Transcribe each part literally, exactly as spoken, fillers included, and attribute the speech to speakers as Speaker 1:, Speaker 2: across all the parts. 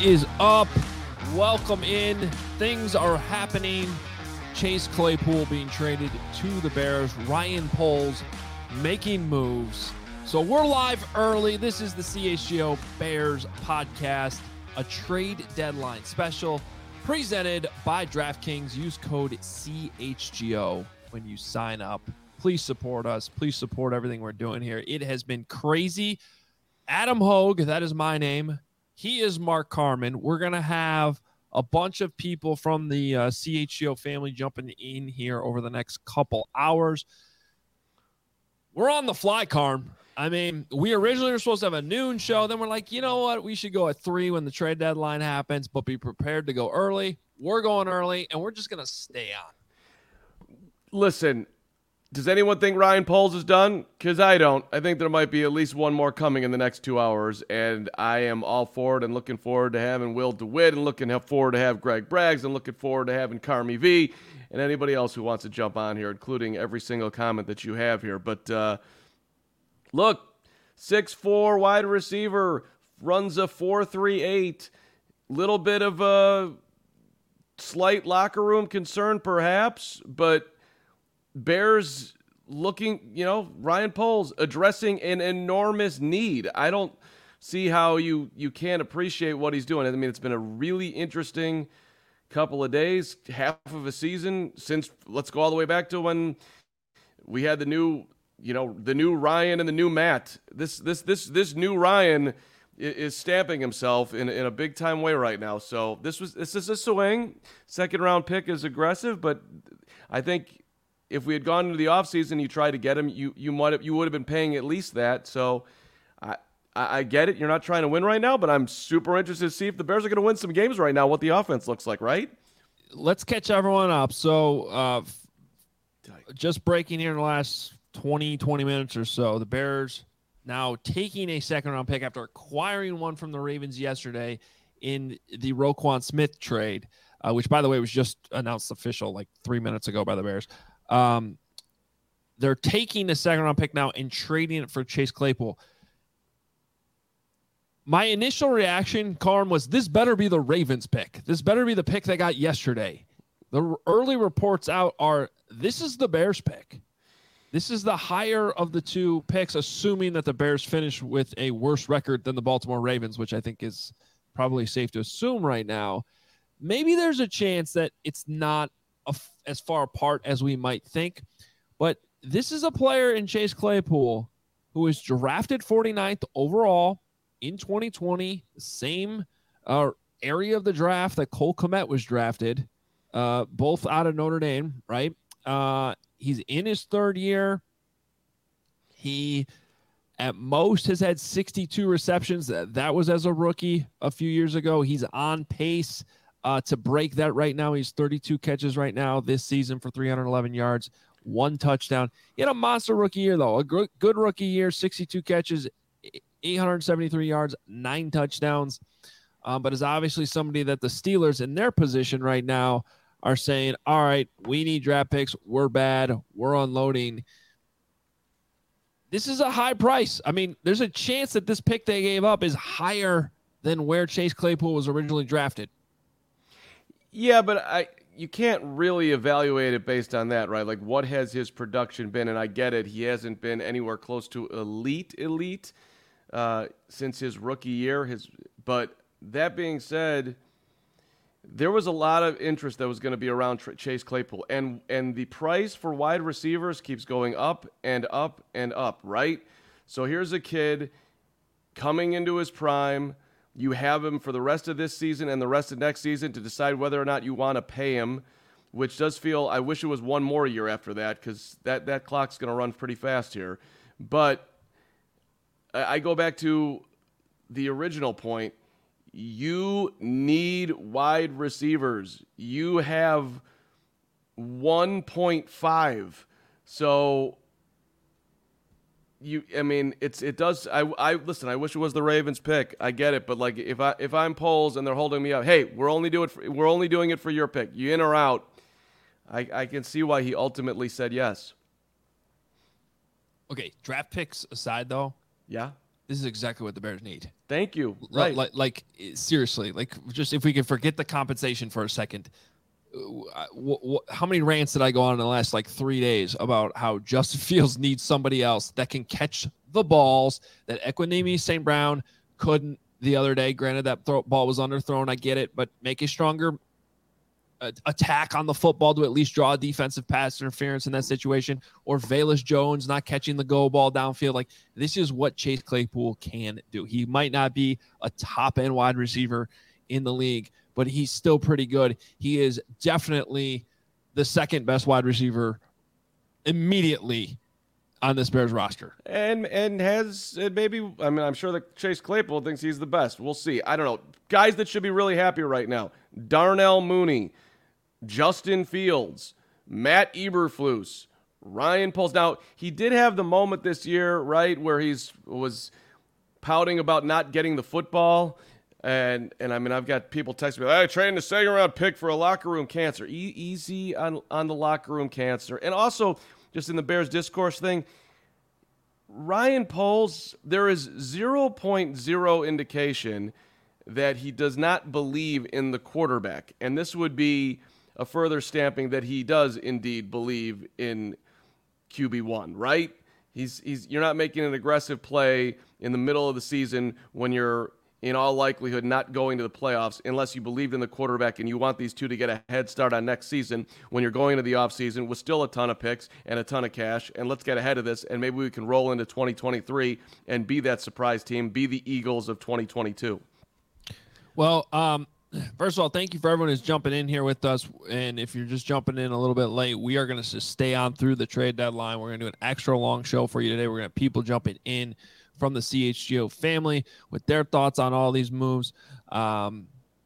Speaker 1: is up? Welcome in. Things are happening. Chase Claypool being traded to the Bears. Ryan Poles making moves. So we're live early. This is the C H G O Bears podcast, a trade deadline special presented by DraftKings. Use code C H G O when you sign up. Please support us. Please support everything we're doing here. It has been crazy. Adam Hogue, that is my name. He is Mark Carman. We're going to have a bunch of people from the uh, C H G O family jumping in here over the next couple hours. We're on the fly, Carm. I mean, we originally were supposed to have a noon show. Then we're like, you know what? We should go at three when the trade deadline happens, but be prepared to go early. We're going early, and we're just going to stay on.
Speaker 2: Listen, does anyone think Ryan Poles is done? Because I don't. I think there might be at least one more coming in the next two hours, and I am all for it and looking forward to having Will DeWitt and looking forward to have Greg Braggs and looking forward to having Carmi V and anybody else who wants to jump on here, including every single comment that you have here. But uh, look, six foot four wide receiver, runs a four three eight, little bit of a slight locker room concern perhaps, but Bears looking, you know, Ryan Poles addressing an enormous need. I don't see how you, you can't appreciate what he's doing. I mean, it's been a really interesting couple of days, half of a season since, let's go all the way back to when we had the new, you know, the new Ryan and the new Matt. This, this, this, this new Ryan is stamping himself in, in a big time way right now. So this was, this is a swing. Second round pick is aggressive, but I think if we had gone into the offseason, you tried to get him, you you might have, you would have been paying at least that. So I, I I get it. You're not trying to win right now, but I'm super interested to see if the Bears are going to win some games right now, what the offense looks like, right?
Speaker 1: Let's catch everyone up. So uh, just breaking here in the last twenty, twenty minutes or so, the Bears now taking a second-round pick after acquiring one from the Ravens yesterday in the Roquan Smith trade, uh, which, by the way, was just announced official like three minutes ago by the Bears. Um, they're taking the second round pick now and trading it for Chase Claypool. My initial reaction, Carm, was this better be the Ravens pick. This better be the pick they got yesterday. The early reports out are this is the Bears pick. This is the higher of the two picks, assuming that the Bears finish with a worse record than the Baltimore Ravens, which I think is probably safe to assume right now. Maybe there's a chance that it's not as far apart as we might think, but this is a player in Chase Claypool who was drafted forty-ninth overall in twenty twenty, the same uh, area of the draft that Cole Kmet was drafted, uh, both out of Notre Dame, right? Uh, he's in his third year. He, at most, has had sixty-two receptions. That was as a rookie a few years ago. He's on pace Uh, to break that right now. He's thirty-two catches right now this season for three hundred eleven yards, one touchdown. He had a monster rookie year, though. A good, good rookie year, sixty-two catches, eight hundred seventy-three yards, nine touchdowns. Um, but is obviously somebody that the Steelers in their position right now are saying, all right, we need draft picks. We're bad. We're unloading. This is a high price. I mean, there's a chance that this pick they gave up is higher than where Chase Claypool was originally drafted.
Speaker 2: Yeah, but I you can't really evaluate it based on that, right? Like, what has his production been? And I get it, he hasn't been anywhere close to elite, elite uh, since his rookie year. His, but that being said, there was a lot of interest that was going to be around Tr- Chase Claypool, and and the price for wide receivers keeps going up and up and up, right? So here's a kid coming into his prime. You have him for the rest of this season and the rest of next season to decide whether or not you want to pay him, which does feel, I wish it was one more year after that, because that, that clock's going to run pretty fast here. But I, I go back to the original point. You need wide receivers. You have one point five. So You, I mean, it's it does. I, I listen. I wish it was the Ravens pick. I get it, but like if I if I'm Poles and they're holding me up, hey, we're only doing for, we're only doing it for your pick. You in or out? I I can see why he ultimately said yes.
Speaker 1: Okay, draft picks aside, though,
Speaker 2: Yeah,
Speaker 1: This is exactly what the Bears need.
Speaker 2: Thank you. Right.
Speaker 1: Like, like, seriously, like just if we can forget the compensation for a second, w- w- how many rants did I go on in the last like three days about how Justin Fields needs somebody else that can catch the balls that Equanimeous Saint Brown couldn't the other day. Granted, that throw, ball was underthrown. I get it, but make a stronger uh, attack on the football to at least draw a defensive pass interference in that situation, or Velus Jones not catching the go ball downfield. Like, this is what Chase Claypool can do. He might not be a top end wide receiver in the league, but he's still pretty good. He is definitely the second best wide receiver immediately on this Bears roster.
Speaker 2: And and has and maybe, I mean, I'm sure that Chase Claypool thinks he's the best. We'll see. I don't know. Guys that should be really happy right now: Darnell Mooney, Justin Fields, Matt Eberflus, Ryan Poles. Now, he did have the moment this year, right, where he's was pouting about not getting the football. And, and I mean, I've got people texting me, I traded a second round pick for a locker room cancer. E- easy on, on the locker room cancer. And also, just in the Bears discourse thing, Ryan Poles, there is zero point zero indication that he does not believe in the quarterback. And this would be a further stamping that he does indeed believe in Q B one, right? He's he's you're not making an aggressive play in the middle of the season when you're in all likelihood not going to the playoffs unless you believed in the quarterback and you want these two to get a head start on next season when you're going to the offseason with still a ton of picks and a ton of cash, and let's get ahead of this and maybe we can roll into twenty twenty-three and be that surprise team, be the Eagles of twenty twenty-two.
Speaker 1: Well, um, first of all, thank you for everyone who's jumping in here with us. And if you're just jumping in a little bit late, we are going to just stay on through the trade deadline. We're going to do an extra long show for you today. We're going to have people jumping in from the C H G O family with their thoughts on all these moves. Um,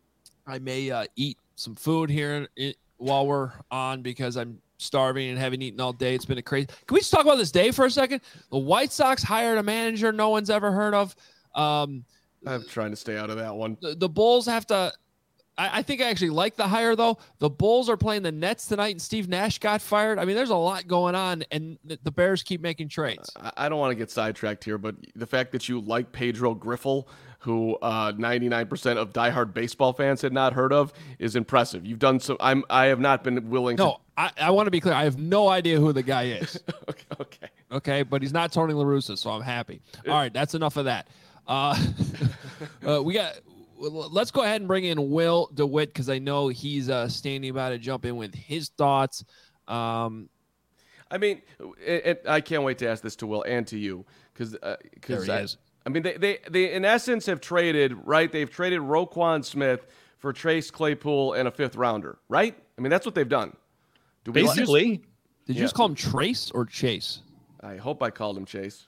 Speaker 1: I may uh, eat some food here in, while we're on because I'm starving and haven't eaten all day. It's been a crazy. Can we just talk about this day for a second? The White Sox hired a manager no one's ever heard of. Um,
Speaker 2: I'm trying to stay out of that one.
Speaker 1: The, the Bulls have to. I, I think I actually like the hire, though. The Bulls are playing the Nets tonight, and Steve Nash got fired. I mean, there's a lot going on, and the, the Bears keep making trades.
Speaker 2: I, I don't want to get sidetracked here, but the fact that you like Pedro Griffel, who uh, ninety-nine percent of diehard baseball fans had not heard of, is impressive. You've done so. I'm. I have not been willing.
Speaker 1: No,
Speaker 2: to...
Speaker 1: I, I want to be clear. I have no idea who the guy is.
Speaker 2: okay, okay.
Speaker 1: Okay, but he's not Tony La Russa, so I'm happy. All right, that's enough of that. Uh, uh, we got. Let's go ahead and bring in Will DeWitt because I know he's uh, standing by to jump in with his thoughts. Um,
Speaker 2: I mean, it, it, I can't wait to ask this to Will and to you because uh,
Speaker 1: there he
Speaker 2: I,
Speaker 1: is.
Speaker 2: I mean, they, they they in essence have traded right. They've traded Roquan Smith for Chase Claypool and a fifth rounder, right? I mean, that's what they've done.
Speaker 3: Do we Basically,
Speaker 1: like, did you yeah. just call him Trace or Chase?
Speaker 2: I hope I called him Chase.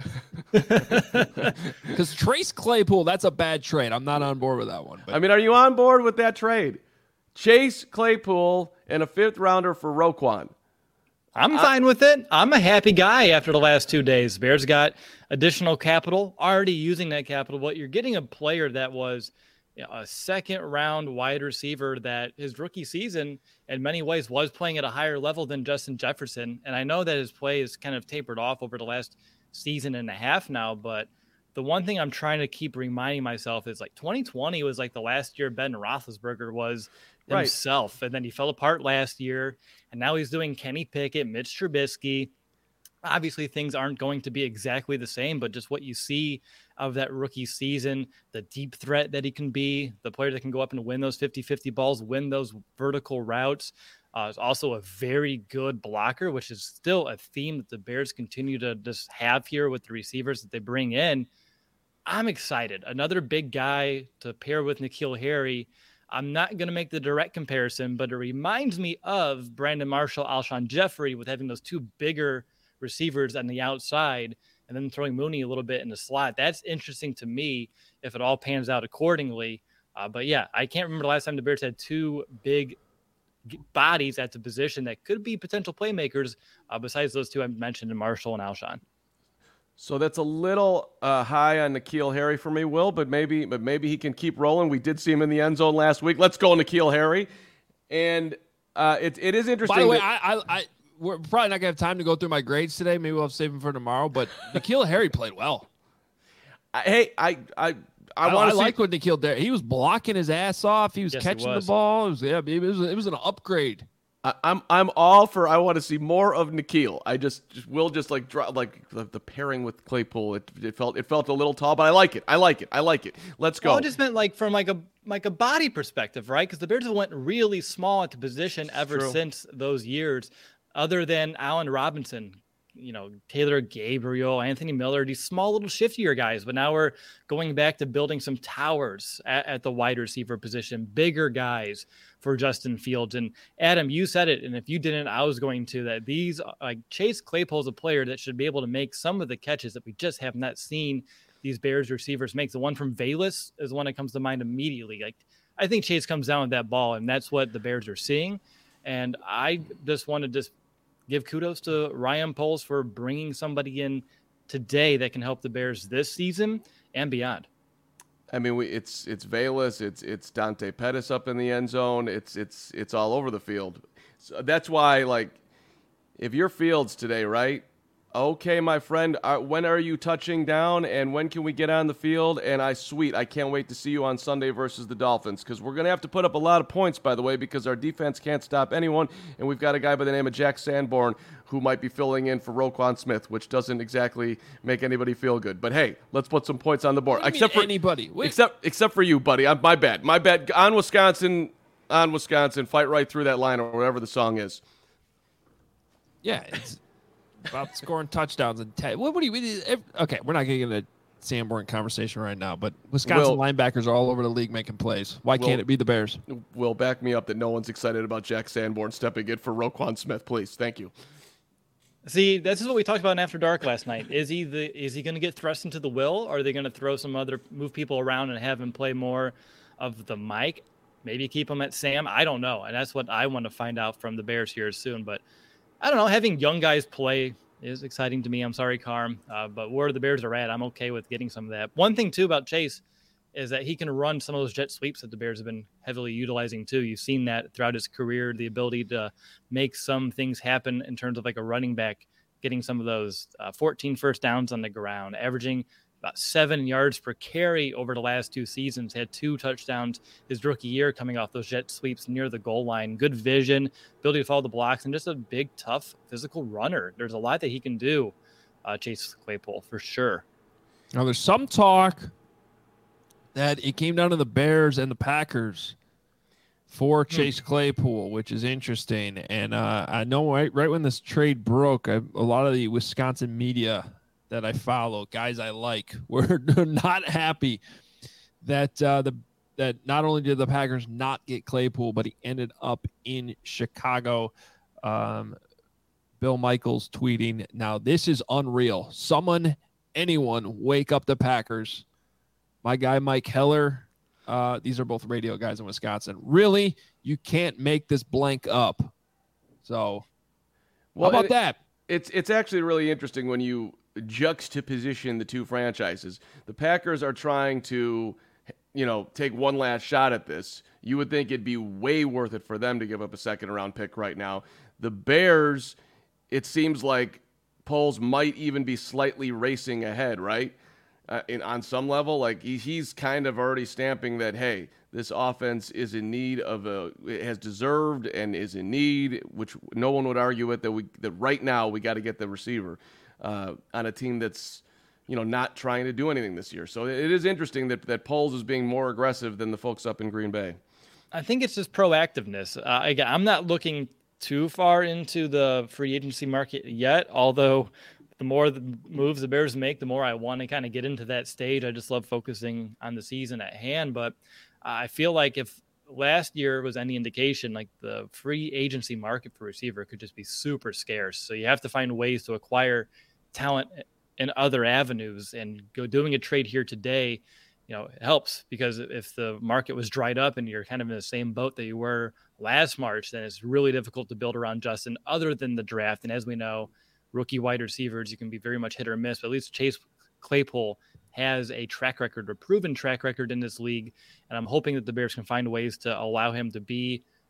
Speaker 1: Because Trace Claypool, that's a bad trade. I'm not on board with that one. But.
Speaker 2: I mean, are you on board with that trade? Chase Claypool and a fifth rounder for Roquan.
Speaker 3: I'm I, fine with it. I'm a happy guy after the last two days. Bears got additional capital, already using that capital, but you're getting a player that was you know, a second round wide receiver that his rookie season in many ways was playing at a higher level than Justin Jefferson. And I know that his play is kind of tapered off over the last season and a half now, but the one thing I'm trying to keep reminding myself is like twenty twenty was like the last year Ben Roethlisberger was himself. Right. And then he fell apart last year. And now he's doing Kenny Pickett, Mitch Trubisky. Obviously, things aren't going to be exactly the same, but just what you see of that rookie season, the deep threat that he can be, the player that can go up and win those fifty-fifty balls, win those vertical routes, uh, is also a very good blocker, which is still a theme that the Bears continue to just have here with the receivers that they bring in. I'm excited. Another big guy to pair with N'Keal Harry. I'm not going to make the direct comparison, but it reminds me of Brandon Marshall, Alshon Jeffrey with having those two bigger receivers on the outside and then throwing Mooney a little bit in the slot. That's interesting to me if it all pans out accordingly. Uh, but yeah, I can't remember the last time the Bears had two big bodies at the position that could be potential playmakers uh, besides those two I mentioned in Marshall and Alshon.
Speaker 2: So that's a little uh, high on N'Keal Harry for me, Will, but maybe but maybe he can keep rolling. We did see him in the end zone last week. Let's go N'Keal Harry. And uh, it, it is interesting.
Speaker 1: By the way,
Speaker 2: that-
Speaker 1: I, I, I we're probably not going to have time to go through my grades today. Maybe we'll save them for tomorrow. But N'Keal Harry played well.
Speaker 2: I, hey, I I I,
Speaker 1: I,
Speaker 2: want
Speaker 1: I
Speaker 2: to
Speaker 1: like what N'Keal Dare. He was blocking his ass off. He was
Speaker 3: Yes, he
Speaker 1: catching
Speaker 3: was.
Speaker 1: the ball. It was, yeah, it was, it was an upgrade.
Speaker 2: I, I'm I'm all for. I want to see more of N'Keal. I just, just will just like draw like the, the pairing with Claypool. It, it felt it felt a little tall, but I like it. I like it. I like it. Let's go.
Speaker 3: Well, I just meant like from like a like a body perspective, right? Because the Bears have went really small at the position ever
Speaker 2: True.
Speaker 3: since those years, other than Allen Robinson, you know, Taylor Gabriel, Anthony Miller, these small little shiftier guys. But now we're going back to building some towers at, at the wide receiver position, bigger guys for Justin Fields. And Adam, you said it, and if you didn't, I was going to, that these, like Chase Claypool is a player that should be able to make some of the catches that we just have not seen these Bears receivers make. The one from Valus is the one that comes to mind immediately. Like, I think Chase comes down with that ball, and that's what the Bears are seeing. And I just want to just give kudos to Ryan Poles for bringing somebody in today that can help the Bears this season and beyond.
Speaker 2: I mean, we, it's it's Valus, it's it's Dante Pettis up in the end zone. It's it's it's all over the field. So that's why, like, if you're Fields today, right? Okay, my friend, uh, when are you touching down, and when can we get on the field? And I sweet, I can't wait to see you on Sunday versus the Dolphins, because we're going to have to put up a lot of points, by the way, because our defense can't stop anyone, and we've got a guy by the name of Jack Sanborn who might be filling in for Roquan Smith, which doesn't exactly make anybody feel good. But hey, let's put some points on the board.
Speaker 1: What do you
Speaker 2: Except
Speaker 1: mean
Speaker 2: for
Speaker 1: anybody, Wait.
Speaker 2: except except for you, buddy. I'm, my bad. My bad. On Wisconsin, on Wisconsin, fight right through that line, or whatever the song is.
Speaker 1: Yeah, it's about scoring touchdowns and ten. What, what do you? If, okay, we're not getting into a Sanborn conversation right now, but Wisconsin
Speaker 2: Will,
Speaker 1: linebackers are all over the league making plays. Why
Speaker 2: Will,
Speaker 1: can't it be the Bears?
Speaker 2: Will, back me up that no one's excited about Jack Sanborn stepping in for Roquan Smith, please. Thank you.
Speaker 3: See, this is what we talked about in After Dark last night. Is he the is he going to get thrust into the will, or are they going to throw some other move people around and have him play more of the Mike? Maybe keep him at Sam. I don't know, and that's what I want to find out from the Bears here soon. But I don't know. Having young guys play is exciting to me. I'm sorry, Carm, uh, but where the Bears are at, I'm okay with getting some of that. One thing too about Chase is that he can run some of those jet sweeps that the Bears have been heavily utilizing too. You've seen that throughout his career, the ability to make some things happen in terms of like a running back, getting some of those uh, fourteen first downs on the ground, averaging about seven yards per carry over the last two seasons, had two touchdowns his rookie year coming off those jet sweeps near the goal line. Good vision, ability to follow the blocks, and just a big, tough, physical runner. There's a lot that he can do, uh, Chase Claypool, for sure.
Speaker 1: Now, there's some talk that it came down to the Bears and the Packers for Chase Claypool, which is interesting. And uh, I know right, right when this trade broke, I, a lot of the Wisconsin media that I follow, guys I like, were not happy that uh, the that not only did the Packers not get Claypool, but he ended up in Chicago. Um, Bill Michaels tweeting, "Now this is unreal. Someone, anyone, wake up the Packers." My guy Mike Heller. Uh, these are both radio guys in Wisconsin. Really, you can't make this blank up. So, well, how about
Speaker 2: it,
Speaker 1: that?
Speaker 2: It's it's actually really interesting when you juxtaposition the two franchises. The Packers are trying to, you know, take one last shot at this. You would think it'd be way worth it for them to give up a second round pick right now. The Bears, it seems like Poles might even be slightly racing ahead, right? Uh, in, on some level, like he, he's kind of already stamping that, hey, this offense is in need of a, it has deserved and is in need, which no one would argue with, that we, that right now we got to get the receiver uh, on a team that's, you know, not trying to do anything this year. So it is interesting that, that Poles is being more aggressive than the folks up in Green Bay.
Speaker 3: I think it's just proactiveness. Uh, again, I'm not looking too far into the free agency market yet, although the more the moves the Bears make, the more I want to kind of get into that stage. I just love focusing on the season at hand. But I feel like if last year was any indication, like the free agency market for receiver could just be super scarce. So you have to find ways to acquire talent in other avenues, and go doing a trade here today, you know, it helps, because if the market was dried up and you're kind of in the same boat that you were last March, then it's really difficult to build around Justin other than the draft. And as we know, rookie wide receivers, you can be very much hit or miss, but at least Chase Claypool has a track record, a proven track record in this league. And I'm hoping that the Bears can find ways to allow him to be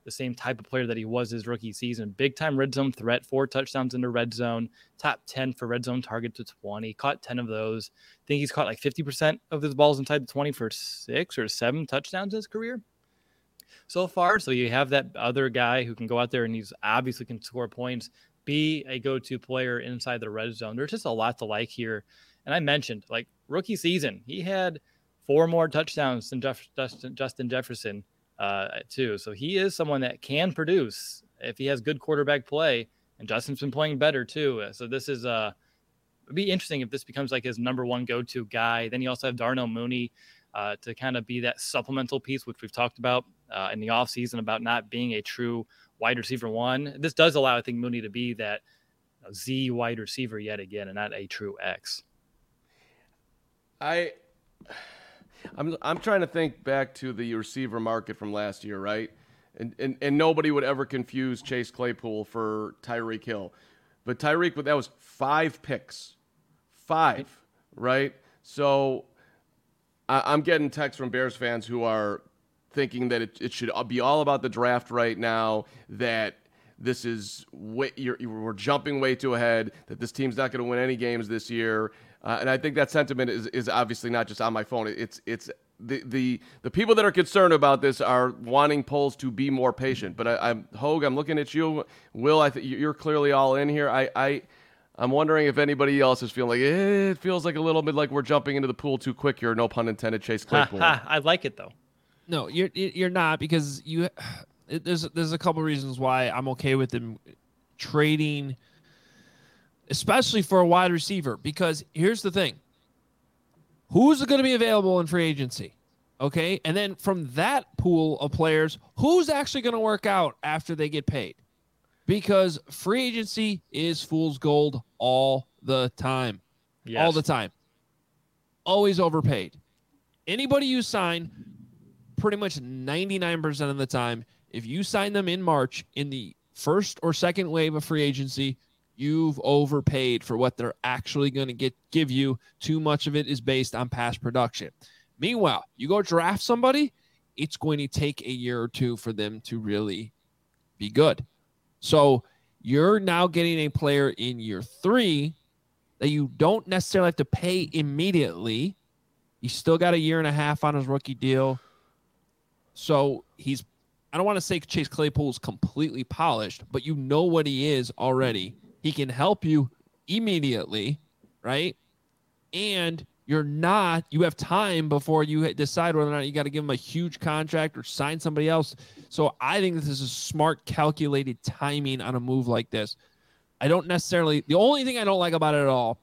Speaker 3: the same type of player that he was his rookie season. Big time red zone threat, four touchdowns in the red zone, top ten for red zone target to twenty, caught ten of those. I think he's caught like fifty percent of his balls inside the twenty for six or seven touchdowns in his career so far. So you have that other guy who can go out there and he's obviously can score points, be a go-to player inside the red zone. There's just a lot to like here. And I mentioned, like, rookie season, he had four more touchdowns than Jeff, Justin, Justin Jefferson, uh, too. So he is someone that can produce if he has good quarterback play. And Justin's been playing better, too. So this is uh, it'd be interesting if this becomes like his number one go-to guy. Then you also have Darnell Mooney uh, to kind of be that supplemental piece, which we've talked about uh, in the offseason about not being a true wide receiver one. This does allow, I think, Mooney to be that you know, Z wide receiver yet again and not a true X.
Speaker 2: I, I'm I'm trying to think back to the receiver market from last year, right? And and, and nobody would ever confuse Chase Claypool for Tyreek Hill. But Tyreek, that was five picks. Five, right? So I, I'm getting texts from Bears fans who are thinking that it, it should be all about the draft right now, that this is way, you're, we're jumping way too ahead, that this team's not going to win any games this year. Uh, and I think that sentiment is, is obviously not just on my phone. It's it's the, the the people that are concerned about this are wanting polls to be more patient. But I, I'm Hogue, I'm looking at you, Will. I think you're clearly all in here. I, I I'm wondering if anybody else is feeling like eh, it feels like a little bit like we're jumping into the pool too quick here. No pun intended. Chase Claypool.
Speaker 3: I like it though.
Speaker 1: No, you're you're not, because you it, there's there's a couple reasons why I'm okay with them trading, especially for a wide receiver. Because here's the thing: who's going to be available in free agency? Okay, and then from that pool of players, who's actually going to work out after they get paid? Because free agency is fool's gold all the time, yes. all the time, always overpaid. Anybody you sign, pretty much ninety-nine percent of the time, if you sign them in March in the first or second wave of free agency, you've overpaid for what they're actually going to get give you. Too much of it is based on past production. Meanwhile, you go draft somebody, it's going to take a year or two for them to really be good. So you're now getting a player in year three that you don't necessarily have to pay immediately. He's still got a year and a half on his rookie deal. So he's, I don't want to say Chase Claypool's completely polished, but you know what he is already. He can help you immediately, right? And you're not, you have time before you decide whether or not you got to give him a huge contract or sign somebody else. So I think this is a smart, calculated timing on a move like this. I don't necessarily, the only thing I don't like about it at all,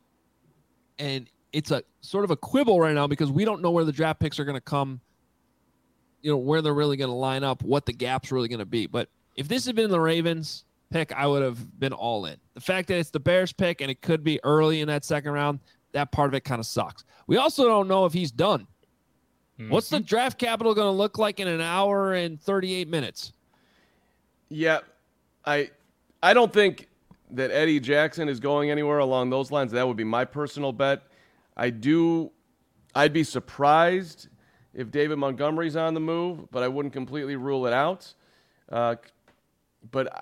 Speaker 1: and it's a sort of a quibble right now because we don't know where the draft picks are going to come, you know, where they're really going to line up, what the gap's really going to be. But if this had been the Ravens pick, I would have been all in. The fact that it's the Bears pick and it could be early in that second round, that part of it kind of sucks. We also don't know if he's done. Mm-hmm. What's the draft capital going to look like in an hour and thirty-eight minutes?
Speaker 2: Yeah, I I don't think that Eddie Jackson is going anywhere along those lines. That would be my personal bet. I do, I'd be surprised if David Montgomery's on the move, but I wouldn't completely rule it out. Uh, but,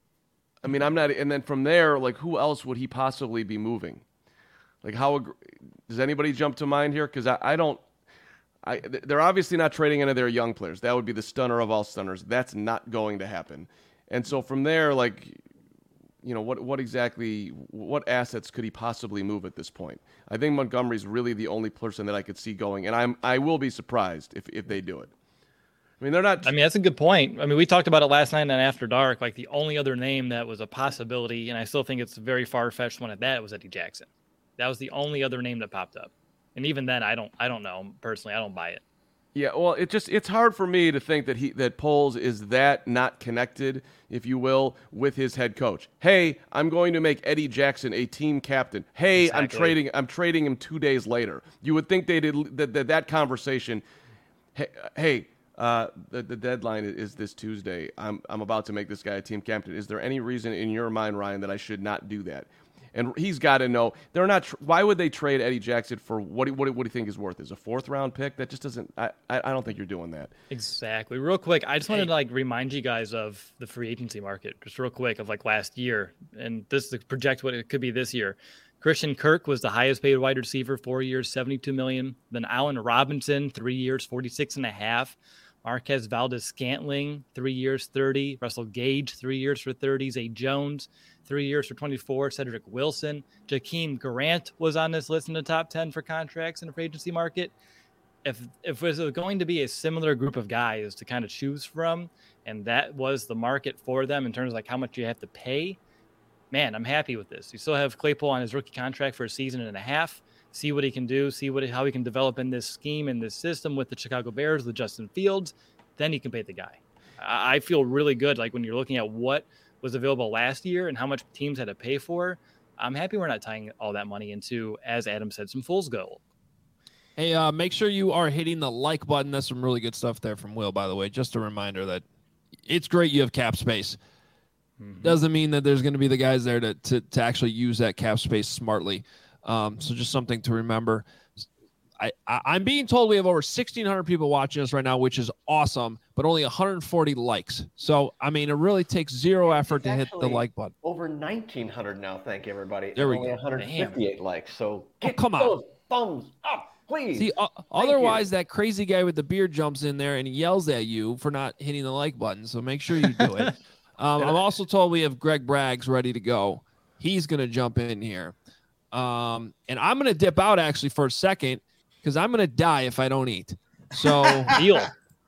Speaker 2: I mean, I'm not, and then from there, like, who else would he possibly be moving? Like, how, does anybody jump to mind here? Because I, I don't, I, they're obviously not trading any of their young players. That would be the stunner of all stunners. That's not going to happen. And so from there, like, you know, what what exactly, what assets could he possibly move at this point? I think Montgomery's really the only person that I could see going, and I'm I will be surprised if, if they do it. I mean, they're not.
Speaker 3: I mean, that's a good point. I mean, we talked about it last night on After Dark. Like, the only other name that was a possibility, and I still think it's a very far-fetched one at that, was Eddie Jackson. That was the only other name that popped up. And even then, I don't I don't know. Personally, I don't buy it.
Speaker 2: Yeah, well, it just it's hard for me to think that he that Poles is that not connected, if you will, with his head coach. Hey, I'm going to make Eddie Jackson a team captain. Hey, exactly. I'm trading I'm trading him two days later. You would think they did that that, that conversation. Hey, hey uh, the the deadline is this Tuesday. I'm I'm about to make this guy a team captain. Is there any reason in your mind, Ryan, that I should not do that? and he's got to know they're not. Tr- why would they trade Eddie Jackson for what? Do, what, do, what do you think is worth? Is a fourth round pick? That just doesn't. I, I I don't think you're doing that.
Speaker 3: Exactly. Real quick, I just wanted to like remind you guys of the free agency market, just real quick, of like last year, and this to project what it could be this year. Christian Kirk was the highest paid wide receiver, four years, seventy-two million. Then Allen Robinson, three years, forty-six and a half. Marquez Valdez-Scantling, three years, thirty. Russell Gage, three years for thirty. Zay Jones, three years for twenty-four. Cedric Wilson. Jakeem Grant was on this list in the top ten for contracts in the free agency market. If if it was going to be a similar group of guys to kind of choose from, and that was the market for them in terms of like how much you have to pay, man, I'm happy with this. You still have Claypool on his rookie contract for a season and a half. See what he can do, see what how he can develop in this scheme, in this system with the Chicago Bears, with Justin Fields. Then you can pay the guy. I, I feel really good. Like when you're looking at what was available last year and how much teams had to pay for, I'm happy we're not tying all that money into, as Adam said, some fool's gold.
Speaker 1: Hey, uh, make sure you are hitting the like button. That's some really good stuff there from Will, by the way. Just a reminder that it's great you have cap space. Mm-hmm. Doesn't mean that there's going to be the guys there to, to, to actually use that cap space smartly. Um, so just something to remember. I, I, I'm being told we have over sixteen hundred people watching us right now, which is awesome, but only one hundred forty likes. So, I mean, it really takes zero effort it's to hit the like button.
Speaker 4: Over nineteen hundred now, thank you, everybody.
Speaker 1: There we
Speaker 4: only
Speaker 1: go.
Speaker 4: one hundred fifty-eight Damn. Likes. So get
Speaker 1: oh, come
Speaker 4: those
Speaker 1: on.
Speaker 4: thumbs up, please.
Speaker 1: See, uh, otherwise you. That crazy guy with the beard jumps in there and he yells at you for not hitting the like button. So make sure you do it. um, I'm also told we have Greg Braggs ready to go. He's going to jump in here. Um, and I'm going to dip out actually for a second because I'm going to die if I don't eat. So,
Speaker 3: deal.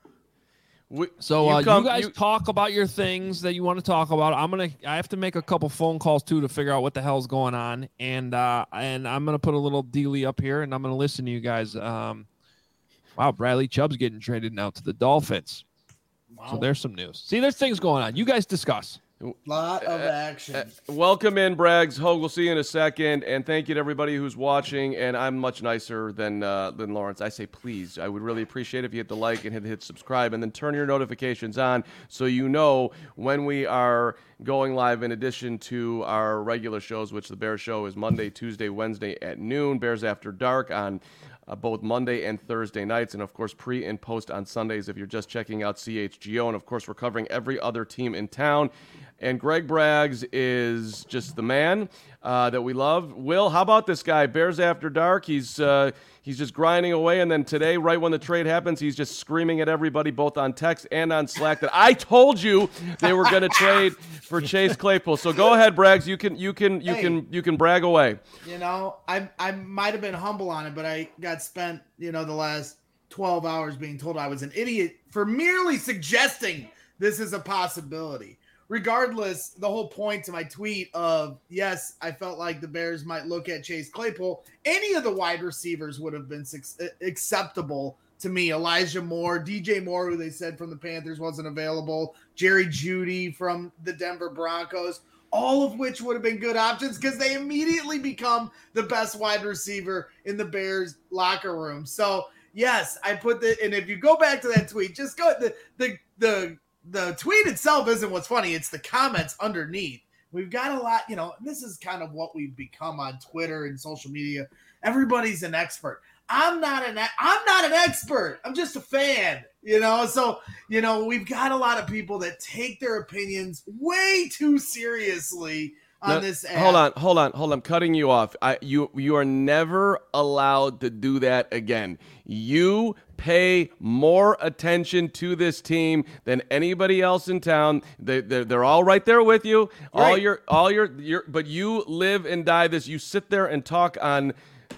Speaker 1: We, so, uh, you, come, you guys you... talk about your things that you want to talk about. I'm going to, I have to make a couple phone calls too to figure out what the hell's going on. And, uh, and I'm going to put a little dealie up here and I'm going to listen to you guys. Um, wow. Bradley Chubb's getting traded now to the Dolphins. Wow. So there's some news. See, there's things going on. You guys discuss.
Speaker 5: Lot of action. Uh,
Speaker 2: uh, welcome in, Braggs. Hogue, we'll see you in a second. And thank you to everybody who's watching. And I'm much nicer than uh, than Lawrence. I say please. I would really appreciate it if you hit the like and hit, hit subscribe and then turn your notifications on so you know when we are going live in addition to our regular shows, which the Bears show is Monday, Tuesday, Wednesday at noon. Bears After Dark on Uh, both Monday and Thursday nights, and of course pre and post on Sundays if you're just checking out C H G O. And of course we're covering every other team in town. And Greg Braggs is just the man uh, that we love. Will, how about this guy? Bears After Dark. He's uh, he's just grinding away, and then today, right when the trade happens, he's just screaming at everybody, both on text and on Slack, that I told you they were going to trade for Chase Claypool. So go ahead, Braggs. You can you can you hey, can you can brag away.
Speaker 5: You know, I I might have been humble on it, but I got spent you know the last twelve hours being told I was an idiot for merely suggesting this is a possibility. Regardless, the whole point to my tweet of, yes, I felt like the Bears might look at Chase Claypool. Any of the wide receivers would have been su- acceptable to me. Elijah Moore, D J Moore, who they said from the Panthers wasn't available, Jerry Jeudy from the Denver Broncos, all of which would have been good options because they immediately become the best wide receiver in the Bears locker room. So, yes, I put the – and if you go back to that tweet, just go – the the the – The tweet itself isn't what's funny. It's the comments underneath. We've got a lot, you know, this is kind of what we've become on Twitter and social media. Everybody's an expert. I'm not an I'm not an expert. I'm just a fan, you know. So, you know, we've got a lot of people that take their opinions way too seriously on
Speaker 2: no,
Speaker 5: this app.
Speaker 2: Hold on, hold on, hold on. I'm cutting you off. I, you you are never allowed to do that again. You pay more attention to this team than anybody else in town. They they're, they're all right there with you. Right. All your all your your but you live and die this. You sit there and talk on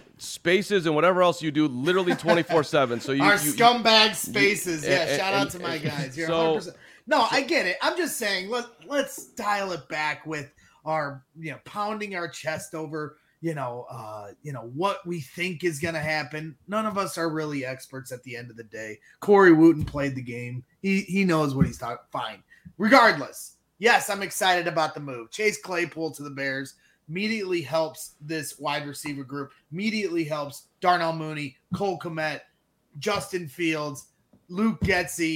Speaker 2: Spaces and whatever else you do literally twenty-four seven. So you
Speaker 5: our
Speaker 2: you,
Speaker 5: scumbag Spaces. You, yeah, and, shout and, out to my
Speaker 2: and,
Speaker 5: guys. You're
Speaker 2: so,
Speaker 5: one hundred percent. No, I get it. I'm just saying let let's dial it back with our, you know, pounding our chest over, you know, uh, you know, what we think is going to happen. None of us are really experts at the end of the day. Corey Wooten played the game. He he knows what he's talking. Fine. Regardless, yes, I'm excited about the move. Chase Claypool to the Bears immediately helps this wide receiver group. Immediately helps Darnell Mooney, Cole Kmet, Justin Fields, Luke Getsy.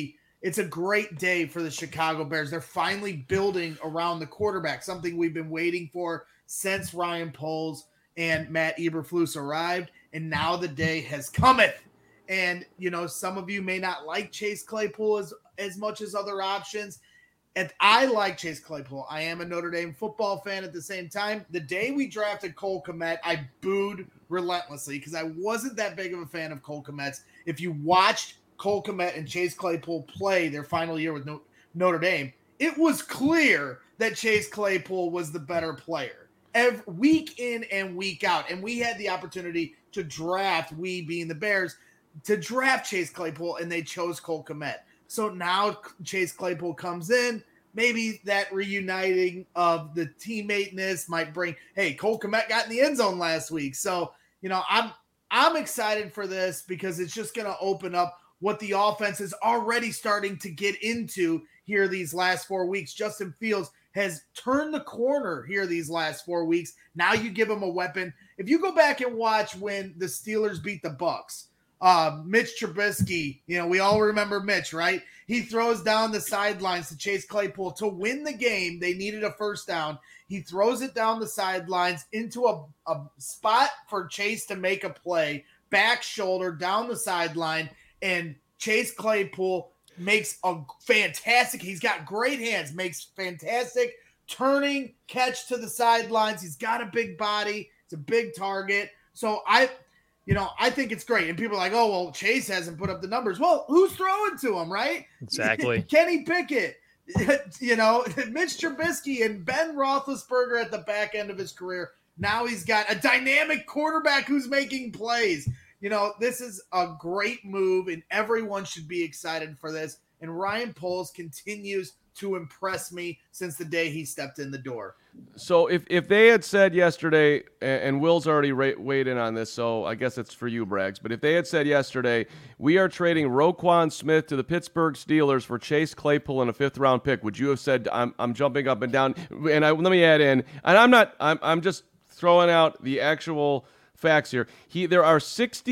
Speaker 5: it's a great day for the Chicago Bears. They're finally building around the quarterback, something we've been waiting for since Ryan Poles and Matt Eberflus arrived, and now the day has cometh. And, you know, some of you may not like Chase Claypool as, as much as other options. And I like Chase Claypool. I am a Notre Dame football fan at the same time. The day we drafted Cole Kmet, I booed relentlessly because I wasn't that big of a fan of Cole Kmet's. If you watched Cole Kmet and Chase Claypool play their final year with Notre Dame, it was clear that Chase Claypool was the better player every week in and week out. And we had the opportunity to draft, we being the Bears, to draft Chase Claypool, and they chose Cole Kmet. So now Chase Claypool comes in. Maybe that reuniting of the teammateness might bring, hey, Cole Kmet got in the end zone last week. So, you know, I'm I'm excited for this because it's just going to open up what the offense is already starting to get into here these last four weeks. Justin Fields has turned the corner here these last four weeks. Now you give him a weapon. If you go back and watch when the Steelers beat the Bucs, Uh, Mitch Trubisky, you know, we all remember Mitch, right? He throws down the sidelines to Chase Claypool to win the game. They needed a first down. He throws it down the sidelines into a, a spot for Chase to make a play, back shoulder down the sideline, and Chase Claypool makes a fantastic, he's got great hands, makes fantastic turning catch to the sidelines. He's got a big body. It's a big target. So I... You know, I think it's great. And people are like, oh, well, Chase hasn't put up the numbers. Well, who's throwing to him, right?
Speaker 3: Exactly.
Speaker 5: Kenny Pickett, you know, Mitch Trubisky and Ben Roethlisberger at the back end of his career. Now he's got a dynamic quarterback who's making plays. You know, this is a great move, and everyone should be excited for this. And Ryan Poles continues to impress me since the day he stepped in the door.
Speaker 2: So if, if they had said yesterday, and, and Will's already ra- weighed in on this, so I guess it's for you, Braggs, but if they had said yesterday, we are trading Roquan Smith to the Pittsburgh Steelers for Chase Claypool and a fifth round pick, would you have said, I'm I'm jumping up and down? And I, let me add in, and I'm not, I'm I'm just throwing out the actual facts here. He There are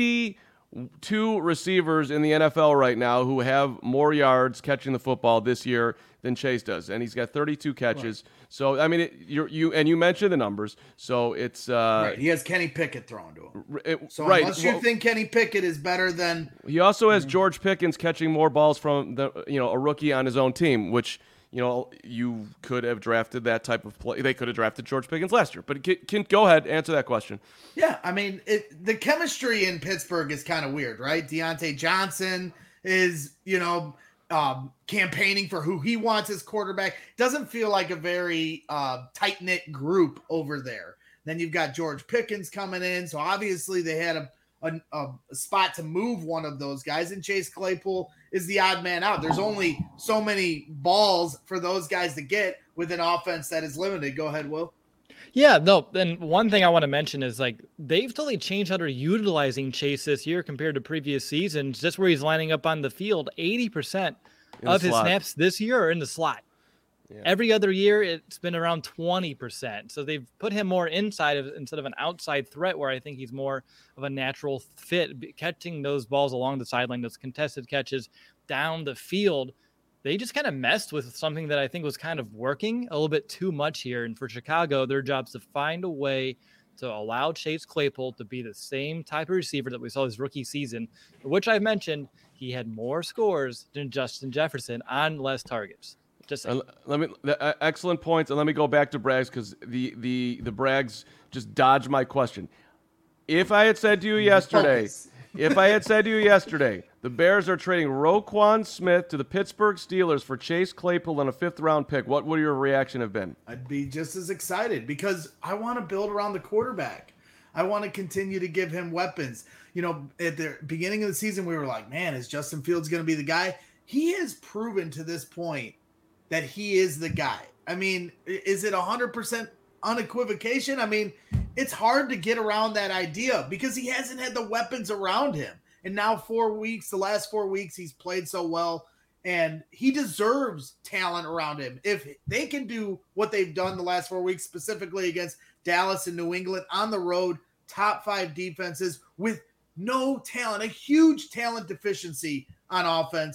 Speaker 2: sixty-two receivers in the N F L right now who have more yards catching the football this year than Chase does, and he's got thirty-two catches. Right. So I mean, it, you you and you mentioned the numbers. So it's uh,
Speaker 5: right. He has Kenny Pickett thrown to him.
Speaker 2: It,
Speaker 5: so
Speaker 2: right.
Speaker 5: unless you well, think Kenny Pickett is better than,
Speaker 2: he also has George Pickens catching more balls from the you know a rookie on his own team, which you know you could have drafted that type of play. They could have drafted George Pickens last year. But can, can go ahead, answer that question.
Speaker 5: Yeah, I mean, it, the chemistry in Pittsburgh is kind of weird, right? Deontay Johnson is you know. Um, campaigning for who he wants as quarterback. Doesn't feel like a very uh, tight-knit group over there. Then you've got George Pickens coming in. So obviously they had a, a, a spot to move one of those guys. And Chase Claypool is the odd man out. There's only so many balls for those guys to get with an offense that is limited. Go ahead, Will.
Speaker 3: Yeah, no, and one thing I want to mention is like they've totally changed how they're utilizing Chase this year compared to previous seasons. Just where he's lining up on the field, eighty percent of his slot. Snaps this year are in the slot. Yeah. Every other year, it's been around twenty percent. So they've put him more inside of instead of an outside threat, where I think he's more of a natural fit, catching those balls along the sideline, those contested catches down the field. They just kind of messed with something that I think was kind of working a little bit too much here. And for Chicago, their job is to find a way to allow Chase Claypool to be the same type of receiver that we saw his rookie season, which I've mentioned, he had more scores than Justin Jefferson on less targets. Just
Speaker 2: uh, let me uh, excellent points, and let me go back to Braggs because the the the Braggs just dodged my question. If I had said to you yesterday, if I had said to you yesterday, the Bears are trading Roquan Smith to the Pittsburgh Steelers for Chase Claypool and a fifth round pick, what would your reaction have been?
Speaker 5: I'd be just as excited because I want to build around the quarterback. I want to continue to give him weapons. You know, at the beginning of the season, we were like, man, is Justin Fields going to be the guy? He has proven to this point that he is the guy. I mean, is it one hundred percent unequivocation? I mean, it's hard to get around that idea because he hasn't had the weapons around him. And now four weeks, the last four weeks, he's played so well, and he deserves talent around him. If they can do what they've done the last four weeks, specifically against Dallas and New England on the road, top five defenses with no talent, a huge talent deficiency on offense,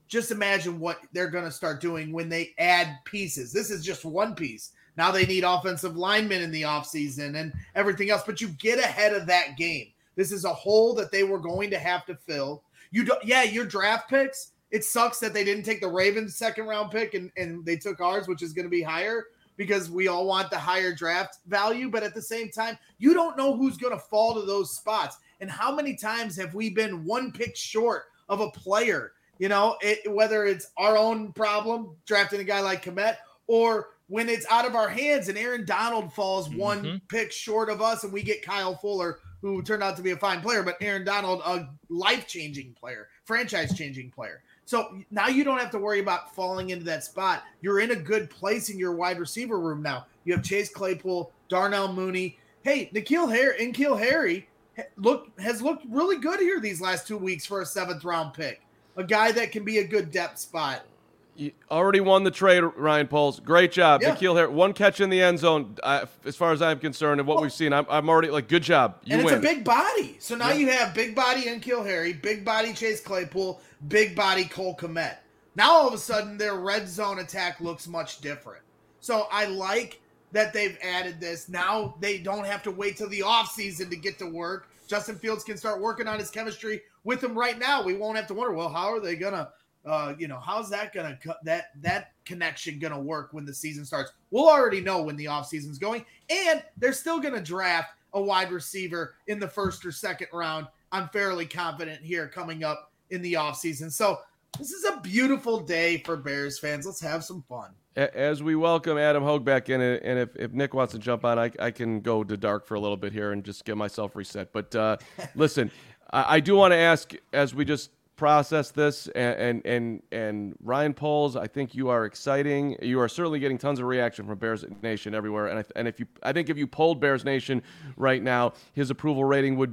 Speaker 5: just imagine what they're going to start doing when they add pieces. This is just one piece. Now they need offensive linemen in the offseason and everything else, but you get ahead of that game. This is a hole that they were going to have to fill. You don't, yeah, your draft picks, it sucks that they didn't take the Ravens second round pick and, and they took ours, which is going to be higher because we all want the higher draft value. But at the same time, you don't know who's going to fall to those spots. And how many times have we been one pick short of a player, you know, it, whether it's our own problem drafting a guy like Kmet, or when it's out of our hands and Aaron Donald falls mm-hmm. one pick short of us and we get Kyle Fuller, who turned out to be a fine player, but Aaron Donald, a life-changing player, franchise-changing player. So now you don't have to worry about falling into that spot. You're in a good place in your wide receiver room now. You have Chase Claypool, Darnell Mooney. Hey, N'Keal Harry, N'Keal Harry look, has looked really good here these last two weeks for a seventh-round pick. A guy that can be a good depth spot.
Speaker 2: You already won the trade, Ryan Poles. Great job.
Speaker 5: Yeah.
Speaker 2: N'Keal Harry, one catch in the end zone, uh, as far as I'm concerned, and what well, we've seen. I'm, I'm already, like, good job. You
Speaker 5: and
Speaker 2: win.
Speaker 5: It's a big body. So now
Speaker 2: yeah.
Speaker 5: you have big body N'Keal Harry, big body Chase Claypool, big body Cole Kmet. Now all of a sudden their red zone attack looks much different. So I like that they've added this. Now they don't have to wait till the offseason to get to work. Justin Fields can start working on his chemistry with him right now. We won't have to wonder, well, how are they going to Uh, you know, how's that gonna cut that that connection gonna work when the season starts? We'll already know when the off season's going, and they're still gonna draft a wide receiver in the first or second round. I'm fairly confident here coming up in the off season. So this is a beautiful day for Bears fans. Let's have some fun.
Speaker 2: As we welcome Adam Hogue back in, and if, if Nick wants to jump on, I, I can go to dark for a little bit here and just get myself reset. But uh, listen, I, I do want to ask, as we just process this, and, and and and Ryan Poles, I think you are exciting. You are certainly getting tons of reaction from Bears Nation everywhere. And I, and if you, I think if you polled Bears Nation right now, his approval rating would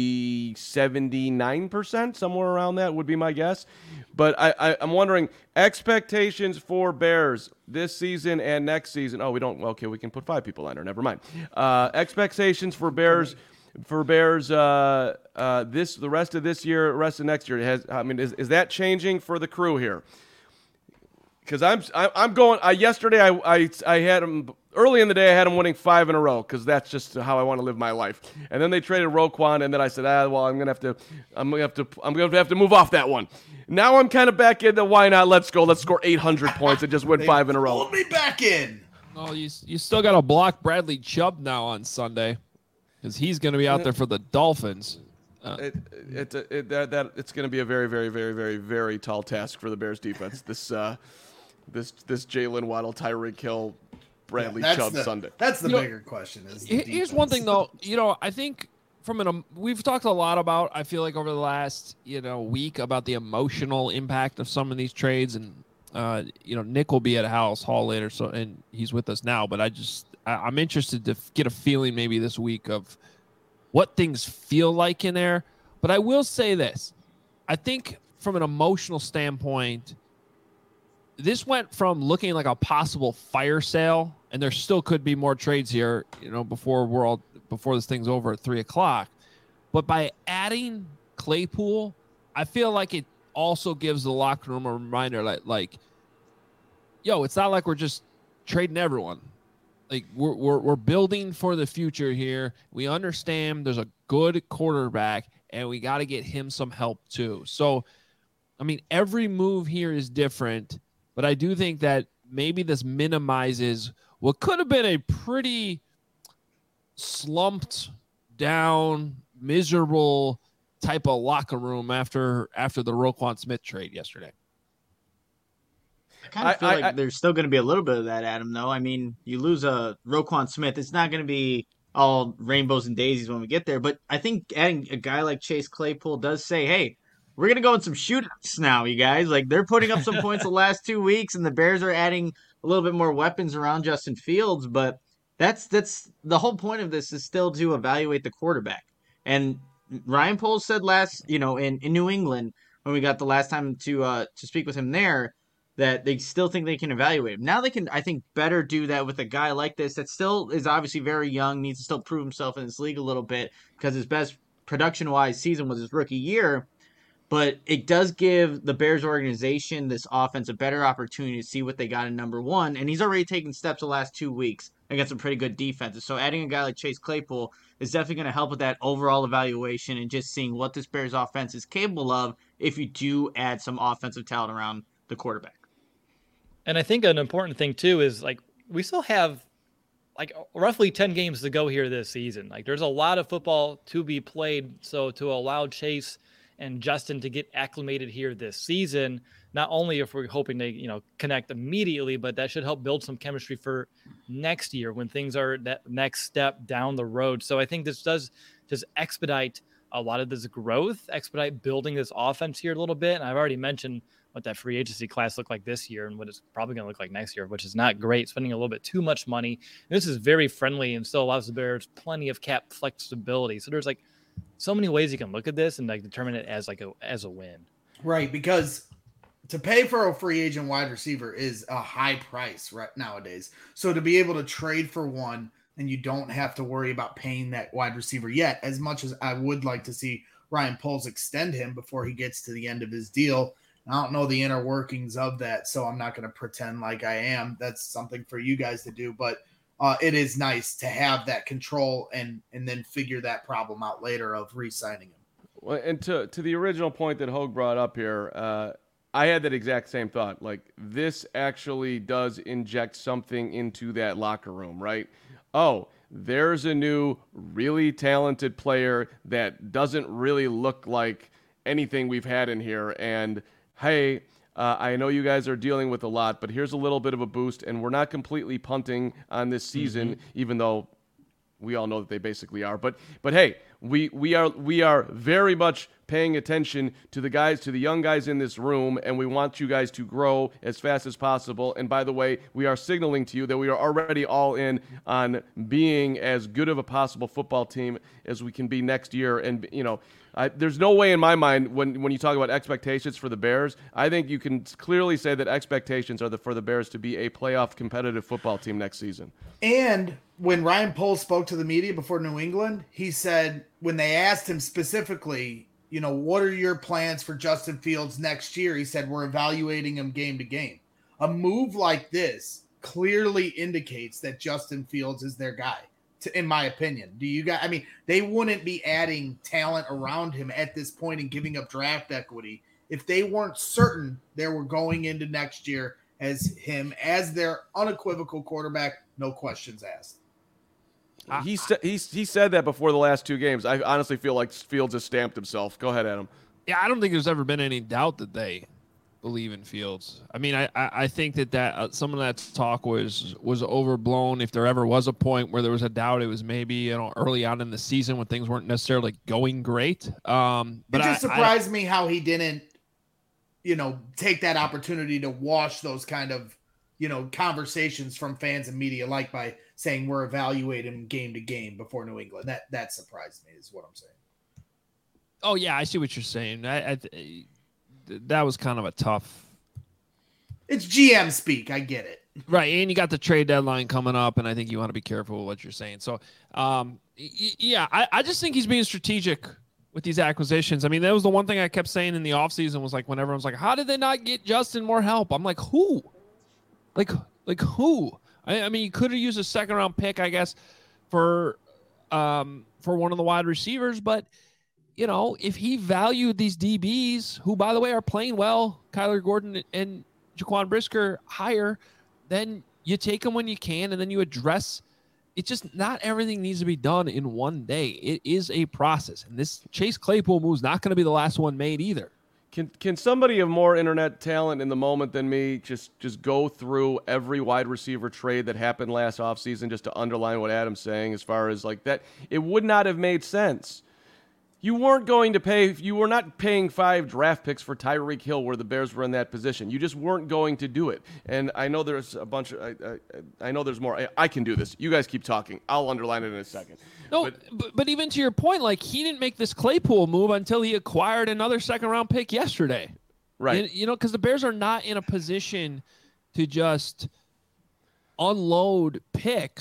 Speaker 2: be seventy-nine percent, somewhere around that would be my guess. But I, I, I'm wondering, expectations for Bears this season and next season. Oh, we don't. Okay, we can put five people on there. Never mind. Uh, expectations for Bears. For Bears, uh, uh, this the rest of this year, rest of next year. Has I mean, is, is that changing for the crew here? Because I'm I'm going. I, yesterday, I, I I had them early in the day. I had them winning five in a row because that's just how I want to live my life. And then they traded Roquan, and then I said, ah, well, I'm gonna have to, I'm gonna have to, I'm gonna have to move off that one. Now I'm kind of back in the why not? Let's go. Let's score eight hundred points and just win five in a row.
Speaker 5: Hold me back in.
Speaker 1: Oh, you you still got to block Bradley Chubb now on Sunday. Because he's going to be out there for the Dolphins. Uh,
Speaker 2: it, it, it, it, that, that, it's going to be a very, very, very, very, very tall task for the Bears defense. This uh, this this Jalen Waddle, Tyreek Hill, Bradley
Speaker 5: yeah,
Speaker 2: Chubb
Speaker 5: the,
Speaker 2: Sunday.
Speaker 5: That's the
Speaker 1: you
Speaker 5: bigger know, question. Is the
Speaker 1: here's
Speaker 5: defense.
Speaker 1: one thing, though. You know, I think from an um, we've talked a lot about, I feel like over the last, you know, week about the emotional impact of some of these trades. And, uh, you know, Nick will be at House Hall later, so and he's with us now. But I just I, I'm interested to f- get a feeling maybe this week of what things feel like in there. But I will say this. I think from an emotional standpoint, this went from looking like a possible fire sale, and there still could be more trades here, you know, before we're all before this thing's over at three o'clock. But by adding Claypool, I feel like it also gives the locker room a reminder that, like, yo, it's not like we're just trading everyone. Like we're, we're we're building for the future here. We understand there's a good quarterback, and we got to get him some help too. So, I mean, every move here is different, but I do think that maybe this minimizes what could have been a pretty slumped down, miserable type of locker room after after the Roquan Smith trade yesterday.
Speaker 6: I kind of feel
Speaker 2: I,
Speaker 6: like
Speaker 2: I,
Speaker 6: there's still going to be a little bit of that, Adam, though. I mean, you lose a Roquan Smith. It's not going to be all rainbows and daisies when we get there. But I think adding a guy like Chase Claypool does say, hey, we're going to go in some shootouts now, you guys. Like, they're putting up some points the last two weeks, and the Bears are adding a little bit more weapons around Justin Fields. But that's that's the whole point of this is still to evaluate the quarterback. And Ryan Poles said last, you know, in, in New England, when we got the last time to uh, to speak with him there, that they still think they can evaluate him. Now they can, I think, better do that with a guy like this that still is obviously very young, needs to still prove himself in this league a little bit because his best production-wise season was his rookie year. but it does give the Bears organization, this offense, a better opportunity to see what they got in number one. And he's already taken steps the last two weeks against some pretty good defenses. So adding a guy like Chase Claypool is definitely going to help with that overall evaluation and just seeing what this Bears offense is capable of if you do add some offensive talent around the quarterback.
Speaker 3: And I think an important thing too is like we still have like roughly ten games to go here this season. Like there's a lot of football to be played. So to allow Chase and Justin to get acclimated here this season, not only if we're hoping to, you know, connect immediately, but that should help build some chemistry for next year when things are that next step down the road. So I think this does just expedite a lot of this growth, expedite building this offense here a little bit. And I've already mentioned what that free agency class looked like this year and what it's probably going to look like next year, which is not great, spending a little bit too much money. And this is very friendly and still allows the Bears plenty of cap flexibility. So there's like so many ways you can look at this and like determine it as like a, as a win.
Speaker 5: Right. Because to pay for a free agent wide receiver is a high price right nowadays. So to be able to trade for one and you don't have to worry about paying that wide receiver yet, as much as I would like to see Ryan Poles extend him before he gets to the end of his deal. I don't know the inner workings of that, so I'm not going to pretend like I am. That's something for you guys to do, but uh, it is nice to have that control and and then figure that problem out later of re-signing him.
Speaker 2: Well, and to to the original point that Hogue brought up here, uh, I had that exact same thought. Like, this actually does inject something into that locker room, right? Oh, there's a new, really talented player that doesn't really look like anything we've had in here, and hey, uh, I know you guys are dealing with a lot, but here's a little bit of a boost, and we're not completely punting on this season, mm-hmm. even though we all know that they basically are. But but hey, we we are we are very much paying attention to the guys, to the young guys in this room, and we want you guys to grow as fast as possible. And by the way, we are signaling to you that we are already all in on being as good of a possible football team as we can be next year. And you know, I, there's no way in my mind when when you talk about expectations for the Bears, I think you can clearly say that expectations are the, for the Bears to be a playoff competitive football team next season.
Speaker 5: And when Ryan Poles spoke to the media before New England, he said when they asked him specifically, you know, what are your plans for Justin Fields next year? He said, we're evaluating him game to game. A move like this clearly indicates that Justin Fields is their guy, to, in my opinion. Do you guys, I mean, they wouldn't be adding talent around him at this point and giving up draft equity if they weren't certain they were going into next year as him, as their unequivocal quarterback, no questions asked.
Speaker 2: He, he, he said that before the last two games. I honestly feel like Fields has stamped himself. Go ahead, Adam.
Speaker 1: Yeah, I don't think there's ever been any doubt that they believe in Fields. I mean, I, I, I think that, that uh, some of that talk was was overblown. If there ever was a point where there was a doubt, it was maybe, you know, early on in the season when things weren't necessarily going great. Um, but
Speaker 5: it just
Speaker 1: I,
Speaker 5: surprised
Speaker 1: I,
Speaker 5: me how he didn't, you know, take that opportunity to wash those kind of, you know, conversations from fans and media, like by saying we're evaluating game to game before New England. That that surprised me, is what I'm saying.
Speaker 1: Oh yeah, I see what you're saying. I, I that was kind of a tough.
Speaker 5: It's G M speak. I get it.
Speaker 1: Right, and you got the trade deadline coming up, and I think you want to be careful with what you're saying. So, um, yeah, I, I just think he's being strategic with these acquisitions. I mean, that was the one thing I kept saying in the offseason was like when everyone's like, how did they not get Justin more help? I'm like, who? Like, like who? I, I mean, you could have used a second round pick, I guess, for um for one of the wide receivers, but you know, if he valued these D Bs, who by the way are playing well, Kyler Gordon and Jaquan Brisker higher, then you take them when you can, and then you address. It's just not everything needs to be done in one day. It is a process, and this Chase Claypool move is not going to be the last one made either.
Speaker 2: Can can somebody of more internet talent in the moment than me just just go through every wide receiver trade that happened last offseason just to underline what Adam's saying as far as like that? It would not have made sense. You weren't going to pay, you were not paying five draft picks for Tyreek Hill where the Bears were in that position. You just weren't going to do it. And I know there's a bunch of, I, I, I know there's more. I, I can do this. You guys keep talking. I'll underline it in a second.
Speaker 1: No,
Speaker 2: but,
Speaker 1: but, but even to your point, like he didn't make this Claypool move until he acquired another second round pick yesterday.
Speaker 2: Right.
Speaker 1: And, you know, because the Bears are not in a position to just unload picks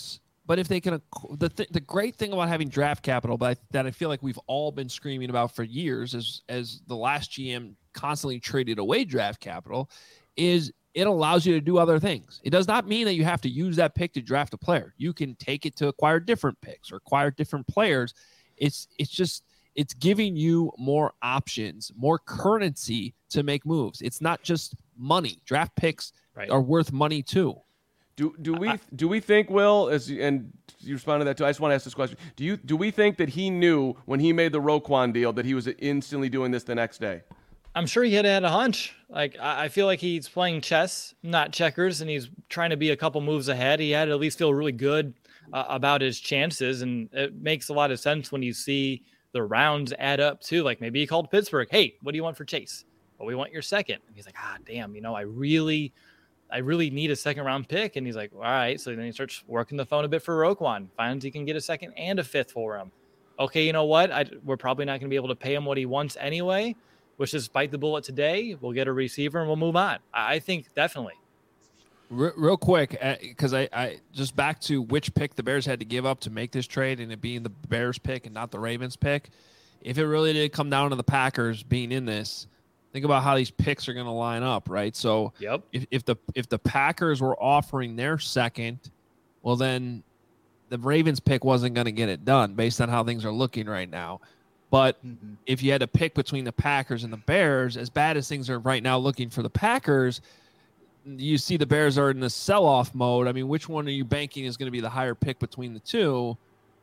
Speaker 1: but if they can, the th- the great thing about having draft capital, but I, that I feel like we've all been screaming about for years, as as the last G M constantly traded away draft capital, is it allows you to do other things. It does not mean that you have to use that pick to draft a player. You can take it to acquire different picks or acquire different players. It's it's just it's giving you more options, more currency to make moves. It's not just money. Draft picks right. are worth money too.
Speaker 2: Do do we do we think, Will, as and you responded to that too? I just want to ask this question. Do you do we think that he knew when he made the Roquan deal that he was instantly doing this the next day?
Speaker 3: I'm sure he had had a hunch. Like I feel like he's playing chess, not checkers, and he's trying to be a couple moves ahead. He had to at least feel really good uh, about his chances, and it makes a lot of sense when you see the rounds add up too. Like maybe he called Pittsburgh, "Hey, what do you want for Chase?" "Well, we want your second." And he's like, "Ah, damn, you know, I really." I really need a second round pick. And he's like, all right. So then he starts working the phone a bit for Roquan, finds he can get a second and a fifth for him. Okay, you know what? I, we're probably not going to be able to pay him what he wants anyway. Let's just bite the bullet today. We'll get a receiver and we'll move on. I, I think definitely.
Speaker 1: Real, real quick, because uh, I, I just back to which pick the Bears had to give up to make this trade and it being the Bears pick and not the Ravens pick. If it really did come down to the Packers being in this, think about how these picks are going to line up, right? So
Speaker 3: yep.
Speaker 1: if, if the if the Packers were offering their second, well, then the Ravens pick wasn't going to get it done based on how things are looking right now. But mm-hmm. if you had to pick between the Packers and the Bears, as bad as things are right now looking for the Packers, you see the Bears are in the sell-off mode. I mean, which one are you banking is going to be the higher pick between the two?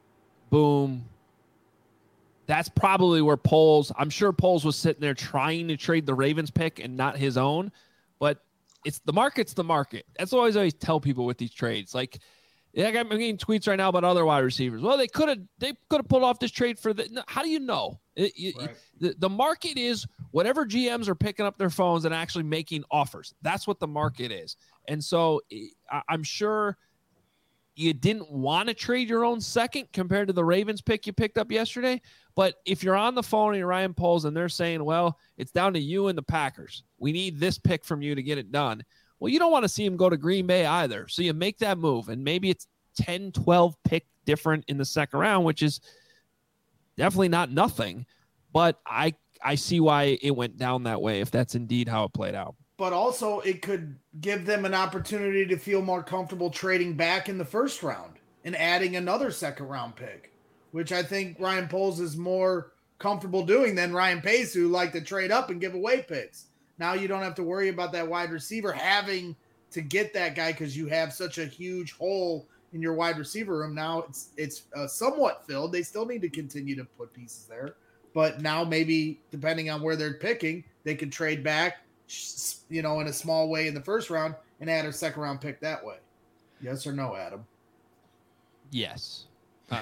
Speaker 1: Boom. That's probably where Poles, I'm sure Poles was sitting there trying to trade the Ravens pick and not his own, but it's the market's the market. That's what I always, always tell people with these trades. Like, yeah, I'm getting tweets right now about other wide receivers. Well, they could have they could have pulled off this trade for the. No, how do you know? It, it, right. the, the market is whatever G Ms are picking up their phones and actually making offers. That's what the market is. And so I, I'm sure you didn't want to trade your own second compared to the Ravens pick you picked up yesterday. But if you're on the phone and you're Ryan Poles and they're saying, well, it's down to you and the Packers. We need this pick from you to get it done. Well, you don't want to see him go to Green Bay either. So you make that move, and maybe it's ten, twelve pick different in the second round, which is definitely not nothing. But I I see why it went down that way if that's indeed how it played out.
Speaker 5: But also it could give them an opportunity to feel more comfortable trading back in the first round and adding another second round pick, which I think Ryan Poles is more comfortable doing than Ryan Pace, who like to trade up and give away picks. Now you don't have to worry about that wide receiver having to get that guy because you have such a huge hole in your wide receiver room. Now it's it's uh, somewhat filled. They still need to continue to put pieces there. But now maybe depending on where they're picking, they could trade back, you know, in a small way in the first round and add a second round pick that way. Yes or no, Adam?
Speaker 1: Yes. Uh,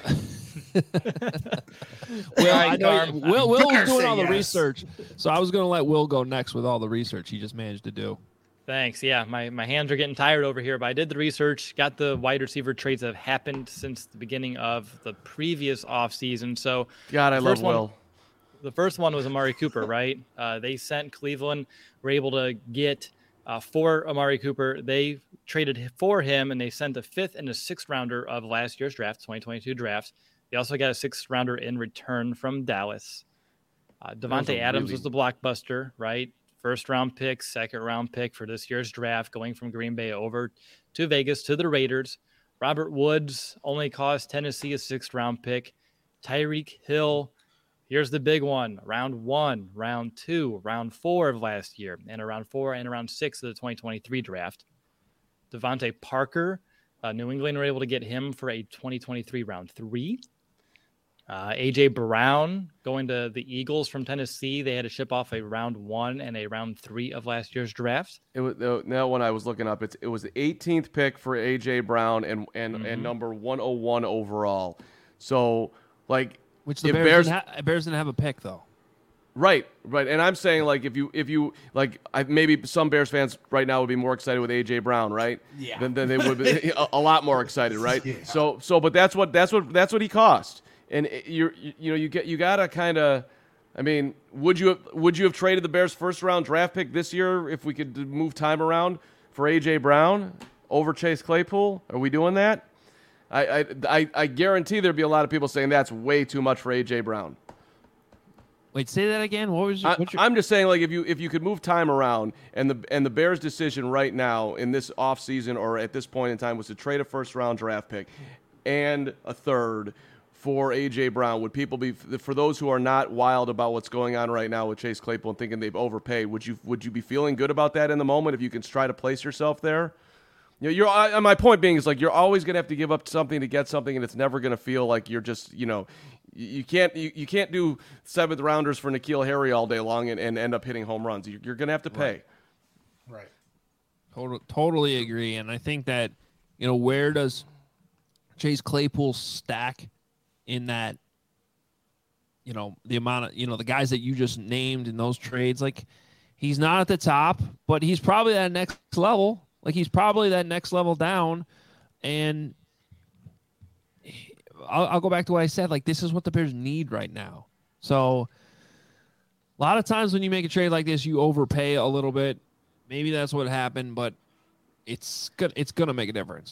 Speaker 1: well, I know Will, Will was doing all the yes. research, so I was going to let Will go next with all the research he just managed to do.
Speaker 3: Thanks. Yeah, my, my hands are getting tired over here, but I did the research, got the wide receiver trades that have happened since the beginning of the previous offseason. So,
Speaker 2: God, I love
Speaker 3: one,
Speaker 2: Will.
Speaker 3: The first one was Amari Cooper, right? Uh, they sent Cleveland, were able to get uh, for Amari Cooper. They traded for him, and they sent a fifth and a sixth rounder of last year's draft, twenty twenty-two draft. They also got a sixth rounder in return from Dallas. Uh, Devontae Adams really... was the blockbuster, right? First round pick, second round pick for this year's draft, going from Green Bay over to Vegas to the Raiders. Robert Woods only cost Tennessee a sixth round pick. Tyreek Hill, here's the big one. Round one, round two, round four of last year, and around four and around six of the twenty twenty-three draft. Devontae Parker, uh, New England were able to get him for a twenty twenty-three round three. Uh, A J Brown going to the Eagles from Tennessee. They had to ship off a round one and a round three of last year's draft.
Speaker 2: It was uh, now when I was looking up, it's it was the eighteenth pick for A J Brown and and, mm-hmm. and number one oh one overall. So like,
Speaker 1: which the Bears, Bears, didn't ha- Bears didn't have a pick though.
Speaker 2: Right, right, and I'm saying like if you if you like, I, maybe some Bears fans right now would be more excited with A J Brown, right?
Speaker 5: Yeah.
Speaker 2: Than, than they would be a, a lot more excited, right?
Speaker 5: Yeah.
Speaker 2: So so, but that's what that's what that's what he cost. And you're, you, you know, you get, you gotta kind of, I mean, would you, have, would you have traded the Bears' first round draft pick this year if we could move time around for A J Brown over Chase Claypool? Are we doing that? I, I, I, I guarantee there'd be a lot of people saying that's way too much for A J Brown.
Speaker 1: Wait, say that again. What was your,
Speaker 2: I,
Speaker 1: what's your...
Speaker 2: I'm just saying, like, if you if you could move time around, and the and the Bears' decision right now in this offseason or at this point in time was to trade a first round draft pick and a third for A J Brown, would people be, for those who are not wild about what's going on right now with Chase Claypool and thinking they've overpaid, would you would you be feeling good about that in the moment if you can try to place yourself there? You know, you're, I, my point being is, like, you're always going to have to give up something to get something, and it's never going to feel like you're just, you know, you, you can't you, you can't do seventh rounders for N'Keal Harry all day long and, and end up hitting home runs. You're, you're going to have to pay.
Speaker 5: Right. right.
Speaker 1: Total, totally agree. And I think that, you know, where does Chase Claypool stack in that, you know, the amount of, you know, the guys that you just named in those trades? Like, he's not at the top, but he's probably at next level. Like, he's probably that next level down, and I'll, I'll go back to what I said. Like, this is what the Bears need right now. So a lot of times when you make a trade like this, you overpay a little bit. Maybe that's what happened, but it's good. It's going to make a difference.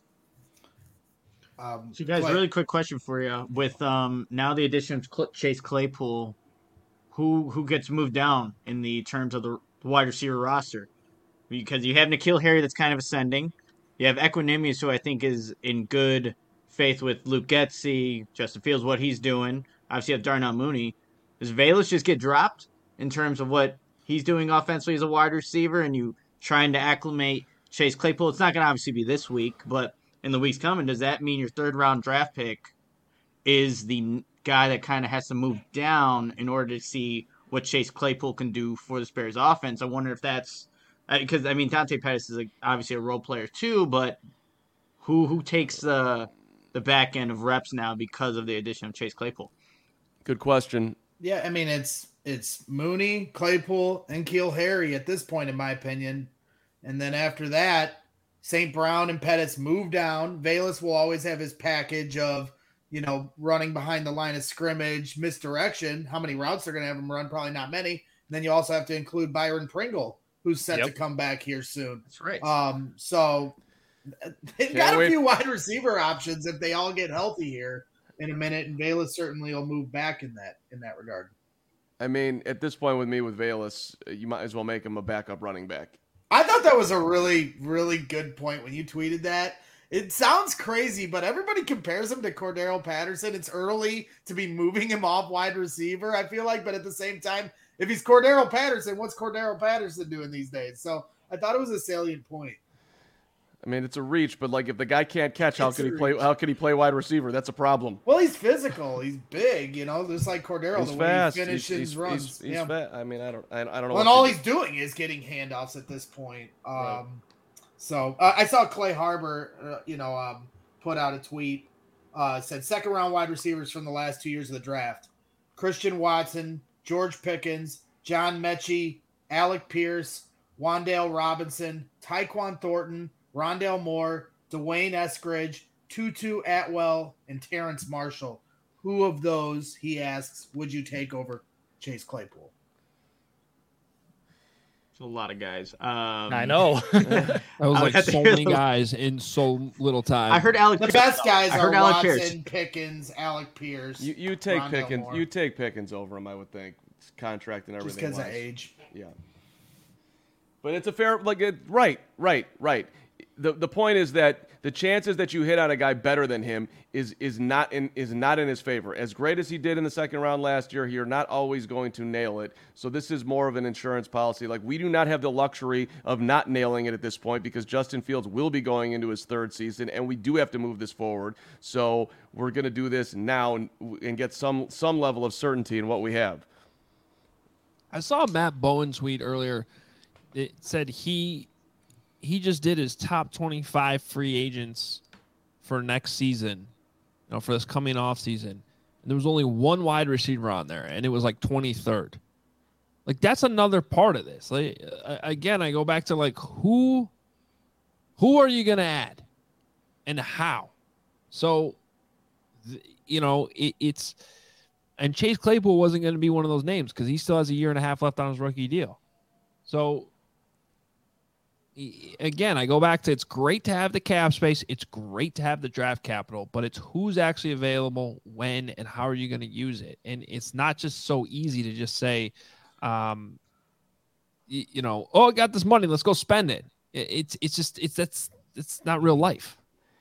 Speaker 5: Um,
Speaker 6: So, guys,
Speaker 5: Clay-
Speaker 6: really quick question for you. With um now the addition of Cl- Chase Claypool, who who gets moved down in the terms of the wide receiver roster? Because you have N'Keal Harry that's kind of ascending. You have Equinemius, who I think is in good faith with Luke Getsy, Justin Fields, what he's doing. Obviously, you have Darnell Mooney. Does Velus just get dropped in terms of what he's doing offensively as a wide receiver, and you trying to acclimate Chase Claypool? It's not going to obviously be this week, but in the weeks coming, does that mean your third round draft pick is the guy that kind of has to move down in order to see what Chase Claypool can do for the Bears offense? I wonder if that's because, I mean, Dante Pettis is a, obviously a role player too, but who who takes the the back end of reps now because of the addition of Chase Claypool?
Speaker 2: Good question.
Speaker 5: Yeah, I mean, it's it's Mooney, Claypool, and N'Keal Harry at this point, in my opinion. And then after that, Saint Brown and Pettis move down. Velus will always have his package of, you know, running behind the line of scrimmage, misdirection. How many routes they're going to have him run? Probably not many. And then you also have to include Byron Pringle, who's set
Speaker 3: Yep.
Speaker 5: to come back here soon.
Speaker 6: That's right.
Speaker 5: Um, so they've
Speaker 2: Can't
Speaker 5: got a
Speaker 2: wait.
Speaker 5: few wide receiver options if they all get healthy here in a minute, and Velus certainly will move back in that in that regard.
Speaker 2: I mean, at this point with me with Velus, you might as well make him a backup running back.
Speaker 5: I thought that was a really, really good point when you tweeted that. It sounds crazy, but everybody compares him to Cordero Patterson. It's early to be moving him off wide receiver, I feel like, but at the same time, if he's Cordero Patterson, what's Cordero Patterson doing these days? So I thought it was a salient point.
Speaker 2: I mean, it's a reach, but like if the guy can't catch, how
Speaker 5: It's
Speaker 2: can
Speaker 5: a
Speaker 2: he play?
Speaker 5: reach.
Speaker 2: How can he play wide receiver? That's a problem.
Speaker 5: Well, he's physical. He's big, you know, just like Cordero,
Speaker 2: He's
Speaker 5: the
Speaker 2: fast.
Speaker 5: way he finishes
Speaker 2: he's, he's,
Speaker 5: runs.
Speaker 2: He's, he's
Speaker 5: yeah.
Speaker 2: fat. I mean, I don't. I, I don't know.
Speaker 5: Well, and
Speaker 2: what
Speaker 5: all
Speaker 2: to
Speaker 5: he's doing is getting handoffs at this point. Um,
Speaker 2: Right.
Speaker 5: So uh, I saw Clay Harbor, uh, you know, um, put out a tweet, uh, said second round wide receivers from the last two years of the draft: Christian Watson, George Pickens, John Mechie, Alec Pierce, Wandale Robinson, Tyquan Thornton, Rondale Moore, Dwayne Eskridge, Tutu Atwell, and Terrence Marshall. Who of those, he asks, would you take over Chase Claypool?
Speaker 6: It's a lot of guys. Um,
Speaker 3: I know.
Speaker 1: That was
Speaker 6: I
Speaker 1: like
Speaker 6: had to
Speaker 1: so
Speaker 6: hear
Speaker 1: many
Speaker 6: the-
Speaker 1: guys in so little time.
Speaker 6: I heard Alec.
Speaker 5: The
Speaker 6: Pierce-
Speaker 5: best guys
Speaker 6: I
Speaker 5: are
Speaker 6: heard Alec
Speaker 5: Watson,
Speaker 6: Pierce.
Speaker 5: Pickens, Alec Pierce.
Speaker 2: You you take
Speaker 5: Rondale
Speaker 2: Pickens.
Speaker 5: Moore.
Speaker 2: You take Pickens over him, I would think. It's contract and
Speaker 5: just
Speaker 2: everything.
Speaker 5: because of
Speaker 2: wise.
Speaker 5: age.
Speaker 2: Yeah. But it's a fair like it, right, right, right. The the point is that the chances that you hit on a guy better than him is is not in is not in his favor. As great as he did in the second round last year, you're not always going to nail it. So this is more of an insurance policy. Like we do not have the luxury of not nailing it at this point because Justin Fields will be going into his third season, and we do have to move this forward. So we're going to do this now and, and get some some level of certainty in what we have.
Speaker 1: I saw Matt Bowen tweet earlier. It said he he just did his top twenty-five free agents for next season, you know, for this coming off season. And there was only one wide receiver on there, and it was like twenty-third. Like that's another part of this. Like uh, again, I go back to like who who are you going to add and how? So th- you know, it, it's and Chase Claypool wasn't going to be one of those names because he still has a year and a half left on his rookie deal. So again, I go back to it's great to have the cap space. It's great to have the draft capital, but it's who's actually available, when, and how are you going to use it? And it's not just so easy to just say, um, you, you know, oh, I got this money, let's go spend it. it it's it's just it's that's it's not real life.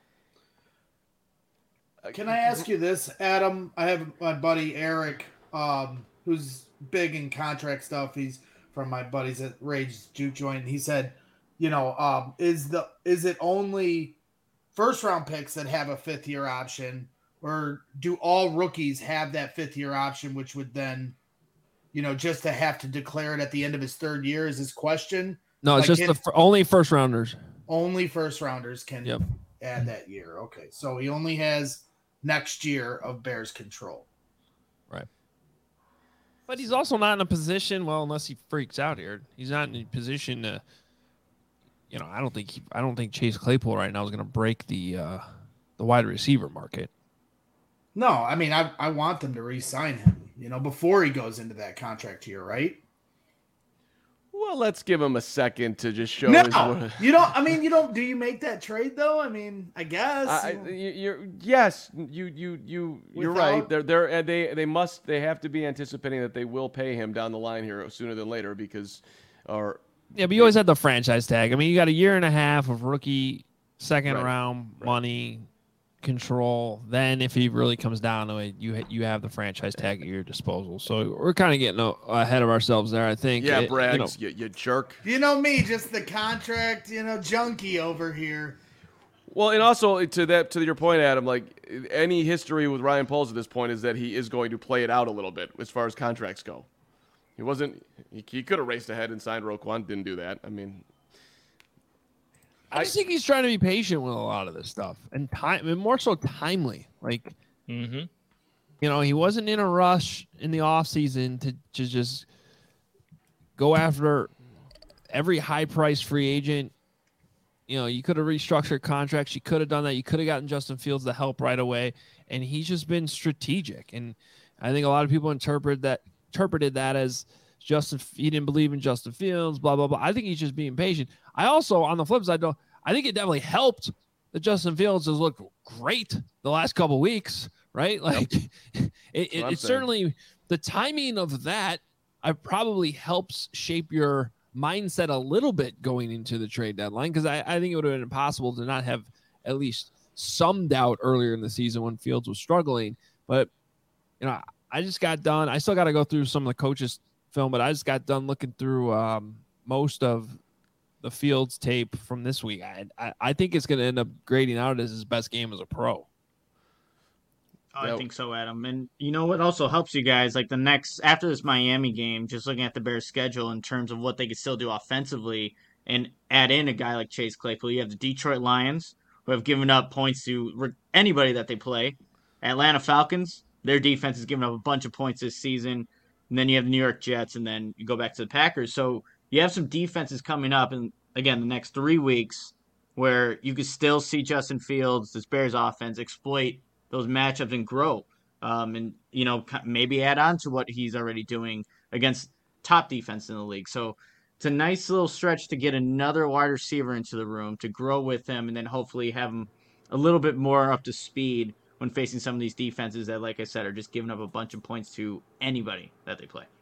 Speaker 5: Can I ask you this, Adam? I have my buddy Eric, um, who's big in contract stuff. He's from my buddies at Rage Juke Joint. He said, you know, um, is the is it only first round picks that have a fifth year option, or do all rookies have that fifth year option, which would then, you know, just to have to declare it at the end of his third year is his question?
Speaker 1: No, it's
Speaker 5: Like,
Speaker 1: just
Speaker 5: can,
Speaker 1: the f- only first rounders.
Speaker 5: Only first rounders can
Speaker 1: Yep.
Speaker 5: add that year. Okay, so he only has next year of Bears control.
Speaker 1: Right. But he's also not in a position, well, unless he freaks out here, he's not in a position to, you know, I don't think he, I don't think Chase Claypool right now is going to break the uh, the wide receiver market.
Speaker 5: No, I mean, I I want them to re-sign him, you know, before he goes into that contract year, right?
Speaker 2: Well, let's give him a second to just show
Speaker 5: No,
Speaker 2: his.
Speaker 5: you don't. I mean, you don't. Do you make that trade though? I mean, I guess.
Speaker 2: I, I- you, you're yes, you you you you're
Speaker 5: Without-
Speaker 2: right. They're they're uh, they they must they have to be anticipating that they will pay him down the line here sooner than later because, or
Speaker 1: Yeah, but you always had the franchise tag. I mean, you got a year and a half of rookie second
Speaker 2: Right.
Speaker 1: round
Speaker 2: Right.
Speaker 1: money control. Then, if he really comes down to it, you ha- you have the franchise tag at your disposal. So we're kind of getting a- ahead of ourselves there. I think.
Speaker 2: yeah,
Speaker 1: It-
Speaker 2: Braggs,
Speaker 1: you know,
Speaker 2: you, you jerk.
Speaker 5: You know me, just the contract, you know, junkie over here.
Speaker 2: Well, and also to that to your point, Adam, like any history with Ryan Poles at this point is that he is going to play it out a little bit as far as contracts go. He wasn't. He, he could have raced ahead and signed Roquan. Didn't do that. I mean,
Speaker 1: I just think he's trying to be patient with a lot of this stuff and time, and more so timely. Like,
Speaker 3: Mm-hmm.
Speaker 1: you know, he wasn't in a rush in the offseason to, to just go after every high-priced free agent. You know, you could have restructured contracts. You could have done that. You could have gotten Justin Fields the help right away. And he's just been strategic. And I think a lot of people interpret that interpreted that as Justin, he didn't believe in Justin Fields, blah, blah, blah. I think he's just being patient. I also, on the flip side, though, I think it definitely helped that Justin Fields has looked great the last couple of weeks, right? Like, it, it,
Speaker 2: what I'm
Speaker 1: it
Speaker 2: saying.
Speaker 1: certainly, the timing of that I probably helps shape your mindset a little bit going into the trade deadline, because I, I think it would have been impossible to not have at least some doubt earlier in the season when Fields was struggling. But, you know, I just got done. I still got to go through some of the coaches' film, but I just got done looking through um, most of the Fields tape from this week. I I, I think it's going to end up grading out as his best game as a pro.
Speaker 6: I
Speaker 2: Yep.
Speaker 6: think so, Adam. And you know what also helps you guys, like the next after this Miami game, just looking at the Bears' schedule in terms of what they could still do offensively, and add in a guy like Chase Claypool. You have the Detroit Lions, who have given up points to re- anybody that they play. Atlanta Falcons, their defense has given up a bunch of points this season. And then you have the New York Jets, and then you go back to the Packers. So you have some defenses coming up, and again, the next three weeks, where you could still see Justin Fields, this Bears offense, exploit those matchups and grow, um, and you know maybe add on to what he's already doing against top defense in the league. So it's a nice little stretch to get another wide receiver into the room to grow with him, and then hopefully have him a little bit more up to speed when facing some of these defenses that, like I said, are just giving up a bunch of points to anybody that they play.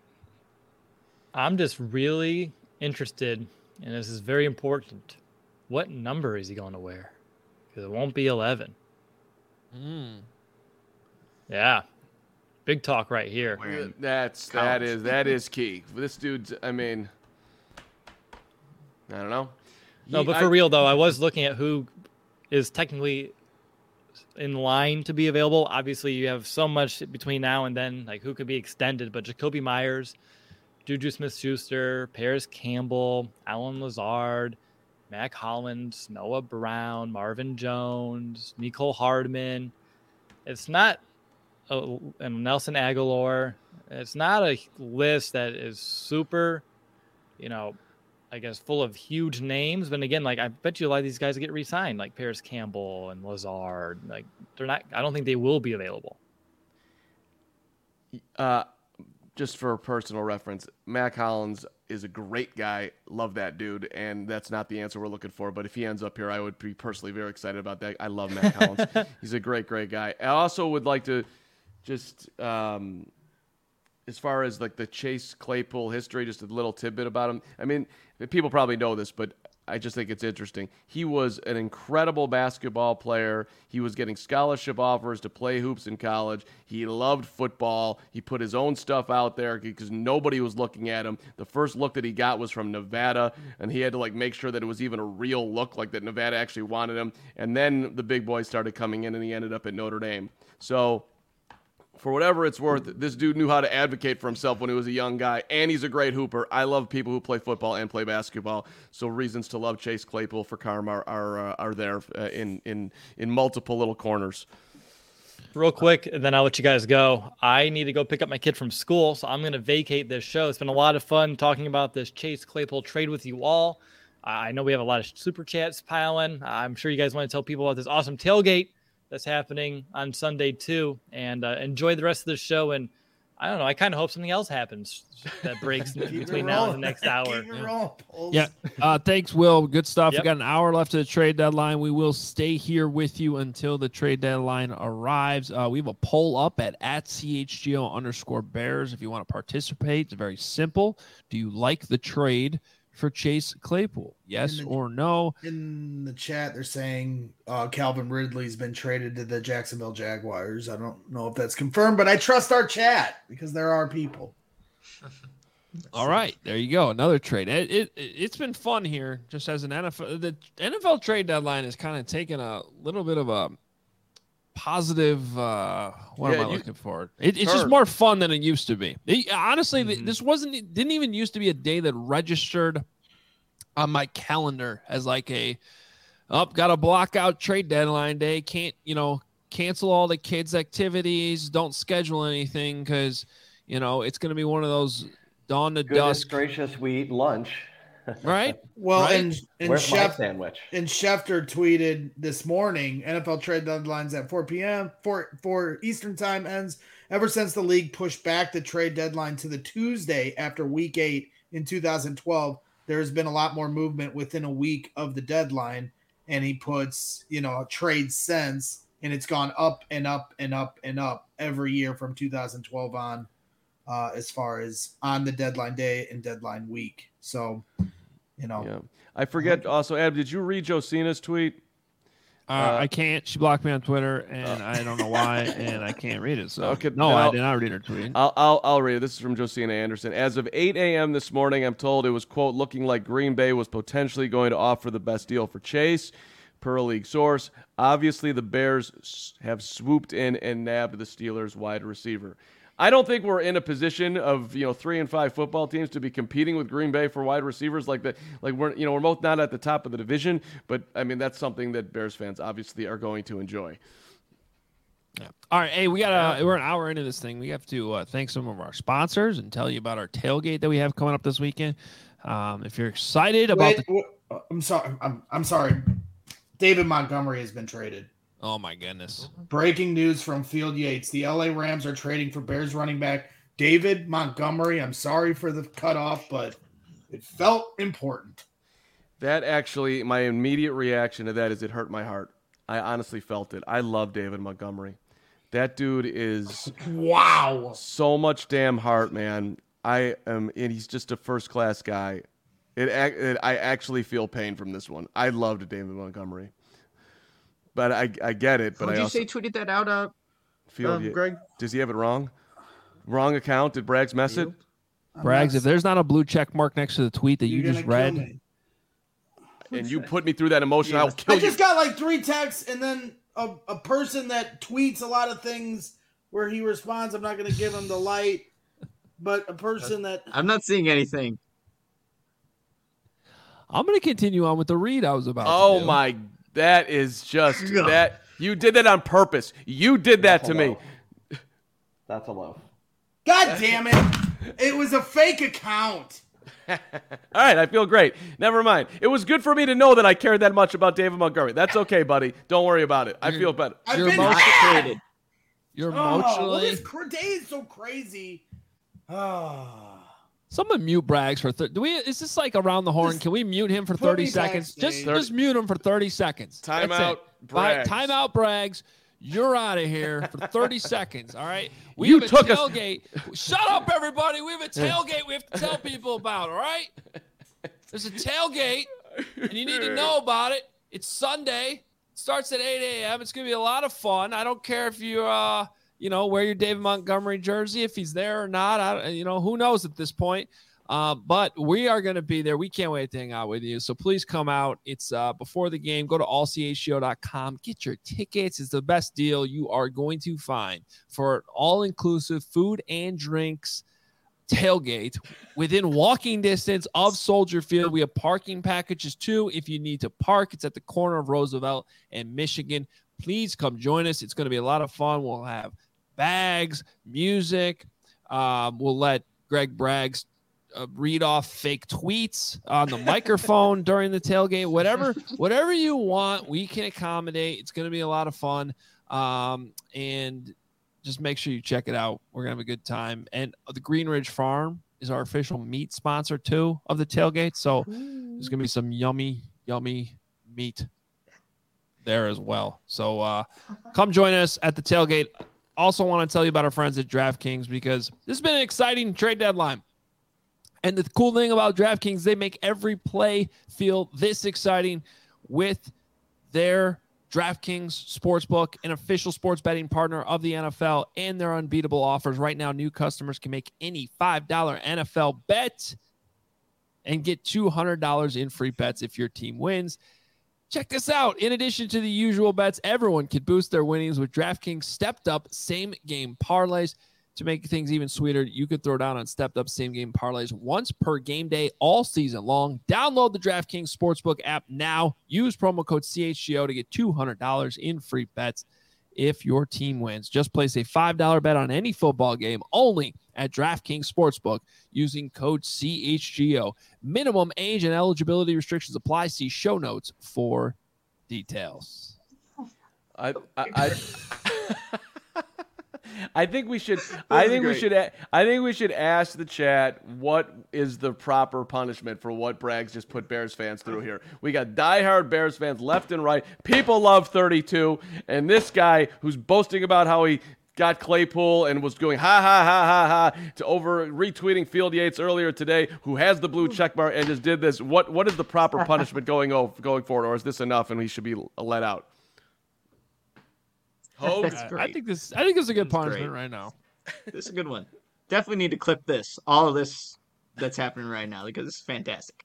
Speaker 3: I'm just really interested, and this is very important. What number is he going to wear? Because it won't be eleven.
Speaker 1: Mm.
Speaker 3: Yeah, big talk right here.
Speaker 6: Wearing
Speaker 2: that's that
Speaker 6: college.
Speaker 2: is that is key. This dude's. I mean, I don't know.
Speaker 3: No,
Speaker 2: He-
Speaker 3: but
Speaker 2: I-
Speaker 3: for real though, I was looking at who is technically in line to be available. Obviously, you have so much between now and then, like who could be extended. But Jacoby Myers, Juju Smith-Schuster, Paris Campbell, Alan Lazard, Mac Hollins, Noah Brown, Marvin Jones, Nicole Hardman. It's not a, and Nelson Aguilar. It's not a list that is super, you know, I guess full of huge names. But again, like I bet you a lot of these guys get re-signed, like Paris Campbell and Lazard. Like they're not. I don't think they will be available.
Speaker 2: Uh, just for personal reference, Mac Hollins is a great guy. Love that dude, and that's not the answer we're looking for. But if he ends up here, I would be personally very excited about that. I love Mac Hollins. He's a great, great guy. I also would like to just, um, as far as like the Chase Claypool history, just a little tidbit about him. I mean, people probably know this, but I just think it's interesting. He was an incredible basketball player. He was getting scholarship offers to play hoops in college. He loved football. He put his own stuff out there because nobody was looking at him. The first look that he got was from Nevada, and he had to like make sure that it was even a real look, like that Nevada actually wanted him. And then the big boys started coming in, and he ended up at Notre Dame. So for whatever it's worth, this dude knew how to advocate for himself when he was a young guy, and he's a great hooper. I love people who play football and play basketball, so reasons to love Chase Claypool for Carm are are, uh, are there uh, in in in multiple little corners.
Speaker 3: Real quick, and then I'll let you guys go. I need to go pick up my kid from school, so I'm going to vacate this show. It's been a lot of fun talking about this Chase Claypool trade with you all. I know we have a lot of super chats piling. I'm sure you guys want to tell people about this awesome tailgate that's happening on Sunday too, and uh, enjoy the rest of the show. And I don't know, I kind of hope something else happens that breaks between now and the next hour.
Speaker 5: Keep it rolling, Poles.
Speaker 1: Yeah. Uh, thanks, Will. Good stuff.
Speaker 3: Yep.
Speaker 1: We got an hour left of the trade deadline. We will stay here with you until the trade deadline arrives. Uh, we have a poll up at, at C H G O underscore Bears. If you want to participate, it's very simple. Do you like the trade for Chase Claypool? Yes
Speaker 5: the,
Speaker 1: or no?
Speaker 5: In the chat, they're saying uh, Calvin Ridley's been traded to the Jacksonville Jaguars. I don't know if that's confirmed, but I trust our chat because there are people.
Speaker 1: All right, there you go. Another trade. It, it, it's been fun here just as an N F L. The N F L trade deadline is kind of taking a little bit of a positive, uh, what
Speaker 2: Yeah,
Speaker 1: am I
Speaker 2: you-
Speaker 1: looking for? It, it's just
Speaker 2: Turn.
Speaker 1: more fun than it used to be. It- honestly, th-
Speaker 3: Mhm.
Speaker 1: this wasn't, it didn't even used to be a day that registered on my calendar as like a, oh, got to block out trade deadline day. Can't, you know, cancel all the kids' activities. Don't schedule anything because, you know, it's going to be one of those dawn to
Speaker 4: Goodness
Speaker 1: dusk,
Speaker 4: gracious, we eat lunch.
Speaker 1: right?
Speaker 5: Well,
Speaker 1: Right?
Speaker 5: and and
Speaker 4: Where's my
Speaker 5: Chef
Speaker 4: sandwich?
Speaker 5: and Schefter tweeted this morning, N F L trade deadlines at four p.m. four four Eastern time ends. Ever since the league pushed back the trade deadline to the Tuesday after week eight in two thousand twelve, there has been a lot more movement within a week of the deadline. And he puts, you know, trade sense, and it's gone up and up and up and up every year from two thousand twelve on, uh, as far as on the deadline day and deadline week. So, you know,
Speaker 2: Yeah, I forget. Also, Adam, did you read Josina's tweet?
Speaker 1: Uh,
Speaker 2: Uh,
Speaker 1: I can't. She blocked me on Twitter, and I don't know why, and I can't read it. So
Speaker 2: Okay,
Speaker 1: no,
Speaker 2: then
Speaker 1: I
Speaker 2: I'll-
Speaker 1: did not read her tweet.
Speaker 2: I'll, I'll I'll read it. This is from Josina Anderson. As of eight a.m. this morning, I'm told it was, quote, looking like Green Bay was potentially going to offer the best deal for Chase, per a league source. Obviously, the Bears s- have swooped in and nabbed the Steelers' wide receiver. I don't think we're in a position of, you know, three and five football teams to be competing with Green Bay for wide receivers like that. Like we're, you know, we're both not at the top of the division, but I mean, that's something that Bears fans obviously are going to enjoy.
Speaker 1: Yeah. All right, hey, we got a, we're an hour into this thing. We have to uh, thank some of our sponsors and tell you about our tailgate that we have coming up this weekend. Um, if you're excited about
Speaker 5: Wait,
Speaker 1: the,
Speaker 5: wait, uh, I'm sorry. I'm I'm sorry. David Montgomery has been traded.
Speaker 1: oh my goodness,
Speaker 5: Breaking news from Field Yates: the L A Rams are trading for Bears running back David Montgomery. I'm sorry for the cutoff, but it felt important.
Speaker 2: That actually, my immediate reaction to that is it hurt my heart. I honestly felt it. I love David Montgomery. That dude is
Speaker 5: Wow.
Speaker 2: so much damn heart, man. I am, and he's just a first class guy. It, ac- it, I actually feel pain from this one. I loved David Montgomery, but I, I get it. But
Speaker 6: Who'd
Speaker 2: I
Speaker 6: you
Speaker 2: also
Speaker 6: say tweeted that out, uh,
Speaker 2: feel.
Speaker 6: uh, Greg?
Speaker 2: Does he have it wrong? Wrong account? Did Braggs mess it?
Speaker 5: I'm
Speaker 1: Braggs,
Speaker 5: not-
Speaker 1: if there's not a blue check mark next to the tweet that you
Speaker 5: you're
Speaker 1: just
Speaker 5: gonna kill
Speaker 1: read,
Speaker 5: me.
Speaker 2: And you put me through that emotion. I'll
Speaker 6: Yes.
Speaker 2: kill
Speaker 5: I
Speaker 2: you.
Speaker 5: just got like three texts, and then a, a person that tweets a lot of things where he responds. I'm not going to give him the light, but a person that
Speaker 6: I'm not seeing anything.
Speaker 1: I'm going to continue on with the read I was about.
Speaker 2: Oh
Speaker 1: to do.
Speaker 2: my, that is just
Speaker 6: Ugh.
Speaker 2: that. You did that on purpose. You did that
Speaker 4: That's
Speaker 2: to
Speaker 4: a
Speaker 2: me.
Speaker 4: low. That's a low.
Speaker 5: God damn it, it was a fake account.
Speaker 2: All right, I feel great. Never mind. It was good for me to know that I cared that much about David Montgomery. That's okay, buddy. Don't worry about it. I feel better.
Speaker 5: I've
Speaker 1: You're
Speaker 5: been
Speaker 1: emotional-
Speaker 5: mad.
Speaker 6: Traded.
Speaker 1: You're
Speaker 5: Oh, well,
Speaker 1: emotionally.
Speaker 5: this cr- day is so crazy. Oh.
Speaker 1: Someone mute Braggs for thirty. Do we? Is this like around the horn?
Speaker 5: Just
Speaker 1: Can we mute him for
Speaker 5: put
Speaker 1: thirty
Speaker 5: me
Speaker 1: seconds?
Speaker 5: backstage.
Speaker 1: Just, just mute him for thirty seconds.
Speaker 2: Time
Speaker 1: That's
Speaker 2: out,
Speaker 1: it.
Speaker 2: Braggs.
Speaker 1: Time out, Braggs. You're out of here for thirty seconds. All right. We
Speaker 2: You
Speaker 1: have a
Speaker 2: took us-
Speaker 1: tailgate. Shut up, everybody. We have a tailgate. We have to tell people about. All right. There's a tailgate, and you need to know about it. It's Sunday. It starts at eight a.m. It's gonna be a lot of fun. I don't care if you, uh, you know, wear your David Montgomery jersey, if he's there or not. I, you know, who knows at this point. Uh, but we are going to be there. We can't wait to hang out with you. So please come out. It's uh, before the game. Go to all c h g o dot com. Get your tickets. It's the best deal you are going to find for all-inclusive food and drinks tailgate within walking distance of Soldier Field. We have parking packages too. If you need to park, it's at the corner of Roosevelt and Michigan. Please come join us. It's going to be a lot of fun. We'll have bags, music. Um, we'll let Greg Braggs Uh, read off fake tweets on the microphone during the tailgate. Whatever, whatever you want, we can accommodate. It's going to be a lot of fun, um, and just make sure you check it out. We're gonna have a good time. And the Green Ridge Farm is our official meat sponsor too of the tailgate. So there's gonna be some yummy, yummy meat there as well. So uh, come join us at the tailgate. Also, want to tell you about our friends at DraftKings because this has been an exciting trade deadline. And the cool thing about DraftKings, they make every play feel this exciting with their DraftKings Sportsbook, an official sports betting partner of the N F L, and their unbeatable offers. Right now, new customers can make any five dollar N F L bet and get two hundred dollars in free bets if your team wins. Check this out. In addition to the usual bets, everyone can boost their winnings with DraftKings stepped up same game parlays. To make things even sweeter, you could throw down on stepped up same game parlays once per game day all season long. Download the DraftKings Sportsbook app now. Use promo code C H G O to get two hundred dollars in free bets if your team wins. Just place a five dollar bet on any football game only at DraftKings Sportsbook using code C H G O. Minimum age and eligibility restrictions apply. See show notes for details.
Speaker 2: I I, I I think we should. I think we should. I think we should ask the chat what is the proper punishment for what Braggs just put Bears fans through here. We got diehard Bears fans left and right. People love thirty-two, and this guy who's boasting about how he got Claypool and was going ha ha ha ha ha to over retweeting Field Yates earlier today, who has the blue check mark and just did this. What what is the proper punishment going over, going forward, or is this enough and he should be let out?
Speaker 3: Oh,
Speaker 1: I, I think this. I think this is a good
Speaker 6: That's
Speaker 1: punishment
Speaker 6: great.
Speaker 1: right now.
Speaker 6: This is a good one. Definitely need to clip this. All of this that's happening right now because it's fantastic.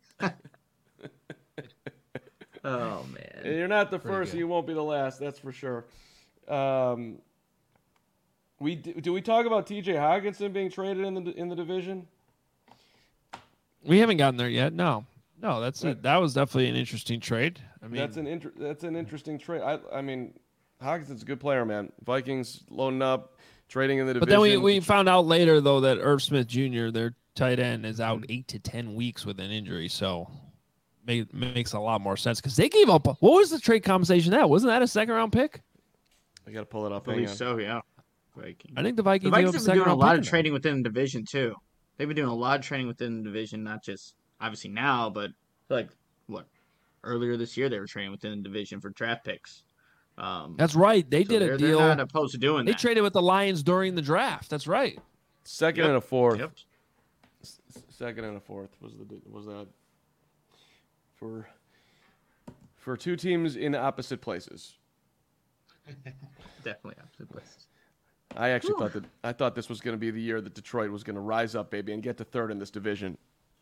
Speaker 6: Oh man.
Speaker 2: And you're not the
Speaker 1: Pretty
Speaker 2: first,
Speaker 1: good.
Speaker 2: and you won't be the last. That's for sure. Um, we do we talk about T J Hawkinson being traded in the in the division?
Speaker 1: We haven't gotten there yet. No, no. That's a, that was definitely an interesting trade. I mean,
Speaker 2: that's an inter- that's an interesting trade. I I mean, Hawkinson's a good player, man. Vikings loading up, trading in the
Speaker 1: but
Speaker 2: division.
Speaker 1: then we, we found out later though that Irv Smith Junior, their tight end, is out eight to ten weeks with an injury. So make, makes a lot more sense because they gave up. What was the trade compensation? That wasn't that a second round pick?
Speaker 2: I got to pull it up.
Speaker 6: I
Speaker 2: Hang
Speaker 6: believe
Speaker 2: on.
Speaker 6: so, yeah. Vikings.
Speaker 1: I think the
Speaker 6: The
Speaker 1: Vikings,
Speaker 6: Vikings
Speaker 1: gave up
Speaker 6: have been doing a
Speaker 1: second-round
Speaker 6: lot
Speaker 1: pick
Speaker 6: of
Speaker 1: in that.
Speaker 6: trading within the division too. They've been doing a lot of trading within the division, not just obviously now, but like what earlier this year they were trading within the division for draft picks. Um,
Speaker 1: That's right. They
Speaker 6: so
Speaker 1: did a
Speaker 6: they're,
Speaker 1: deal.
Speaker 6: They're not opposed to doing
Speaker 1: They
Speaker 6: that.
Speaker 1: traded with the Lions during the draft. That's right.
Speaker 2: Second
Speaker 6: Yep.
Speaker 2: and a fourth.
Speaker 6: Yep.
Speaker 2: S- Second and a fourth was the was that for for two teams in opposite places.
Speaker 6: Definitely opposite places.
Speaker 2: I actually thought that I thought this was going to be the year that Detroit was going to rise up, baby, and get to third in this division.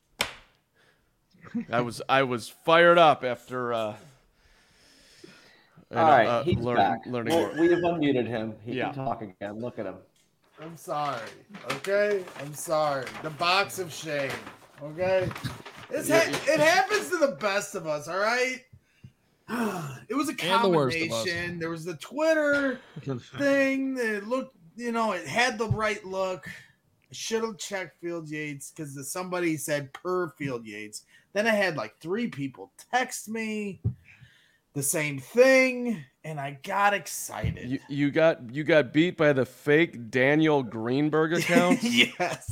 Speaker 2: I was I was fired up after. Uh, and,
Speaker 4: All right,
Speaker 2: uh,
Speaker 4: he's
Speaker 2: learn-
Speaker 4: back.
Speaker 2: learning
Speaker 4: Well,
Speaker 2: more.
Speaker 4: we have unmuted him. He
Speaker 2: Yeah.
Speaker 4: can talk again. Look at him.
Speaker 5: I'm sorry. Okay? I'm sorry. The box of shame. Okay? It's ha- it happens to the best of us, all right? It was a
Speaker 1: And the worst of us.
Speaker 5: combination. There was the Twitter thing that looked, you know, it had the right look. I should have checked Field Yates because somebody said per Field Yates. Then I had like three people text me the same thing, and I got excited.
Speaker 2: You, you got you got beat by the fake Daniel Greenberg account.
Speaker 5: Yes.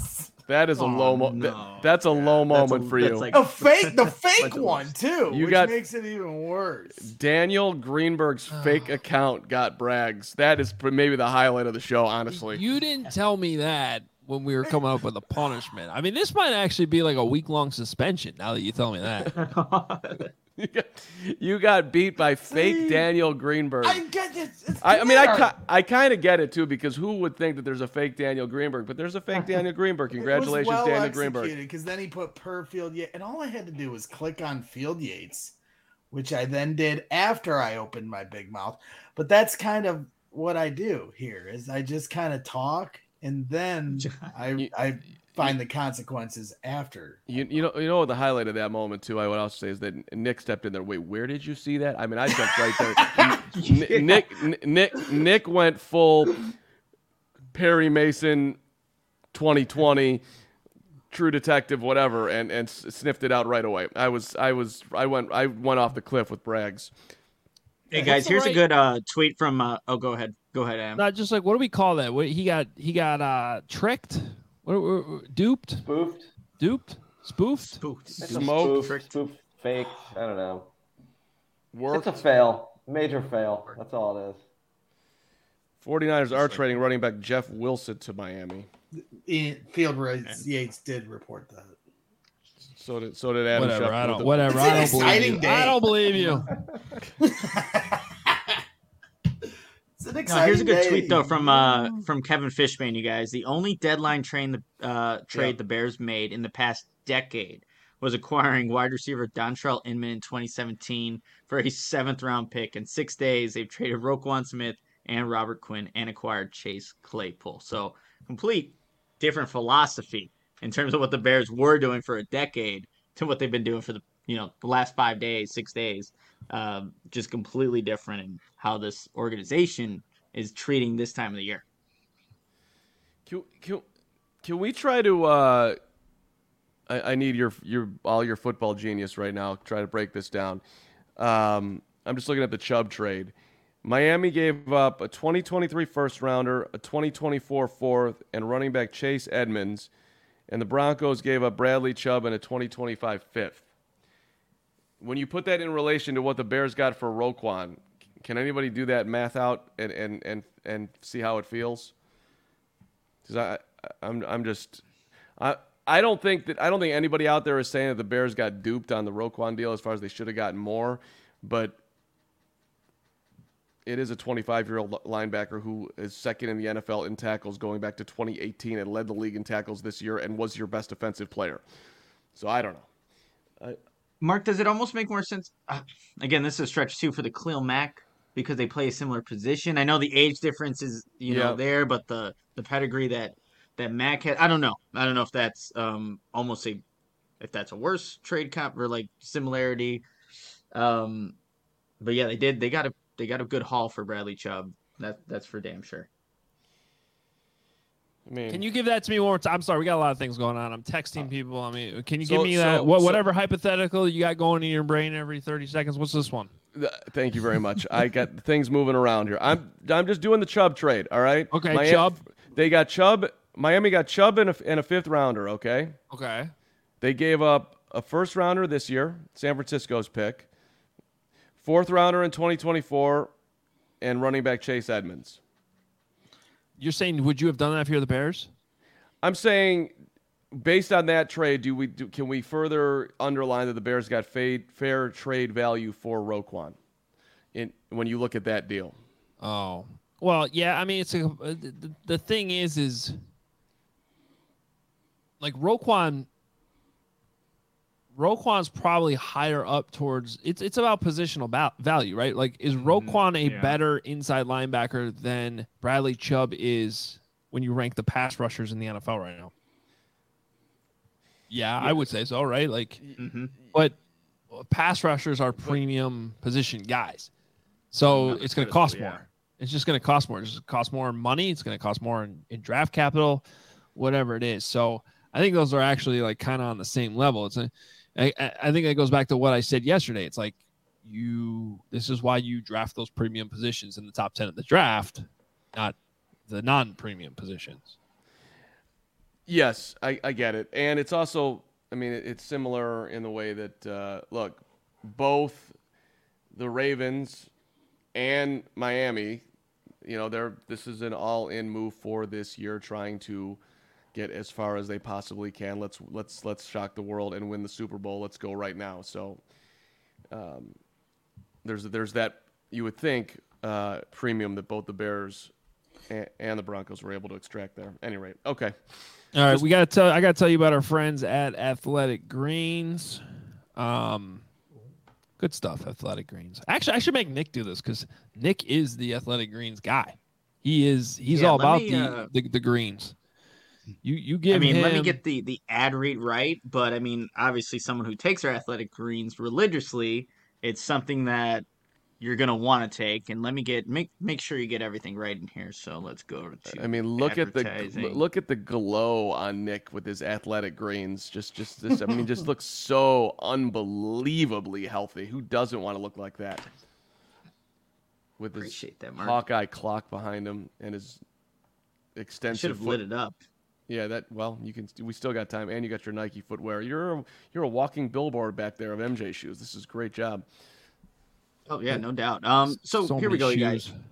Speaker 2: That is a
Speaker 6: Oh,
Speaker 2: low mo-
Speaker 6: no.
Speaker 2: th- That's a low
Speaker 6: That's
Speaker 2: moment
Speaker 6: a-
Speaker 2: for
Speaker 6: that's
Speaker 2: you.
Speaker 6: like-
Speaker 5: The fake, the fake
Speaker 6: Bunch of
Speaker 5: one
Speaker 6: words.
Speaker 5: too,
Speaker 2: You
Speaker 5: which
Speaker 2: got-
Speaker 5: makes it even worse.
Speaker 2: Daniel Greenberg's fake account got Braggs. That is pr- maybe the highlight of the show, honestly.
Speaker 1: You didn't tell me that when we were coming up with a punishment. I mean, this might actually be like a week long suspension. Now that you tell me that,
Speaker 2: You got, you got beat by fake Daniel Greenberg.
Speaker 5: I get it. It's
Speaker 2: I, I mean, I,
Speaker 5: Twitter.
Speaker 2: ki- I kind of get it too, because who would think that there's a fake Daniel Greenberg? But there's a fake Daniel Greenberg. Congratulations,
Speaker 5: it was well
Speaker 2: Daniel
Speaker 5: executed,
Speaker 2: Greenberg.
Speaker 5: Because then he put per Field Yates, and all I had to do was click on Field Yates, which I then did after I opened my big mouth. But that's kind of what I do here: is I just kind of talk, and then I I find the consequences after.
Speaker 2: You, you know you know what the highlight of that moment too, I would also say, is that Nick stepped in there. Wait, where did you see that? I mean, I jumped right there. N- Nick Nick Nick went full Perry Mason twenty twenty True Detective, whatever, and and sniffed it out right away. I was I was I went I went off the cliff with Braggs.
Speaker 6: Hey guys,
Speaker 1: the
Speaker 6: here's
Speaker 1: right-
Speaker 6: a good uh, tweet from. Uh, oh, go ahead. Go ahead, Adam.
Speaker 1: not just like what do we call that? What, he got he got uh tricked, what, what, what- duped,
Speaker 4: Spoofed.
Speaker 1: duped, spoofed.
Speaker 6: Spooked.
Speaker 4: It's a
Speaker 2: Smoke.
Speaker 4: Spoof, spoof, fake. I don't know.
Speaker 2: Worked.
Speaker 4: It's a fail. Major fail. That's all it is.
Speaker 2: 49ers are trading running back Jeff Wilson to Miami.
Speaker 5: In Field Yates did report that.
Speaker 2: So did so did Adam
Speaker 1: Whatever.
Speaker 2: Schefter
Speaker 1: I
Speaker 2: with
Speaker 1: don't.
Speaker 2: the-
Speaker 1: Whatever.
Speaker 5: It's
Speaker 1: I
Speaker 5: an
Speaker 1: don't believe
Speaker 5: exciting
Speaker 1: you.
Speaker 5: day.
Speaker 1: I don't believe you.
Speaker 5: It's an
Speaker 6: No,
Speaker 5: exciting
Speaker 6: here's a good
Speaker 5: day.
Speaker 6: tweet though from uh from Kevin Fishman. You guys, the only deadline train the uh trade
Speaker 2: Yeah.
Speaker 6: the Bears made in the past decade was acquiring wide receiver Dontrell Inman in twenty seventeen for a seventh round pick. In six days, they've traded Roquan Smith and Robert Quinn and acquired Chase Claypool. So complete different philosophy in terms of what the Bears were doing for a decade to what they've been doing for the you know the last five days, six days. Um, just completely different in how this organization is treating this time of the year.
Speaker 2: Can, can, can we try to? Uh, I, I need your your all your football genius right now. Try to break this down. Um, I'm just looking at the Chubb trade. Miami gave up a twenty twenty-three first rounder, a twenty twenty-four fourth, and running back Chase Edmonds, and the Broncos gave up Bradley Chubb and a twenty twenty-five fifth. When you put that in relation to what the Bears got for Roquan, can anybody do that math out and and and, and see how it feels? Because I, I'm I'm just I I don't think that I don't think anybody out there is saying that the Bears got duped on the Roquan deal as far as they should have gotten more, but it is a twenty-five-year-old linebacker who is second in the N F L in tackles going back to twenty eighteen and led the league in tackles this year and was your best offensive player. So I don't know. I,
Speaker 6: Mark, does it almost make more sense? Uh, again, this is a stretch too for the Khalil Mack because they play a similar position. I know the age difference is you know
Speaker 2: Yeah.
Speaker 6: there, but the the pedigree that that Mack had, I don't know. I don't know if that's um almost a if that's a worse trade comp or like similarity. Um, but yeah, they did. They got a they got a good haul for Bradley Chubb. That that's for damn sure.
Speaker 2: I mean,
Speaker 1: Can you give that to me one more time? I'm sorry, we got a lot of things going on. I'm texting people. I mean, can you
Speaker 2: So-
Speaker 1: give me
Speaker 2: so-
Speaker 1: that? What,
Speaker 2: so-
Speaker 1: whatever hypothetical you got going in your brain every thirty seconds. What's this one?
Speaker 2: Th- Thank you very much. I got things moving around here. I'm I'm just doing the Chubb trade. All right.
Speaker 1: Okay,
Speaker 2: Miami-
Speaker 1: Chubb.
Speaker 2: They got Chubb. Miami got Chubb and a, and a fifth rounder. Okay.
Speaker 1: Okay.
Speaker 2: They gave up a first rounder this year, San Francisco's pick, fourth rounder in twenty twenty-four, and running back Chase Edmonds.
Speaker 1: You're saying would you have done that if you're the Bears?
Speaker 2: I'm saying, based on that trade, do we do, can we further underline that the Bears got fair, fair trade value for Roquan? In when you look at that deal.
Speaker 1: Oh. Well, yeah, I mean, it's a, uh, the, the thing is, is like Roquan, Roquan's probably higher up towards, it's it's about positional ba- value, right? Like, is Roquan a
Speaker 6: yeah.
Speaker 1: better inside linebacker than Bradley Chubb is when you rank the pass rushers in the N F L right now? Yeah, I would say so, right? Like,
Speaker 6: Mm-hmm.
Speaker 1: but pass rushers are premium position guys. So
Speaker 6: Not
Speaker 1: it's going to
Speaker 6: as
Speaker 1: cost
Speaker 6: good, yeah.
Speaker 1: more. It's just going to cost more. It's just cost more money. It's going to cost more in, in draft capital, whatever it is. So I think those are actually like kind of on the same level. It's a, I, I I think that goes back to what I said yesterday. It's like you, this is why you draft those premium positions in the top ten of the draft, not the non-premium positions.
Speaker 2: Yes, I, I get it. And it's also, I mean, it, it's similar in the way that, uh, look, both the Ravens and Miami, you know, they're this is an all-in move for this year, trying to get as far as they possibly can. Let's let's let's shock the world and win the Super Bowl. Let's go right now. So um, there's there's that, you would think, uh, premium that both the Bears and, and the Broncos were able to extract there. At any rate, okay.
Speaker 1: All right, we got to tell. I got to tell you about our friends at Athletic Greens. Um, good stuff, Athletic Greens. Actually, I should make Nick do this because Nick is the Athletic Greens guy. He is. He's
Speaker 6: Yeah,
Speaker 1: all
Speaker 6: let
Speaker 1: about
Speaker 6: me,
Speaker 1: the,
Speaker 6: uh,
Speaker 1: the the greens. You you give
Speaker 6: I mean,
Speaker 1: him.
Speaker 6: let me get the the ad read right, but I mean, obviously, someone who takes their Athletic Greens religiously, it's something that you're gonna want to take. And let me get make make sure you get everything right in here. So let's go to.
Speaker 2: I mean, look at the
Speaker 6: advertising.
Speaker 2: look at the glow on Nick with his Athletic Greens. Just just this. I mean, just looks so unbelievably healthy. Who doesn't want to look like that? With his
Speaker 6: Appreciate that, Mark.
Speaker 2: Hawkeye clock behind him and his
Speaker 6: I
Speaker 2: extensive.
Speaker 6: should have
Speaker 2: foot-
Speaker 6: lit it up.
Speaker 2: Yeah, that. Well, you can. We still got time, and you got your Nike footwear. You're a, you're a walking billboard back there of M J shoes. This is a great job.
Speaker 6: Oh yeah, no doubt. Um, so, here we
Speaker 1: many
Speaker 6: go, you guys.
Speaker 1: shoes.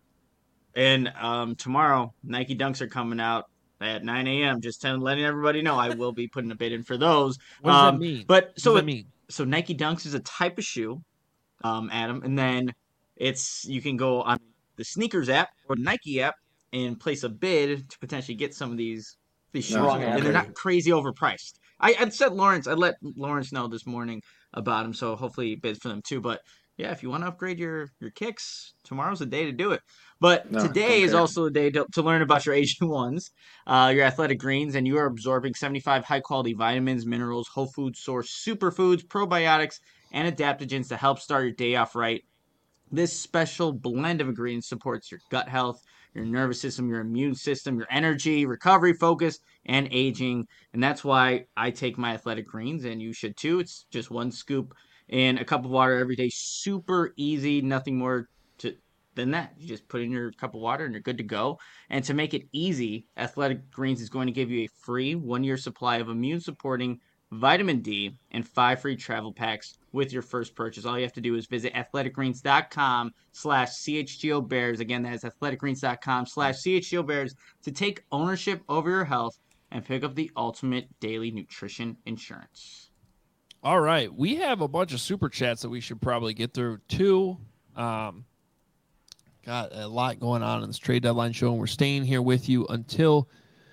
Speaker 6: And um, tomorrow, Nike Dunks are coming out at nine a.m. Just telling, letting everybody know I will be putting a bid in for those.
Speaker 1: What does
Speaker 6: um,
Speaker 1: that mean?
Speaker 6: But
Speaker 1: What
Speaker 6: so
Speaker 1: does
Speaker 6: it-
Speaker 1: that mean?
Speaker 6: so Nike Dunks is a type of shoe, um, Adam, and then it's you can go on the sneakers app or the Nike app and place a bid to potentially get some of these these shoes,
Speaker 4: Wrong
Speaker 6: and they're
Speaker 4: answer.
Speaker 6: not crazy overpriced. I I'd said Lawrence, I let Lawrence know this morning about them, so hopefully he bids for them too. But yeah, if you want to upgrade your your kicks, tomorrow's the day to do it. But
Speaker 4: No,
Speaker 6: today
Speaker 4: don't
Speaker 6: is
Speaker 4: care.
Speaker 6: also the day to, to learn about your A G ones, uh, your Athletic Greens, and you are absorbing seventy-five high-quality vitamins, minerals, whole food source superfoods, probiotics, and adaptogens to help start your day off right. This special blend of ingredients supports your gut health, your nervous system, your immune system, your energy, recovery, focus, and aging. And that's why I take my Athletic Greens, and you should too. It's just one scoop in a cup of water every day. Super easy, nothing more to than that. You just put in your cup of water and you're good to go. And to make it easy, Athletic Greens is going to give you a free one-year supply of immune-supporting vitamin D, and five free travel packs with your first purchase. All you have to do is visit athleticgreens.com slash CHGO Bears. Again, that is athleticgreens.com slash CHGO Bears to take ownership over your health and pick up the ultimate daily nutrition insurance.
Speaker 1: All right, we have a bunch of super chats that we should probably get through too. Um, got a lot going on in this trade deadline show, and we're staying here with you until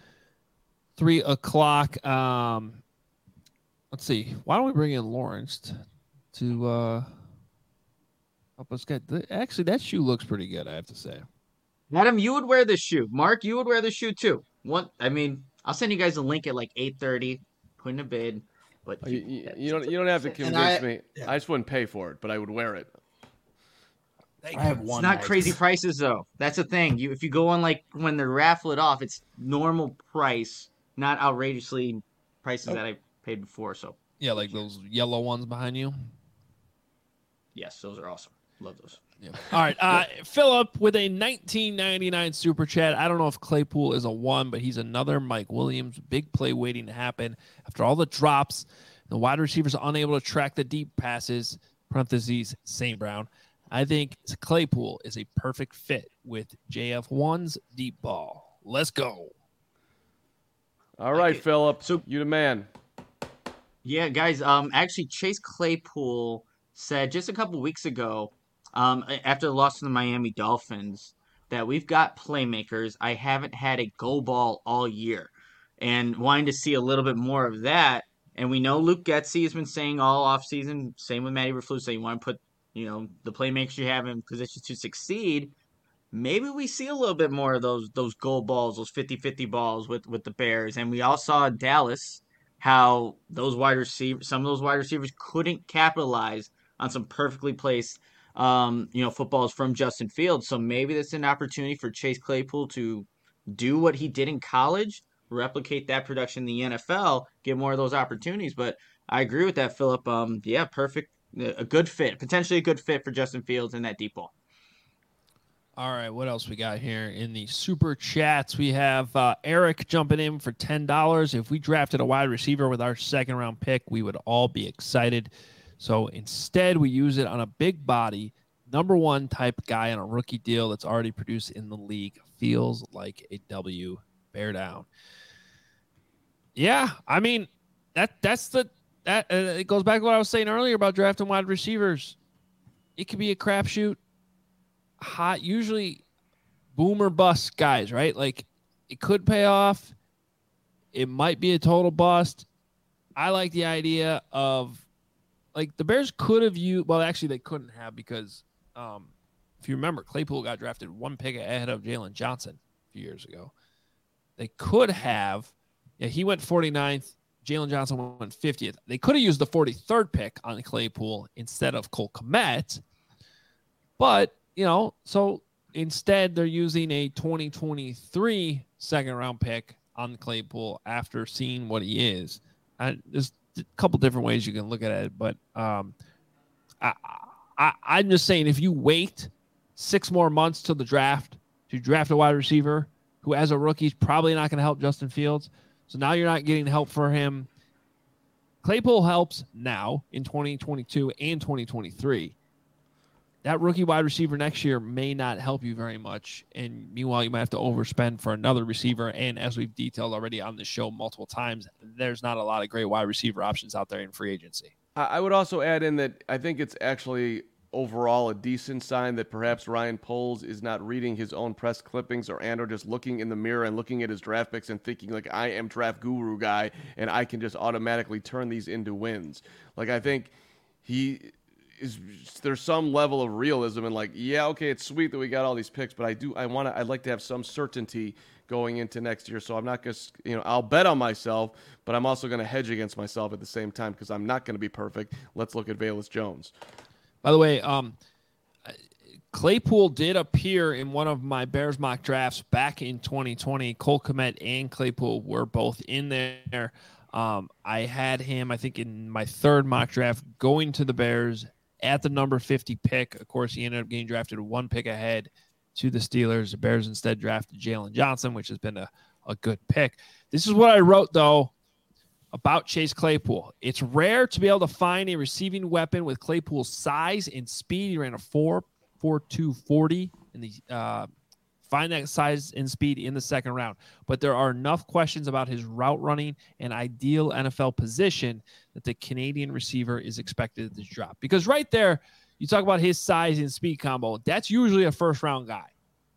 Speaker 1: three o'clock. Um, let's see. Why don't we bring in Lawrence t- to uh, help us get? The, actually, that shoe looks pretty good, I have to say.
Speaker 6: Adam, you would wear this shoe. Mark, you would wear this shoe too. One, I mean, I'll send you guys a link at like eight thirty. Put in a bid. But
Speaker 2: You, you, you don't you don't have to
Speaker 5: And
Speaker 2: convince
Speaker 5: I-
Speaker 2: me.
Speaker 5: yeah.
Speaker 2: I just wouldn't pay for it, but I would wear it.
Speaker 5: I have
Speaker 6: It's
Speaker 5: one.
Speaker 6: not
Speaker 5: Nike.
Speaker 6: crazy prices though. That's the thing. You if you go on like when they raffle it off, it's normal price, not outrageously prices that I paid before. So
Speaker 1: Yeah, like those yellow ones behind you.
Speaker 6: yes, those are awesome. Love those.
Speaker 1: Yeah. All right. Uh, Philip with a nineteen ninety-nine super chat. I don't know if Claypool is a one, but he's another Mike Williams. Big play waiting to happen. After all the drops, the wide receivers are unable to track the deep passes. Parentheses, Saint Brown. I think Claypool is a perfect fit with J F one's deep ball. Let's go.
Speaker 2: All right,
Speaker 6: it.
Speaker 2: Philip.
Speaker 6: So-
Speaker 2: You the man.
Speaker 6: Yeah, guys. Um, actually, Chase Claypool said just a couple weeks ago, um, after the loss to the Miami Dolphins, that we've got playmakers. I haven't had a go ball all year, and wanting to see a little bit more of that. And we know Luke Getsy has been saying all offseason, same with Matty Eberflus, saying you want to put, you know, the playmakers you have in positions to succeed. Maybe we see a little bit more of those those goal balls, those fifty-fifty balls with, with the Bears. And we all saw in Dallas how those wide receivers, some of those wide receivers couldn't capitalize on some perfectly placed, um, you know, footballs from Justin Fields. So maybe that's an opportunity for Chase Claypool to do what he did in college, replicate that production in the N F L, get more of those opportunities. But I agree with that, Philip. Um, yeah, perfect, a good fit, potentially a good fit for Justin Fields in that deep ball.
Speaker 1: All right, what else we got here in the super chats? We have uh, Eric jumping in for ten dollars. If we drafted a wide receiver with our second round pick, we would all be excited. So instead, we use it on a big body, number one type guy on a rookie deal that's already produced in the league. Feels like a W. Bear down. Yeah, I mean, that that's the that uh, it goes back to what I was saying earlier about drafting wide receivers. It could be a crapshoot. Hot, usually boom or bust guys, right? Like it could pay off. It might be a total bust. I like the idea of like the Bears could have used, well, actually they couldn't have because um, if you remember, Claypool got drafted one pick ahead of Jalen Johnson a few years ago. They could have, yeah, he went forty-ninth. Jalen Johnson went fiftieth. They could have used the forty-third pick on Claypool instead of Cole Kmet, but you know, so instead they're using a twenty twenty-three second round pick on Claypool after seeing what he is. And there's a couple different ways you can look at it, but um, I, I, I'm just saying if you wait six more months till the draft to draft a wide receiver who as a rookie is probably not going to help Justin Fields, so now you're not getting help for him. Claypool helps now in twenty twenty-two and twenty twenty-three. That rookie wide receiver next year may not help you very much. And meanwhile, you might have to overspend for another receiver. And as we've detailed already on the show multiple times, there's not a lot of great wide receiver options out there in free agency.
Speaker 2: I would also add in that I think it's actually overall a decent sign that perhaps Ryan Poles is not reading his own press clippings or and or just looking in the mirror and looking at his draft picks and thinking like I am draft guru guy and I can just automatically turn these into wins. Like I think he is there's some level of realism and like, yeah, okay, it's sweet that we got all these picks, but I do I want to I'd like to have some certainty going into next year. So I'm not just, you know, I'll bet on myself, but I'm also going to hedge against myself at the same time because I'm not going to be perfect. Let's look at Velus Jones.
Speaker 1: By the way, um, Claypool did appear in one of my Bears mock drafts back in twenty twenty. Cole Kmet and Claypool were both in there. Um, I had him, I think, in my third mock draft going to the Bears at the number fifty pick. Of course, he ended up getting drafted one pick ahead to the Steelers. The Bears instead drafted Jalen Johnson, which has been a, a good pick. This is what I wrote, though, about Chase Claypool. It's rare to be able to find a receiving weapon with Claypool's size and speed. He ran a four four two forty in the uh, find that size and speed in the second round. But there are enough questions about his route running and ideal N F L position that the Canadian receiver is expected to drop. Because right there, you talk about his size and speed combo. That's usually a first round guy.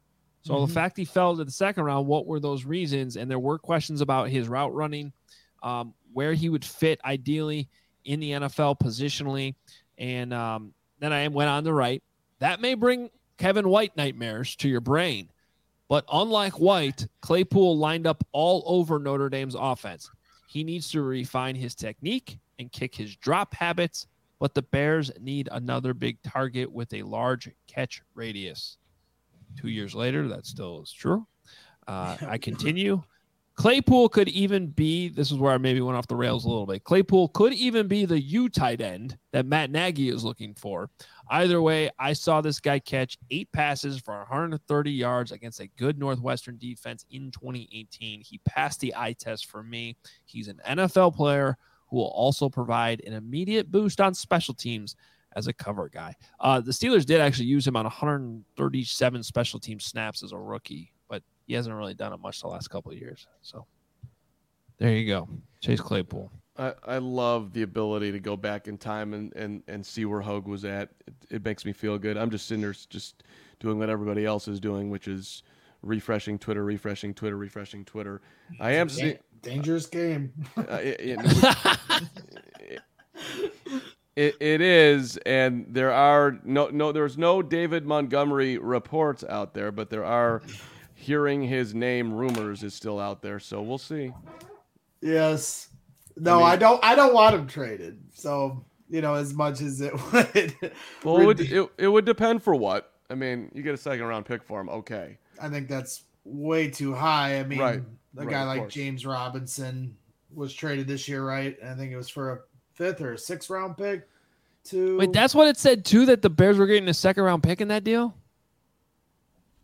Speaker 1: So mm-hmm. the fact he fell to the second round, what were those reasons? And there were questions about his route running, um, where he would fit ideally in the N F L positionally. And um, then I went on to write, that may bring Kevin White nightmares to your brain. But unlike White, Claypool lined up all over Notre Dame's offense. He needs to refine his technique and kick his drop habits, but the Bears need another big target with a large catch radius. Two years later, that still is true. Uh, I continue. Claypool could even be, this is where I maybe went off the rails a little bit. Claypool could even be the U tight end that Matt Nagy is looking for. Either way, I saw this guy catch eight passes for one hundred thirty yards against a good Northwestern defense in twenty eighteen. He passed the eye test for me. He's an N F L player who will also provide an immediate boost on special teams as a cover guy. Uh, the Steelers did actually use him on one hundred thirty-seven special team snaps as a rookie, but he hasn't really done it much the last couple of years. So there you go. Chase Claypool.
Speaker 2: I, I love the ability to go back in time and, and, and see where Hogue was at. It, it makes me feel good. I'm just sitting there just doing what everybody else is doing, which is refreshing Twitter, refreshing Twitter, refreshing Twitter. I am seeing
Speaker 5: dangerous game.
Speaker 2: uh, it, it, it, it is, and there are no no. There's no David Montgomery reports out there, but there are hearing his name rumors is still out there. So we'll see.
Speaker 5: Yes. No, I, mean, I don't. I don't want him traded. So you know, as much as it would.
Speaker 2: Well, it would, it, it would depend for what. I mean, you get a second round pick for him. Okay.
Speaker 5: I think that's way too high. I mean,
Speaker 2: right.
Speaker 5: a
Speaker 2: right,
Speaker 5: guy like
Speaker 2: course.
Speaker 5: James Robinson was traded this year, right? I think it was for a fifth or a sixth round pick. To
Speaker 1: Wait, that's what it said too. That the Bears were getting a second round pick in that deal.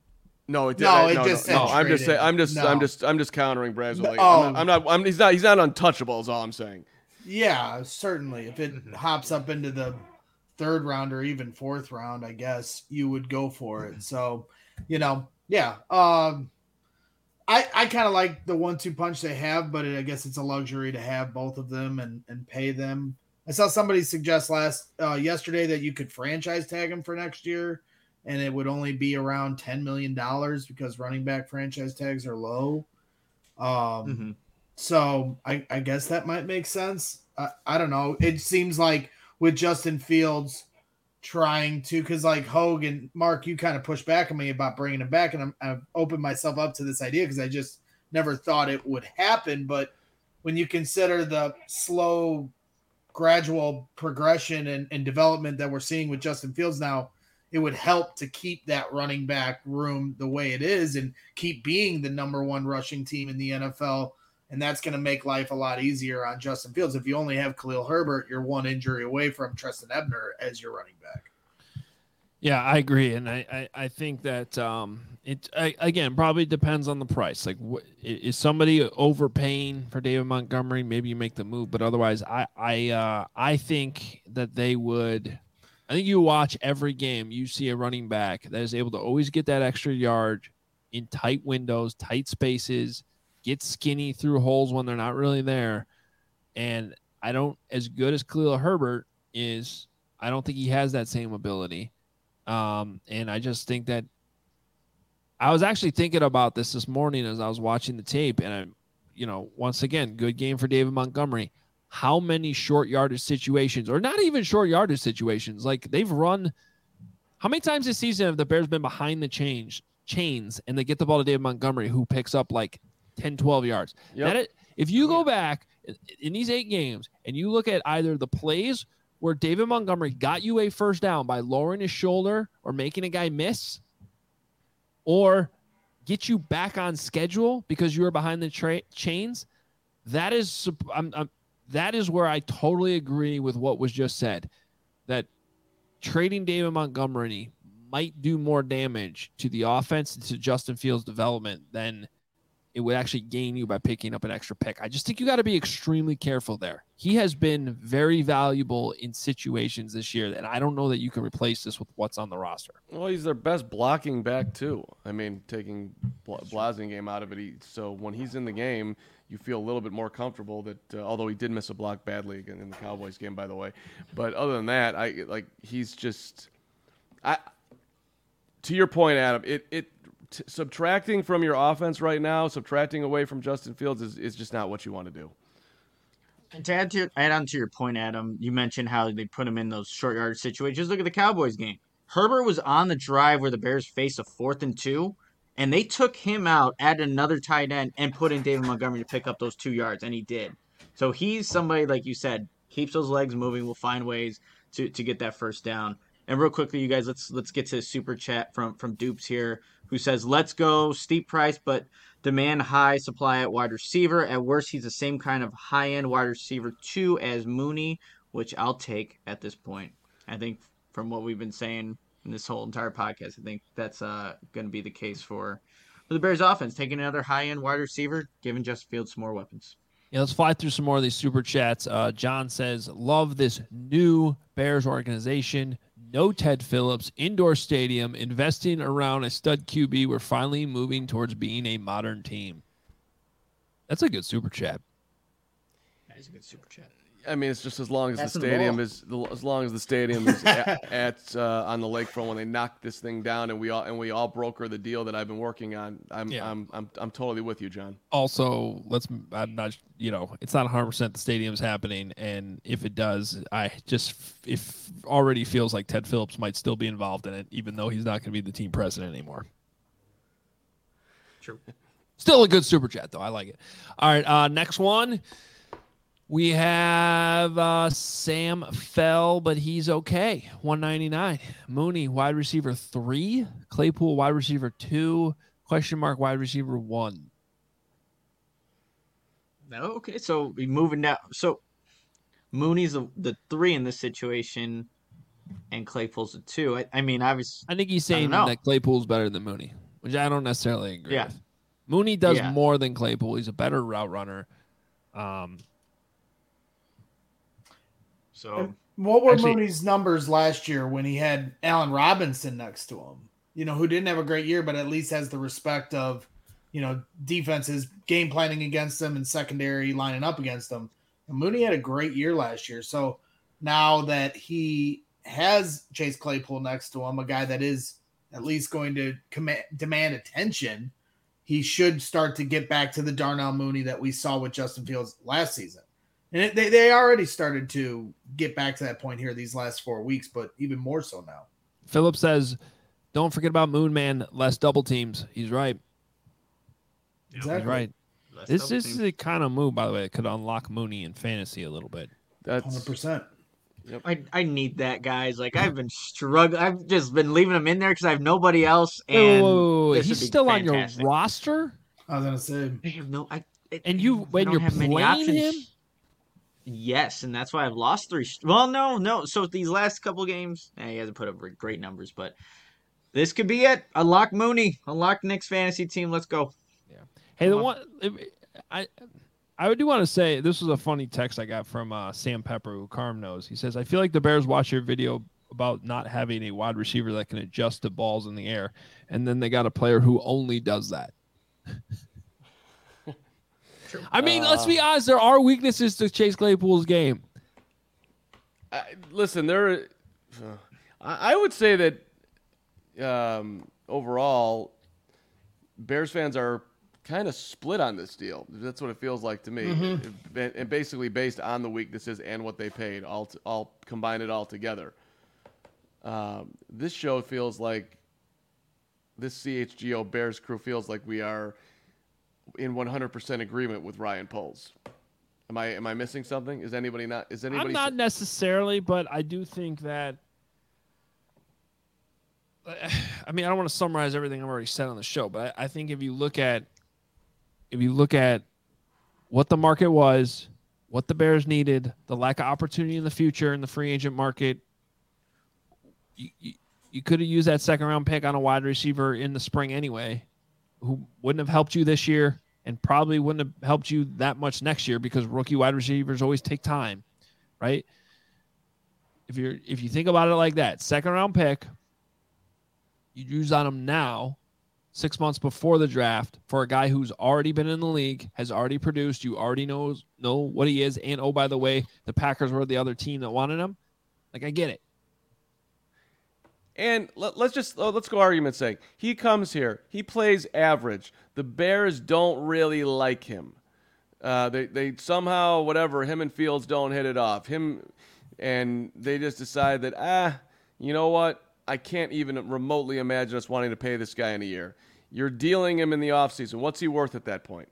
Speaker 2: No, it did.
Speaker 5: No,
Speaker 2: I-
Speaker 5: it
Speaker 2: no,
Speaker 5: just
Speaker 2: no,
Speaker 5: said
Speaker 2: no. I'm just saying.
Speaker 5: traded.
Speaker 2: I'm just.
Speaker 5: No.
Speaker 2: I'm just. I'm just countering Brad's. Like,
Speaker 5: Oh.
Speaker 2: I'm, not, I'm not. I'm. He's not. He's not untouchable. Is all I'm saying.
Speaker 5: Yeah, certainly. If it hops up into the third round or even fourth round, I guess you would go for it. So, you know, yeah. Um, I I kind of like the one two punch they have, but it, I guess it's a luxury to have both of them and and pay them. I saw somebody suggest last uh, yesterday that you could franchise tag him for next year, and it would only be around ten million dollars because running back franchise tags are low. Um.
Speaker 6: Mm-hmm.
Speaker 5: So I, I guess that might make sense. I, I don't know. It seems like with Justin Fields trying to, because like Hogue and Mark, you kind of pushed back on me about bringing him back, and I'm, I've opened myself up to this idea because I just never thought it would happen. But when you consider the slow, gradual progression and, and development that we're seeing with Justin Fields now, it would help to keep that running back room the way it is and keep being the number one rushing team in the N F L. And that's going to make life a lot easier on Justin Fields. If you only have Khalil Herbert, you're one injury away from Treston Ebner as your running back.
Speaker 1: Yeah, I agree, and I, I, I think that um, it I, again probably depends on the price. Like, wh- is somebody overpaying for David Montgomery? Maybe you make the move, but otherwise, I I uh, I think that they would. I think you watch every game, you see a running back that is able to always get that extra yard in tight windows, tight spaces, get skinny through holes when they're not really there. And I don't, as good as Khalil Herbert is, I don't think he has that same ability. Um, and I just think that I was actually thinking about this this morning as I was watching the tape. And I'm, you know, once again, good game for David Montgomery. How many short yardage situations, or not even short yardage situations, like they've run, how many times this season have the Bears been behind the change, chains and they get the ball to David Montgomery, who picks up like ten, twelve yards?
Speaker 2: Yep.
Speaker 1: That it, if you go back in these eight games and you look at either the plays where David Montgomery got you a first down by lowering his shoulder or making a guy miss, or get you back on schedule because you were behind the tra- chains, that is I'm, I'm, that is where I totally agree with what was just said, that trading David Montgomery might do more damage to the offense and to Justin Fields' development than it would actually gain you by picking up an extra pick. I just think you got to be extremely careful there. He has been very valuable in situations this year, and I don't know that you can replace this with what's on the roster.
Speaker 2: Well, he's their best blocking back too. I mean, taking Bla- Blasingame out of it, he, so when he's in the game, you feel a little bit more comfortable that. Uh, although he did miss a block badly again in the Cowboys game, by the way, but other than that, I like he's just. I. To your point, Adam, it it t- subtracting from your offense right now, subtracting away from Justin Fields is, is just not what you want to do.
Speaker 6: And to add, to your, add on to your point, Adam, you mentioned how they put him in those short yard situations. Look at the Cowboys game. Herbert was on the drive where the Bears faced a fourth and two, and they took him out, added another tight end, and put in David Montgomery to pick up those two yards, and he did. So he's somebody, like you said, keeps those legs moving, will find ways to, to get that first down. And real quickly, you guys, let's let's get to a super chat from, from Dupes here, who says, let's go, steep price, but demand high supply at wide receiver. At worst, he's the same kind of high-end wide receiver two as Mooney, which I'll take at this point. I think from what we've been saying in this whole entire podcast, I think that's uh, going to be the case for, for the Bears offense, taking another high-end wide receiver, giving Justin Fields some more weapons.
Speaker 1: Yeah, let's fly through some more of these super chats. Uh, John says, love this new Bears organization. No Ted Phillips, indoor stadium, investing around a stud Q B. We're finally moving towards being a modern team. That's a good super chat.
Speaker 6: That is a good super chat.
Speaker 2: I mean, it's just as long as
Speaker 6: Passing
Speaker 2: the
Speaker 6: the
Speaker 2: stadium
Speaker 6: ball.
Speaker 2: is as long as the stadium is at, at uh, on the lakefront when they knocked this thing down and we all and we all broker the deal that I've been working on. I'm
Speaker 1: Yeah.
Speaker 2: I'm, I'm I'm totally with you, John.
Speaker 1: Also, let's, I'm not, you know, it's not one hundred percent the stadium's happening. And if it does, I just, if already feels like Ted Phillips might still be involved in it, even though he's not going to be the team president anymore.
Speaker 6: True.
Speaker 1: Still a good super chat, though. I like it. All right, uh, next one. We have uh, Sam Fell, but he's okay. one ninety-nine. Mooney, wide receiver three. Claypool, wide receiver two. Question mark, wide receiver one.
Speaker 6: Okay, so we moving down. So Mooney's the, the three in this situation, and Claypool's the two. I, I mean, obviously,
Speaker 1: I think he's
Speaker 6: I
Speaker 1: saying
Speaker 6: don't know.
Speaker 1: that Claypool's better than Mooney. which I don't necessarily agree
Speaker 6: Yeah.
Speaker 1: with. Mooney does
Speaker 6: Yeah.
Speaker 1: more than Claypool. He's a better route runner. Um,
Speaker 6: So
Speaker 5: What were
Speaker 1: Actually-
Speaker 5: Mooney's numbers last year when he had Allen Robinson next to him? You know, who didn't have a great year, but at least has the respect of, you know, defenses game planning against them and secondary lining up against them. And Mooney had a great year last year. So now that he has Chase Claypool next to him, a guy that is at least going to command, demand attention, he should start to get back to the Darnell Mooney that we saw with Justin Fields last season. And it, they, they already started to get back to that point here these last four weeks, but even more so now.
Speaker 1: Philip says, don't forget about Moon Man, less double teams. He's right.
Speaker 5: Exactly.
Speaker 1: He's right.
Speaker 6: let's
Speaker 1: This,
Speaker 6: double
Speaker 1: this
Speaker 6: team.
Speaker 1: is the kind of move, by the way, that could unlock Mooney in fantasy a little bit.
Speaker 2: That's
Speaker 5: one hundred percent.
Speaker 6: I, I need that, guys. Like I've been struggling. I've just been leaving him in there because I have nobody else.
Speaker 1: Wait, wait,
Speaker 6: And
Speaker 1: wait, wait, wait.
Speaker 6: this
Speaker 1: He's
Speaker 6: would be
Speaker 1: still
Speaker 6: fantastic.
Speaker 1: on your roster?
Speaker 5: I was going to say,
Speaker 6: I have no. I, it-
Speaker 1: And you-
Speaker 6: I
Speaker 1: when
Speaker 6: don't
Speaker 1: you're
Speaker 6: have many
Speaker 1: playing
Speaker 6: options.
Speaker 1: him?
Speaker 6: Yes, and that's why I've lost three. st- Well, no, no. So these last couple games, eh, he hasn't put up great numbers, but this could be it. Unlock Mooney. Unlock Nick's fantasy team. Let's go.
Speaker 1: Hey, the
Speaker 6: Come
Speaker 1: one I I do want to say this was a funny text I got from uh, Sam Pepper, who Carm knows. He says, "I feel like the Bears watch your video about not having a wide receiver that can adjust to balls in the air, and then they got a player who only does that." I mean, let's be honest. There are weaknesses to Chase Claypool's game.
Speaker 2: I, listen, there. I, I would say that um, overall, Bears fans are kind of split on this deal. That's what it feels like to me,
Speaker 5: Mm-hmm.
Speaker 2: and, and basically based on the weaknesses and what they paid, all t- all combine it all together. Um, this show feels like this C H G O Bears crew feels like we are in one hundred percent agreement with Ryan Poles. Am I am I missing something? Is anybody not? Is anybody?
Speaker 1: I'm not necessarily, but I do think that. I mean, I don't want to summarize everything I've already said on the show, but I, I think if you look at, if you look at what the market was, what the Bears needed, the lack of opportunity in the future in the free agent market, you, you, you could have used that second round pick on a wide receiver in the spring anyway, who wouldn't have helped you this year and probably wouldn't have helped you that much next year because rookie wide receivers always take time, right? If you're if you think about it like that, second round pick, you use on him now, six months before the draft, for a guy who's already been in the league, has already produced, you already knows know what he is, and oh, by the way, the Packers were the other team that wanted him. Like, I get it.
Speaker 2: And let, let's just oh, let's go argument's sake. He comes here. He plays average. The Bears don't really like him. Uh, they they somehow whatever him and Fields don't hit it off. Him and they just decide that ah, you know what? I can't even remotely imagine us wanting to pay this guy in a year. You're dealing him in the offseason. What's he worth at that point?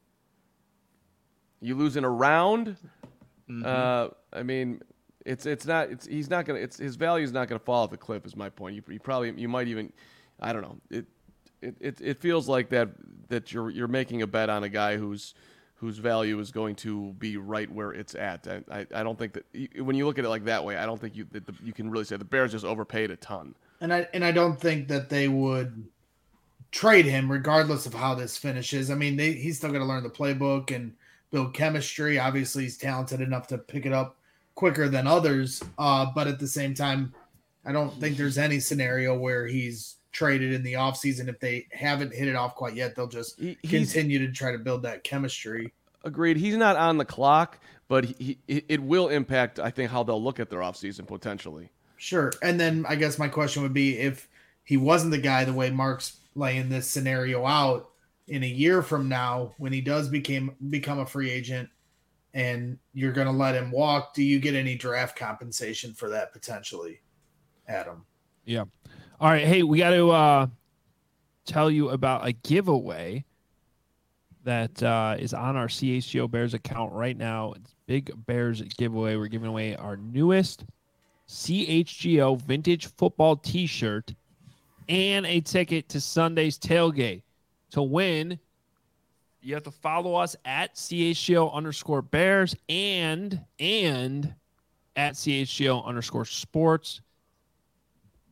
Speaker 2: You losing a round?
Speaker 6: Mm-hmm.
Speaker 2: Uh, I mean, it's it's not it's he's not gonna it's his value is not gonna fall off the cliff. Is my point. You, you probably you might even I don't know. It it it, it feels like that that you're you're making a bet on a guy who's whose value is going to be right where it's at. I, I, I don't think that when you look at it like that way, I don't think you that the, you can really say the Bears just overpaid a ton.
Speaker 5: and I and I don't think that they would trade him regardless of how this finishes. I mean, they, he's still going to learn the playbook and build chemistry. Obviously, he's talented enough to pick it up quicker than others. Uh, but at the same time, I don't think there's any scenario where he's traded in the offseason. If they haven't hit it off quite yet, they'll just
Speaker 2: He, he's
Speaker 5: continue to try to build that chemistry.
Speaker 2: agreed. He's not on the clock, but he, he, it will impact, I think, how they'll look at their offseason potentially.
Speaker 5: Sure. And then I guess my question would be if he wasn't the guy, the way Mark's laying this scenario out, in a year from now, when he does became become a free agent and you're going to let him walk, do you get any draft compensation for that potentially, Adam?
Speaker 1: Yeah. All right. Hey, we got to uh, tell you about a giveaway that uh, is on our C H G O Bears account right now. It's Big Bears giveaway. We're giving away our newest C H G O vintage football t-shirt and a ticket to Sunday's tailgate. To win, you have to follow us at C H G O underscore Bears and and at C H G O underscore sports.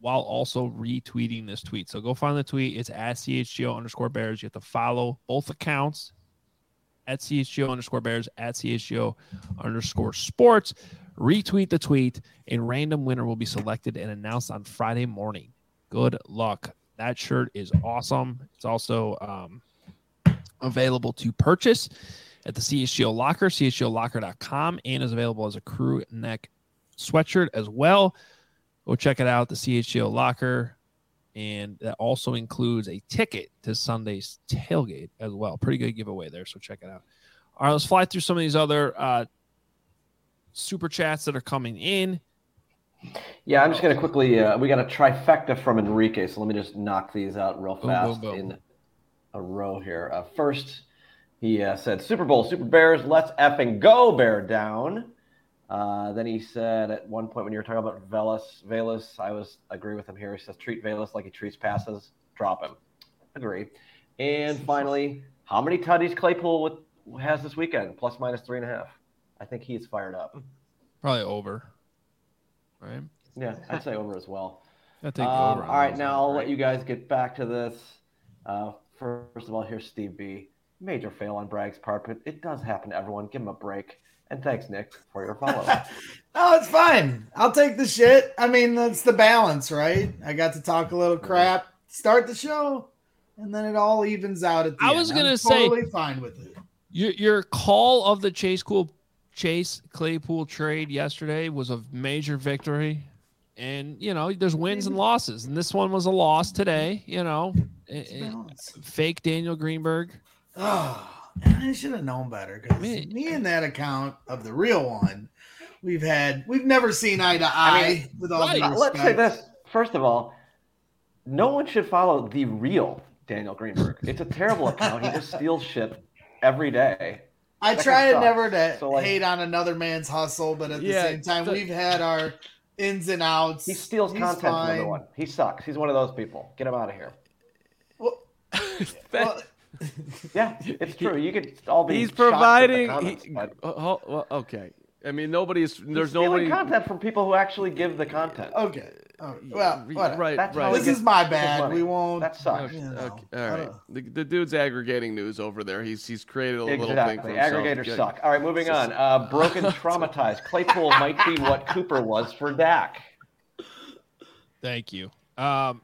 Speaker 1: while also retweeting this tweet. So go find the tweet. It's at C H G O underscore Bears. You have to follow both accounts at C H G O underscore Bears, at C H G O underscore Sports. Retweet the tweet. A random winner will be selected and announced on Friday morning. Good luck. That shirt is awesome. It's also um, available to purchase at the C H G O Locker, C H G O locker dot com, and is available as a crew neck sweatshirt as well. Go check it out, the C H G O Locker. And that also includes a ticket to Sunday's tailgate as well. Pretty good giveaway there, so check it out. All right, let's fly through some of these other uh, super chats that are coming in.
Speaker 4: Yeah, I'm just going to quickly, uh, we got a trifecta from Enrique, so let me just knock these out real
Speaker 1: Boom,
Speaker 4: fast
Speaker 1: boom, boom.
Speaker 4: in a row here. Uh, first, he uh, said, Super Bowl, Super Bears, let's effing go, Bear down. Uh, then he said at one point when you were talking about Velas, Velas, I was agree with him here. He says, treat Velas like he treats passes, drop him. Agree. And finally, how many tutties Claypool with, has this weekend? Plus minus three and a half. I think he's fired up.
Speaker 1: Probably over. Right?
Speaker 4: Yeah, I'd say over as well.
Speaker 1: I think
Speaker 4: Um,
Speaker 1: over.
Speaker 4: all right, now I'll let you guys get back to this. Uh, first of all, here's Steve B. Major fail on Bragg's part, but it does happen to everyone. Give him a break. And thanks, Nick, for your follow.
Speaker 5: No, it's fine. I'll take the shit. I mean, that's the balance, right? I got to talk a little crap, start the show, and then it all evens out at the
Speaker 1: I
Speaker 5: end.
Speaker 1: was
Speaker 5: I'm
Speaker 1: gonna say-
Speaker 5: totally fine with it.
Speaker 1: Your your call of the Chase Cool Chase Claypool trade yesterday was a major victory, and you know there's wins and losses, and this one was a loss today. You know,
Speaker 5: It's
Speaker 1: Eh, eh,
Speaker 5: balance.
Speaker 1: fake Daniel Greenberg.
Speaker 5: Oh, I should have known better because
Speaker 1: Man.
Speaker 5: me and that account of the real one, we've had we've never seen eye to eye.
Speaker 4: I mean,
Speaker 5: with all due
Speaker 1: right.
Speaker 4: Uh, Let's say
Speaker 5: respect.
Speaker 4: this. First of all, no one should follow the real Daniel Greenberg. It's a terrible account. He just steals shit every day.
Speaker 5: I
Speaker 4: That
Speaker 5: try
Speaker 4: guy
Speaker 5: to never
Speaker 4: sucks.
Speaker 5: to
Speaker 4: So, like-
Speaker 5: hate on another man's hustle, but at the
Speaker 2: Yeah,
Speaker 5: same time,
Speaker 2: the-
Speaker 5: we've had our ins and outs.
Speaker 4: He steals
Speaker 5: He's
Speaker 4: content from
Speaker 5: fine.
Speaker 4: everyone. He sucks. He's one of those people. Get him out of here.
Speaker 5: Well, well,
Speaker 4: Yeah, it's true. You could all be
Speaker 2: He's
Speaker 4: shocked at the
Speaker 2: providing.
Speaker 4: comments,
Speaker 2: He,
Speaker 4: but
Speaker 2: uh, ho- well, okay. I mean, nobody's.
Speaker 4: he's
Speaker 2: There's
Speaker 4: stealing
Speaker 2: nobody.
Speaker 4: content from people who actually give the content.
Speaker 5: okay. Oh, well, whatever.
Speaker 2: Right,
Speaker 4: That's
Speaker 2: right.
Speaker 4: how
Speaker 5: This
Speaker 4: he
Speaker 5: is
Speaker 4: gets
Speaker 5: my
Speaker 4: his
Speaker 5: bad.
Speaker 4: money.
Speaker 5: We won't.
Speaker 4: That sucks.
Speaker 2: Okay,
Speaker 5: You know,
Speaker 2: okay,
Speaker 5: I
Speaker 2: all right.
Speaker 5: don't-
Speaker 2: The, the dude's aggregating news over there. He's he's created a little thing for
Speaker 4: Exactly.
Speaker 2: himself.
Speaker 4: Aggregators
Speaker 2: Good.
Speaker 4: suck. All right, moving on. Uh, broken, traumatized. Claypool might be what Cooper was for Dak.
Speaker 1: Thank you. Um,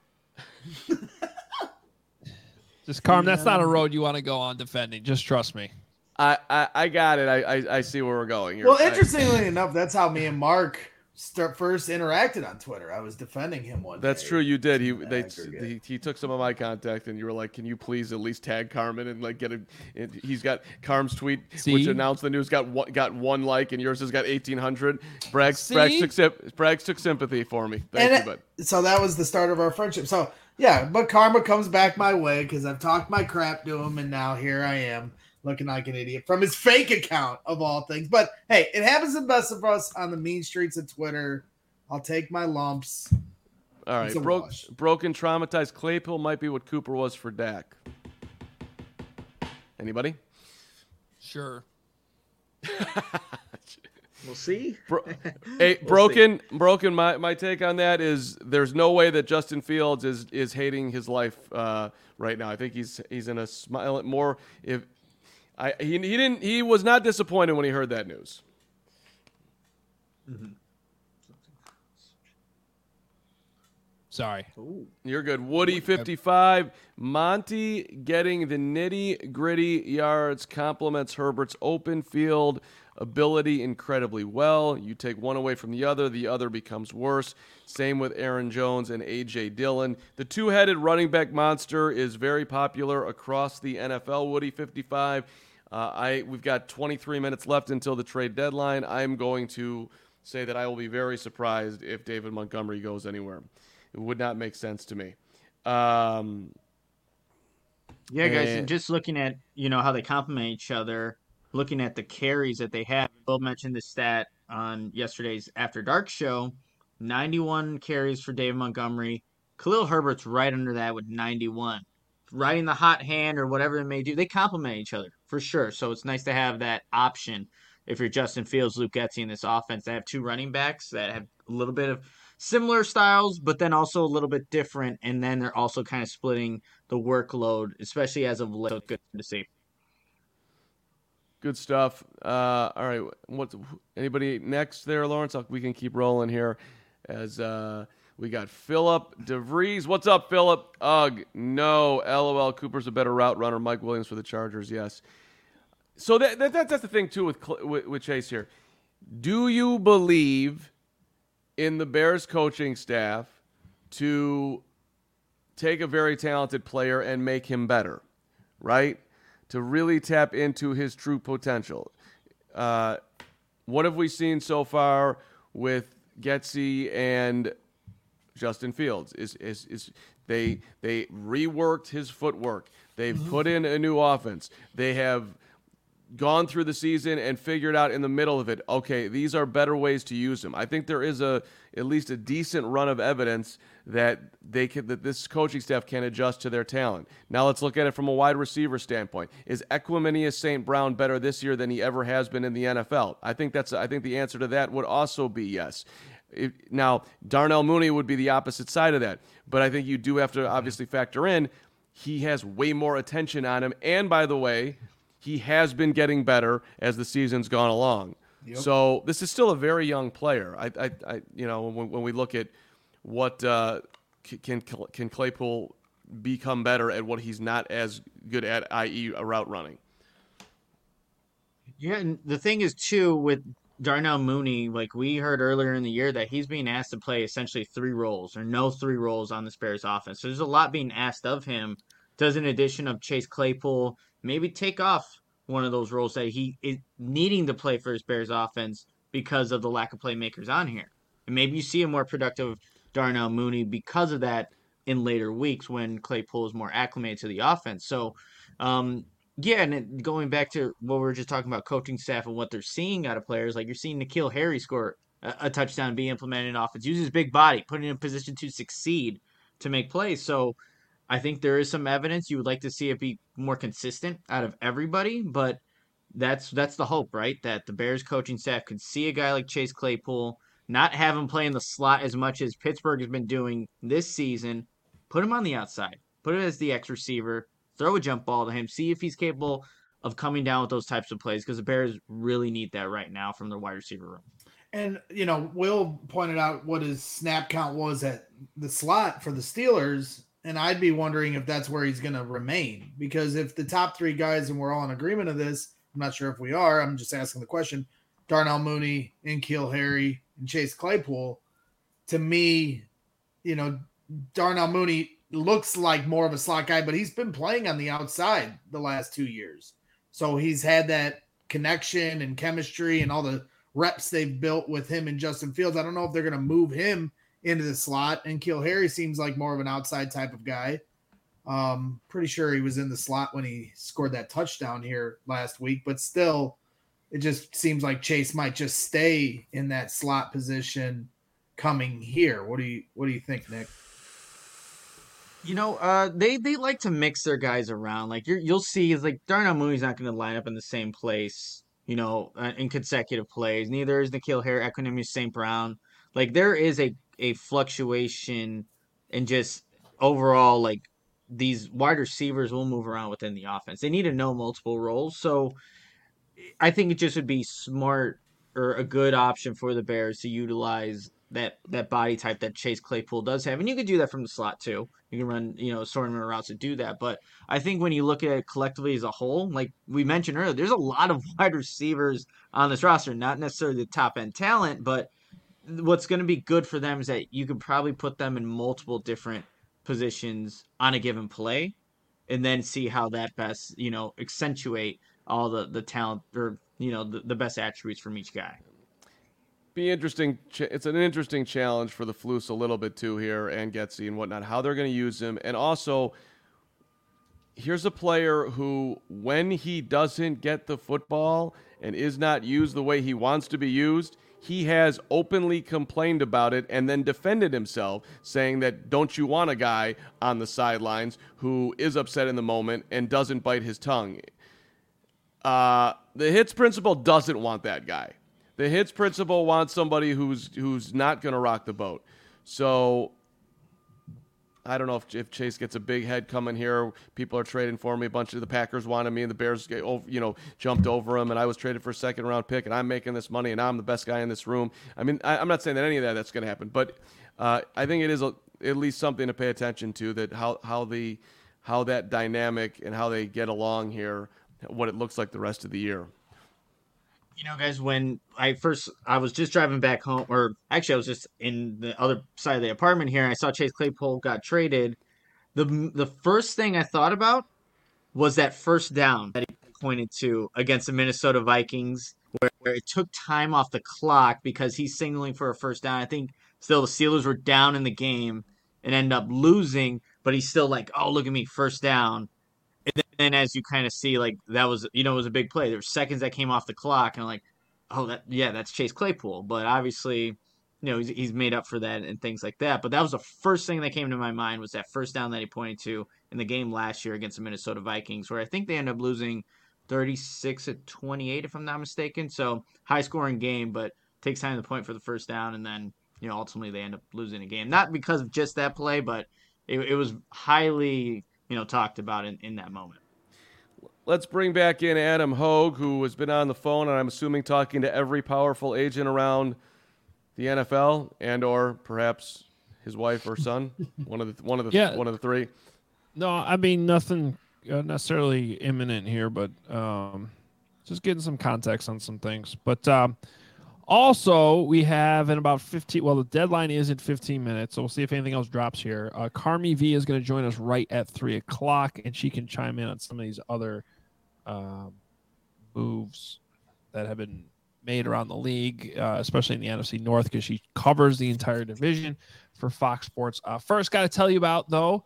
Speaker 1: just Carm, that's not a road you want to go on defending. Just trust me.
Speaker 2: I, I I got it. I, I I see where we're going here.
Speaker 5: Well,
Speaker 2: I-
Speaker 5: interestingly enough, that's how me and Mark start first interacted on Twitter. I was defending him one
Speaker 2: That's
Speaker 5: day.
Speaker 2: true. You did. He
Speaker 5: in the
Speaker 2: they
Speaker 5: aggregate.
Speaker 2: he, he took some of my contact, and you were like, "Can you please at least tag Carmen and like get a?" And he's got Carm's tweet,
Speaker 1: See?
Speaker 2: which announced the news, got one, got one like, and yours has got eighteen hundred. Bragg
Speaker 1: See?
Speaker 2: Bragg took sym- Bragg took sympathy for me. Thank
Speaker 5: And
Speaker 2: you,
Speaker 5: it-
Speaker 2: bud.
Speaker 5: So that was the start of our friendship. So yeah, but karma comes back my way because I've talked my crap to him, and now here I am looking like an idiot from his fake account of all things. But hey, it happens to the best of us on the mean streets of Twitter. I'll take my lumps.
Speaker 2: All right,
Speaker 5: it's a
Speaker 2: Bro-
Speaker 5: wash.
Speaker 2: broken, traumatized. Claypool might be what Cooper was for Dak. Anybody?
Speaker 1: Sure.
Speaker 6: We'll see.
Speaker 2: Bro- hey, broken, broken. My, my take on that is there's no way that Justin Fields is is hating his life uh, right now. I think he's he's in a smile more. If I he, he didn't he was not disappointed when he heard that news.
Speaker 1: Sorry.
Speaker 2: You're good. Woody fifty-five. Monty getting the nitty gritty yards complements Herbert's open field ability incredibly well. You take one away from the other, the other becomes worse. Same with Aaron Jones and A J Dillon. The two-headed running back monster is very popular across the N F L. Woody fifty-five. Uh, I we've got twenty-three minutes left until the trade deadline. I'm going to say that I will be very surprised if David Montgomery goes anywhere. It would not make sense to me. Um,
Speaker 6: Yeah, guys,
Speaker 2: And-
Speaker 6: and just looking at, you know, how they complement each other, looking at the carries that they have. Bill mentioned the stat on yesterday's After Dark show, ninety-one carries for David Montgomery. Khalil Herbert's right under that with ninety-one. Riding the hot hand or whatever they may do, they complement each other for sure. So it's nice to have that option if you're Justin Fields, Luke Getsy in this offense. They have two running backs that have a little bit of similar styles, but then also a little bit different. And then they're also kind of splitting the workload, especially as of late. So it's good to see.
Speaker 2: Good stuff. Uh, all right, what's anybody next there, Lawrence? I'll, we can keep rolling here as uh, we got Philip DeVries. What's up, Philip? Ugh, no. LOL. Cooper's a better route runner. Mike Williams for the Chargers. Yes. So that, that that's the thing too with, with with Chase here. Do you believe in the Bears coaching staff to take a very talented player and make him better, right? To really tap into his true potential. Uh, what have we seen so far with Getsy and Justin Fields? Is is is they they reworked his footwork. They've mm-hmm. put in a new offense. They have gone through the season and figured out in the middle of it, okay, these are better ways to use him. I think there is a at least a decent run of evidence that they can, that this coaching staff can adjust to their talent. Now let's look at it from a wide receiver standpoint. Is Equanimeous Saint Brown better this year than he ever has been in the N F L? I think that's I think the answer to that would also be yes. It, now Darnell Mooney would be the opposite side of that, but I think you do have to obviously factor in he has way more attention on him, and by the way, he has been getting better as the season's gone along. Yep. So this is still a very young player. I, I, I you know, when, when we look at what uh, can can Claypool become better at what he's not as good at, that is, a route running.
Speaker 6: Yeah, and the thing is too with Darnell Mooney, like we heard earlier in the year that he's being asked to play essentially three roles or no three roles on the Bears offense. So there's a lot being asked of him. Does an addition of Chase Claypool maybe take off one of those roles that he is needing to play for his Bears offense because of the lack of playmakers on here? And maybe you see a more productive Darnell Mooney because of that in later weeks when Claypool is more acclimated to the offense. So, um, yeah, and it, going back to what we were just talking about coaching staff and what they're seeing out of players, like you're seeing N'Keal Harry score a, a touchdown and be implemented in offense, use his big body, put him in a position to succeed, to make plays. So I think there is some evidence. You would like to see it be more consistent out of everybody, but that's that's the hope, right? That the Bears coaching staff could see a guy like Chase Claypool, not have him play in the slot as much as Pittsburgh has been doing this season, put him on the outside, put him as the X receiver, throw a jump ball to him, see if he's capable of coming down with those types of plays, because the Bears really need that right now from their wide receiver room.
Speaker 5: And, you know, Will pointed out what his snap count was at the slot for the Steelers. And I'd be wondering if that's where he's going to remain, because if the top three guys, and we're all in agreement of this, I'm not sure if we are, I'm just asking the question, Darnell Mooney, N'Keal Harry, and Chase Claypool, to me, you know, Darnell Mooney looks like more of a slot guy, but he's been playing on the outside the last two years. So he's had that connection and chemistry and all the reps they've built with him and Justin Fields. I don't know if they're going to move him into the slot, and N'Keal Harry seems like more of an outside type of guy. Um, pretty sure he was in the slot when he scored that touchdown here last week, but still, it just seems like Chase might just stay in that slot position coming here. What do you What do you think, Nick?
Speaker 6: You know, uh, they they like to mix their guys around. Like you're, you'll see, is like Darnell Mooney's not going to line up in the same place, you know, uh, in consecutive plays. Neither is N'Keal Harry, Equanimeous Saint Brown. Like there is a a fluctuation in just overall, like these wide receivers will move around within the offense. They need to know multiple roles. So I think it just would be smart or a good option for the Bears to utilize that, that body type that Chase Claypool does have. And you could do that from the slot too. You can run, you know, assortment routes to do that. But I think when you look at it collectively as a whole, like we mentioned earlier, there's a lot of wide receivers on this roster, not necessarily the top end talent, but what's going to be good for them is that you can probably put them in multiple different positions on a given play and then see how that best, you know, accentuate all the, the talent or, you know, the, the best attributes from each guy.
Speaker 2: Be interesting. It's an interesting challenge for the Flus a little bit too here, and Getsy and whatnot, how they're going to use him. And also, here's a player who, when he doesn't get the football and is not used the way he wants to be used, he has openly complained about it and then defended himself, saying that don't you want a guy on the sidelines who is upset in the moment and doesn't bite his tongue? Uh, the Hits principal doesn't want that guy. The Hits principal wants somebody who's who's not going to rock the boat. So I don't know if, if Chase gets a big head coming here. People are trading for me. A bunch of the Packers wanted me, and the Bears get over, you know, jumped over him, and I was traded for a second round pick, and I'm making this money, and I'm the best guy in this room. I mean, I, I'm not saying that any of that that's going to happen, but uh, I think it is a, at least something to pay attention to, that how how the how that dynamic and how they get along here, what it looks like the rest of the year.
Speaker 6: You know, guys, when I first, I was just driving back home, or actually I was just in the other side of the apartment here, and I saw Chase Claypool got traded. The the first thing I thought about was that first down that he pointed to against the Minnesota Vikings, where, where it took time off the clock because he's signaling for a first down. I think still the Steelers were down in the game and end up losing, but he's still like, oh, look at me, first down. And then as you kind of see, like, that was, you know, it was a big play. There were seconds that came off the clock, and I'm like, oh, that, yeah, that's Chase Claypool. But obviously, you know, he's, he's made up for that and things like that. But that was the first thing that came to my mind, was that first down that he pointed to in the game last year against the Minnesota Vikings, where I think they ended up losing thirty-six to twenty-eight, if I'm not mistaken. So high scoring game, but takes time to point for the first down. And then, you know, ultimately they end up losing the game. Not because of just that play, but it, it was highly, you know, talked about in, in that moment.
Speaker 2: Let's bring back in Adam Hogue, who has been on the phone, and I'm assuming talking to every powerful agent around the N F L, and or perhaps his wife or son, one of the one of the
Speaker 1: Yeah.
Speaker 2: one of the three.
Speaker 1: No, I mean nothing uh, necessarily imminent here, but um, just getting some context on some things. But um, also, we have in about fifteen. Well, the deadline is in fifteen minutes, so we'll see if anything else drops here. Uh, Carmi V is going to join us right at three o'clock, and she can chime in on some of these other um, moves that have been made around the league, uh, especially in the N F C North, because she covers the entire division for Fox Sports. Uh, first, got to tell you about, though,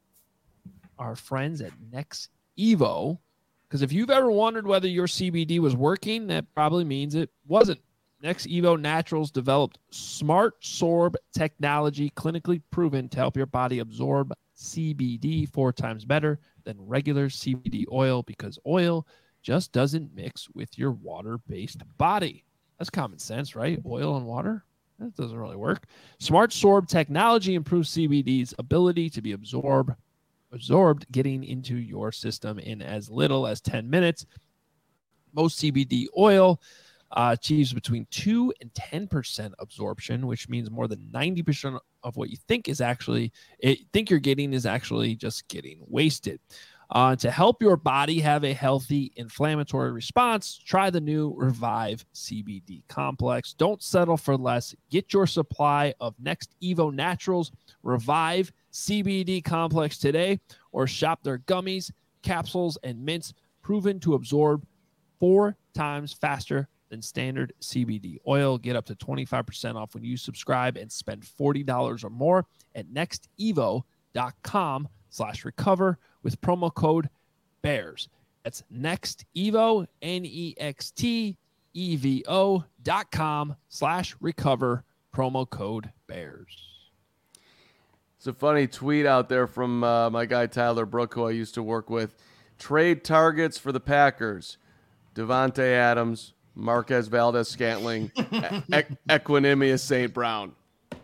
Speaker 1: our friends at Next Evo, because if you've ever wondered whether your C B D was working, that probably means it wasn't. Next Evo Naturals developed Smart Sorb technology, clinically proven to help your body absorb C B D four times better than regular C B D oil, because oil just doesn't mix with your water-based body. That's common sense, right? Oil and water? That doesn't really work. Smart Sorb technology improves C B D's ability to be absorbed, absorbed, getting into your system in as little as ten minutes. Most C B D oil uh, achieves between two and ten percent absorption, which means more than ninety percent of what you think is actually, it, think you're getting is actually just getting wasted. Uh, to help your body have a healthy inflammatory response, try the new Revive C B D Complex. Don't settle for less. Get your supply of Next Evo Naturals Revive C B D Complex today, or shop their gummies, capsules, and mints, proven to absorb four times faster than standard C B D oil. Get up to twenty-five percent off when you subscribe and spend forty dollars or more at nextevo.com slash recover with promo code BEARS. That's NextEvo, N E X T E V O dot com slash recover, promo code BEARS.
Speaker 2: It's a funny tweet out there from uh, my guy Tyler Brook, who I used to work with. Trade targets for the Packers: Devontae Adams, Marquez Valdez-Scantling, e- Equanimous Saint Brown.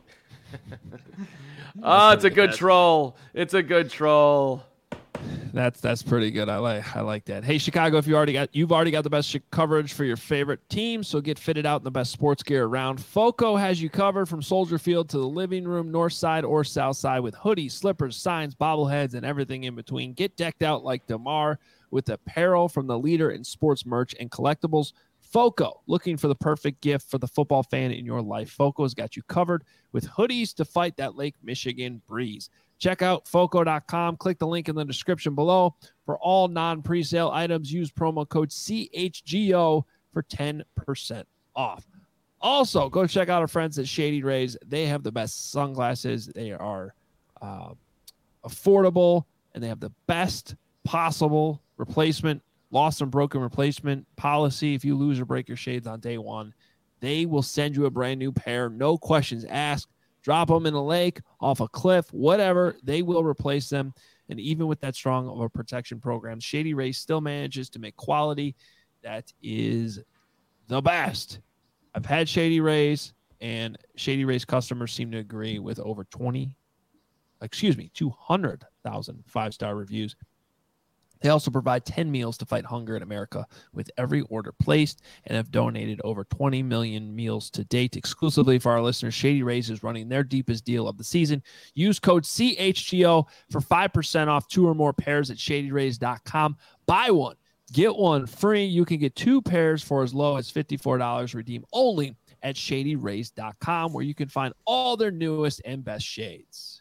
Speaker 2: Oh, it's a good troll. It's a good troll.
Speaker 1: That's that's pretty good. I like I like that. Hey, Chicago, if you already got you've already got the best coverage for your favorite team, so get fitted out in the best sports gear around. Foco has you covered from Soldier Field to the living room, north side or south side, with hoodies, slippers, signs, bobbleheads, and everything in between. Get decked out like DeMar with apparel from the leader in sports merch and collectibles. Foco, looking for the perfect gift for the football fan in your life. Foco has got you covered with hoodies to fight that Lake Michigan breeze. Check out foco dot com. Click the link in the description below. For all non-presale items, use promo code C H G O for ten percent off. Also, go check out our friends at Shady Rays. They have the best sunglasses. They are uh, affordable, and they have the best possible replacement, lost and broken replacement policy. If you lose or break your shades on day one, they will send you a brand new pair. No questions asked. Drop them in a lake, off a cliff, whatever. They will replace them. And even with that strong of a protection program, Shady Rays still manages to make quality that is the best. I've had Shady Rays. and Shady Rays customers seem to agree with over twenty, excuse me, two hundred thousand five-star reviews. They also provide ten meals to fight hunger in America with every order placed and have donated over twenty million meals to date. Exclusively for our listeners, Shady Rays is running their deepest deal of the season. Use code C H G O for five percent off two or more pairs at shady rays dot com. Buy one, get one free. You can get two pairs for as low as fifty-four dollars. Redeem only at shady rays dot com, where you can find all their newest and best shades.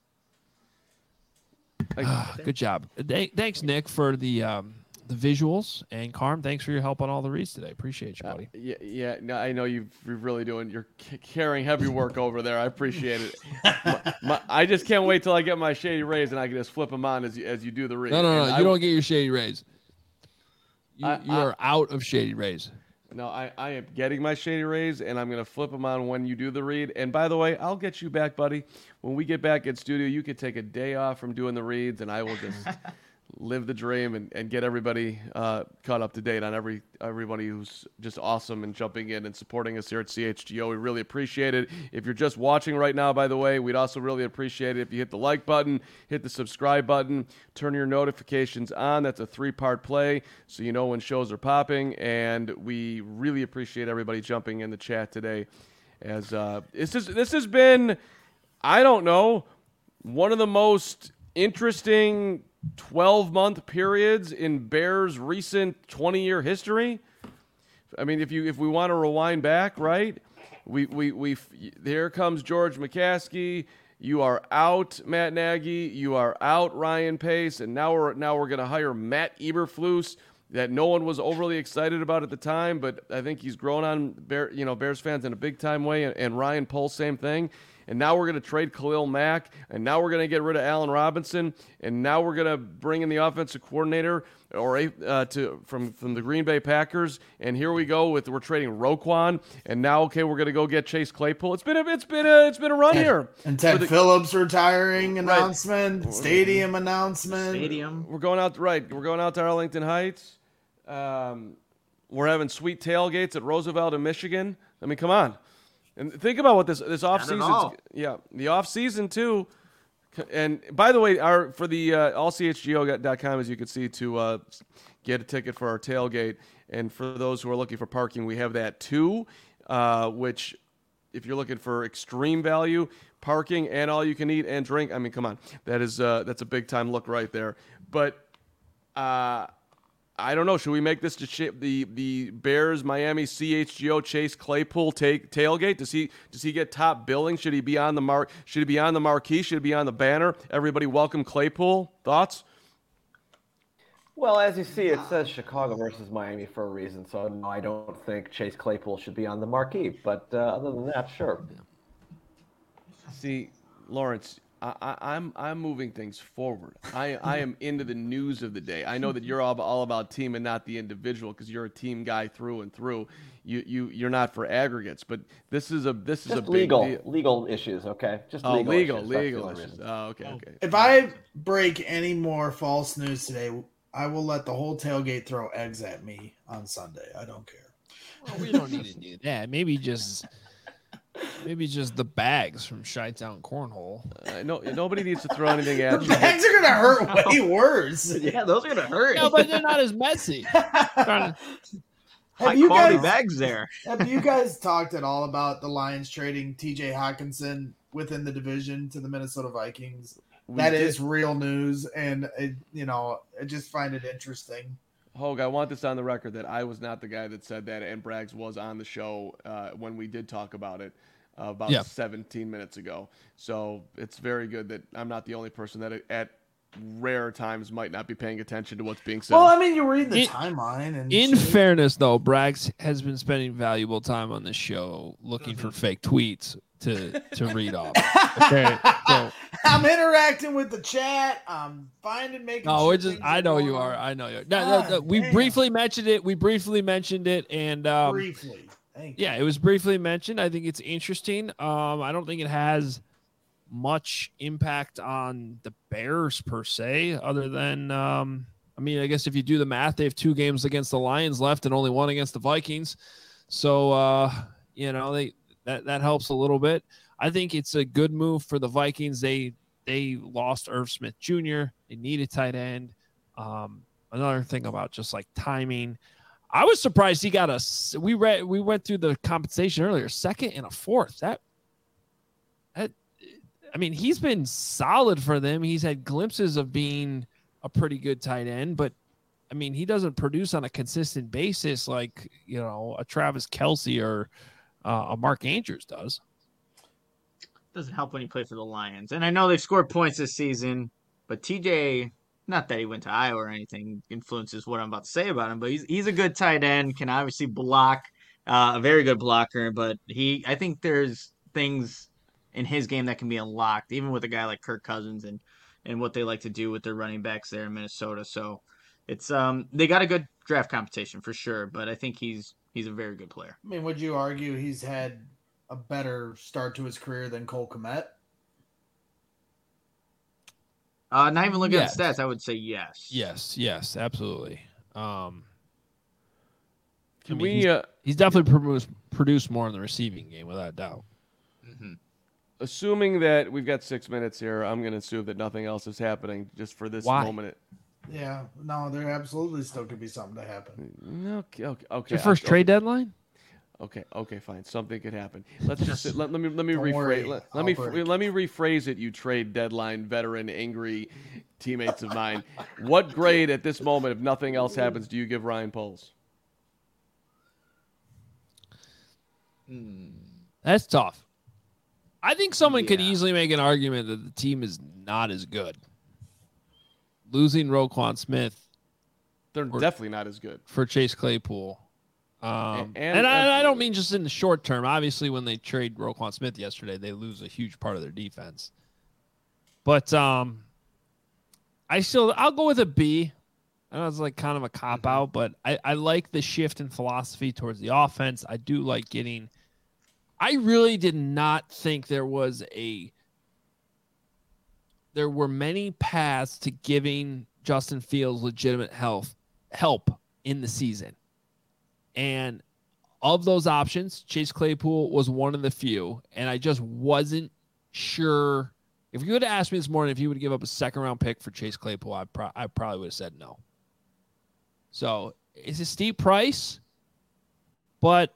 Speaker 1: Good job. Th- thanks, Nick, for the um, the visuals, and Carm, thanks for your help on all the reads today. Appreciate you, buddy.
Speaker 2: Uh, yeah, yeah. No, I know you've, you're really doing. You're c- carrying heavy work over there. I appreciate it. my, my, I just can't wait till I get my Shady Rays and I can just flip them on as you, as you do the read.
Speaker 1: No, no, no.
Speaker 2: And
Speaker 1: You
Speaker 2: I,
Speaker 1: don't get your Shady Rays. You,
Speaker 2: I-
Speaker 1: you
Speaker 2: I-
Speaker 1: are out of Shady Rays.
Speaker 2: No, I, I am getting my Shady Rays, and I'm going to flip them on when you do the read. And by the way, I'll get you back, buddy. When we get back in studio, you could take a day off from doing the reads, and I will just live the dream and, and get everybody uh, caught up to date on every everybody who's just awesome and jumping in and supporting us here at C H G O. We really appreciate it. If you're just watching right now, by the way, we'd also really appreciate it if you hit the like button, hit the subscribe button, turn your notifications on. That's a three-part play, so you know when shows are popping. And we really appreciate everybody jumping in the chat today. As uh, this is this has been, I don't know, one of the most interesting twelve-month periods in Bears' recent twenty-year history. I mean, if you if we want to rewind back, right? We we we here comes George McCaskey. You are out, Matt Nagy. You are out, Ryan Pace, and now we're now we're gonna hire Matt Eberflus, that no one was overly excited about at the time, but I think he's grown on Bear, you know, Bears fans in a big time way. And, and Ryan Poles, same thing. And now we're going to trade Khalil Mack, and now we're going to get rid of Allen Robinson, and now we're going to bring in the offensive coordinator or uh, to from from the Green Bay Packers. And here we go with we're trading Roquan, and now okay, we're going to go get Chase Claypool. It's been a it's been a it's been a run
Speaker 5: and,
Speaker 2: here.
Speaker 5: And Ted
Speaker 2: the,
Speaker 5: Phillips retiring announcement,
Speaker 2: right.
Speaker 5: stadium announcement.
Speaker 6: Stadium.
Speaker 2: We're going out right. We're going out to Arlington Heights. Um, we're having sweet tailgates at Roosevelt in Michigan. I mean, come on. And think about what this this off season, yeah, the off season too. And by the way, our for the uh, all c h g o dot com, as you can see, to uh, get a ticket for our tailgate, and for those who are looking for parking, we have that too. Uh, which, if you're looking for extreme value, parking and all you can eat and drink, I mean, come on, that is uh, that's a big time look right there. But uh, I don't know. Should we make this to sh- the the Bears Miami C H G O Chase Claypool take tailgate? Does he does he get top billing? Should he be on the mark? Should he be on the marquee? Should he be on the banner? Everybody welcome Claypool. Thoughts?
Speaker 4: Well, as you see, it says Chicago versus Miami for a reason. So no, I don't think Chase Claypool should be on the marquee. But uh, other than that, sure.
Speaker 2: See, Lawrence, I, I, I'm I'm moving things forward. I I am into the news of the day. I know that you're all, all about team and not the individual because you're a team guy through and through. You you you're not for aggregates, but this is a this is
Speaker 4: Just
Speaker 2: a big
Speaker 4: legal
Speaker 2: deal.
Speaker 4: legal issues, okay? Just
Speaker 2: Oh,
Speaker 4: legal
Speaker 2: legal
Speaker 4: issues. That's the
Speaker 2: legal
Speaker 4: only
Speaker 2: issues.
Speaker 4: reason.
Speaker 2: Oh, okay okay.
Speaker 5: If I break any more false news today, I will let the whole tailgate throw eggs at me on Sunday. I don't care.
Speaker 1: Well, we don't need to do that. Maybe just maybe just the bags from Chi-Town Cornhole.
Speaker 2: Uh, no, nobody needs to throw anything at
Speaker 5: The
Speaker 2: you.
Speaker 5: bags are gonna hurt way worse.
Speaker 6: Yeah, those are gonna hurt.
Speaker 1: No, but they're not as messy. Trying to-
Speaker 6: High
Speaker 5: Have you
Speaker 6: quality
Speaker 5: guys
Speaker 6: bags there.
Speaker 5: have you guys talked at all about the Lions trading T J Hawkinson within the division to the Minnesota Vikings?
Speaker 2: We
Speaker 5: That
Speaker 2: did-
Speaker 5: is real news, and it, you know, I just find it interesting.
Speaker 2: Hogue, I want this on the record that I was not the guy that said that, and Braggs was on the show uh, when we did talk about it uh, about
Speaker 1: Yeah.
Speaker 2: seventeen minutes ago. So it's very good that I'm not the only person that at rare times might not be paying attention to what's being said.
Speaker 5: Well, I mean, you read the
Speaker 1: In-
Speaker 5: timeline, and
Speaker 1: In
Speaker 5: shit.
Speaker 1: fairness, though, Braggs has been spending valuable time on this show looking for fake tweets to to read off. Okay, so
Speaker 5: I'm interacting with the chat. I'm finding making.
Speaker 1: no,
Speaker 5: sure
Speaker 1: we're just.
Speaker 5: things
Speaker 1: I know
Speaker 5: going
Speaker 1: you
Speaker 5: on.
Speaker 1: are. I know you. Are. No, no, no,
Speaker 5: God
Speaker 1: we
Speaker 5: damn.
Speaker 1: briefly mentioned it. We briefly mentioned it, and um,
Speaker 5: Briefly, thank you.
Speaker 1: yeah, it was briefly mentioned. I think it's interesting. Um, I don't think it has much impact on the Bears per se, other than um, I mean, I guess if you do the math, they have two games against the Lions left and only one against the Vikings. So uh, you know, they That that helps a little bit. I think it's a good move for the Vikings. They they lost Irv Smith Junior They need a tight end. Um, another thing about just like timing, I was surprised he got a. We read we went through the compensation earlier, second and a fourth. That that I mean, he's been solid for them. He's had glimpses of being a pretty good tight end, but I mean, he doesn't produce on a consistent basis like, you know, a Travis Kelce or uh, a Mark Andrews does.
Speaker 6: Doesn't help when you play for the Lions. And I know they've scored points this season, but T J, not that he went to Iowa or anything, influences what I'm about to say about him, but he's he's a good tight end, can obviously block, uh, a very good blocker, but he, I think there's things in his game that can be unlocked, even with a guy like Kirk Cousins and, and what they like to do with their running backs there in Minnesota. So it's um they got a good draft competition for sure, but I think he's he's a very good player.
Speaker 5: I mean, would you argue he's had a better start to his career than Cole Kmet?
Speaker 6: Uh, not even looking
Speaker 1: Yes.
Speaker 6: at stats, I would say yes.
Speaker 1: Yes, yes, absolutely. Um,
Speaker 2: Can
Speaker 1: I mean,
Speaker 2: we?
Speaker 1: he's,
Speaker 2: Uh,
Speaker 1: he's definitely produced, produced more in the receiving game, without a doubt.
Speaker 6: Mm-hmm.
Speaker 2: assuming that we've got six minutes here, I'm going to assume that nothing else is happening just for this
Speaker 1: Why?
Speaker 2: moment.
Speaker 5: Yeah, no, there absolutely still could be something to happen.
Speaker 2: Okay, okay, okay.
Speaker 1: Your first
Speaker 2: okay.
Speaker 1: trade deadline?
Speaker 2: Okay, okay, fine. Something could happen. Let's just let, let me let me
Speaker 5: Don't
Speaker 2: rephrase
Speaker 5: worry,
Speaker 2: let,
Speaker 5: I'll
Speaker 2: let me
Speaker 5: break.
Speaker 2: let me rephrase it. You trade deadline veteran angry teammates of mine. What grade at this moment, if nothing else happens, do you give Ryan Poles?
Speaker 1: That's tough. I think someone could
Speaker 6: Yeah.
Speaker 1: easily make an argument that the team is not as good. Losing Roquan Smith
Speaker 2: They're
Speaker 1: Or-
Speaker 2: definitely not as good.
Speaker 1: for Chase Claypool. Um,
Speaker 2: And-
Speaker 1: and
Speaker 2: and-
Speaker 1: I, I don't mean just in the short term. Obviously, when they trade Roquan Smith yesterday, they lose a huge part of their defense. But um, I still, I'll go with a B. I know it's like kind of a cop out, but I, I like the shift in philosophy towards the offense. I do like getting. I really did not think there was a. There were many paths to giving Justin Fields legitimate health help in the season. And of those options, Chase Claypool was one of the few. And I just wasn't sure. If you would have asked me this morning if you would give up a second round pick for Chase Claypool, I, pro- I probably would have said no. So it's a steep price, but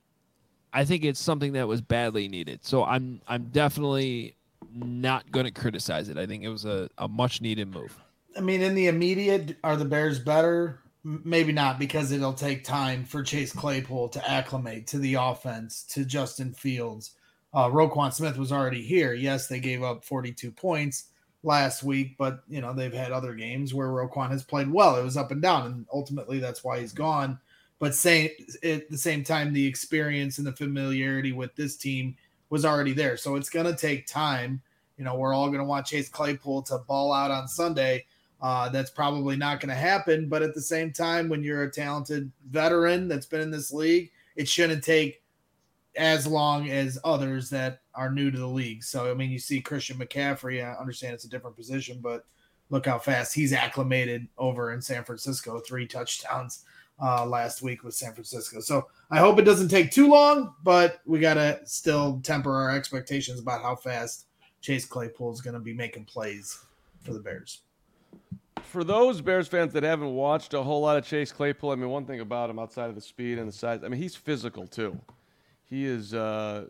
Speaker 1: I think it's something that was badly needed. So I'm I'm definitely not going to criticize it. I think it was a, a much needed move.
Speaker 5: I mean, in the immediate, are the Bears better? M- Maybe not, because it'll take time for Chase Claypool to acclimate to the offense, to Justin Fields. Uh, Roquan Smith was already here. Yes, they gave up forty-two points last week, but you know they've had other games where Roquan has played well. It was up and down, and ultimately that's why he's gone. But same, at the same time, the experience and the familiarity with this team was already there. So it's going to take time. You know, we're all going to want Chase Claypool to ball out on Sunday. Uh, that's probably not going to happen. But at the same time, when you're a talented veteran that's been in this league, it shouldn't take as long as others that are new to the league. So, I mean, you see Christian McCaffrey. I understand it's a different position, but look how fast he's acclimated over in San Francisco. Three touchdowns uh, last week with San Francisco. So I hope it doesn't take too long, but we got to still temper our expectations about how fast Chase Claypool is going to be making plays for the Bears.
Speaker 2: For those Bears fans that haven't watched a whole lot of Chase Claypool, I mean, one thing about him outside of the speed and the size, I mean, he's physical too. He is, uh,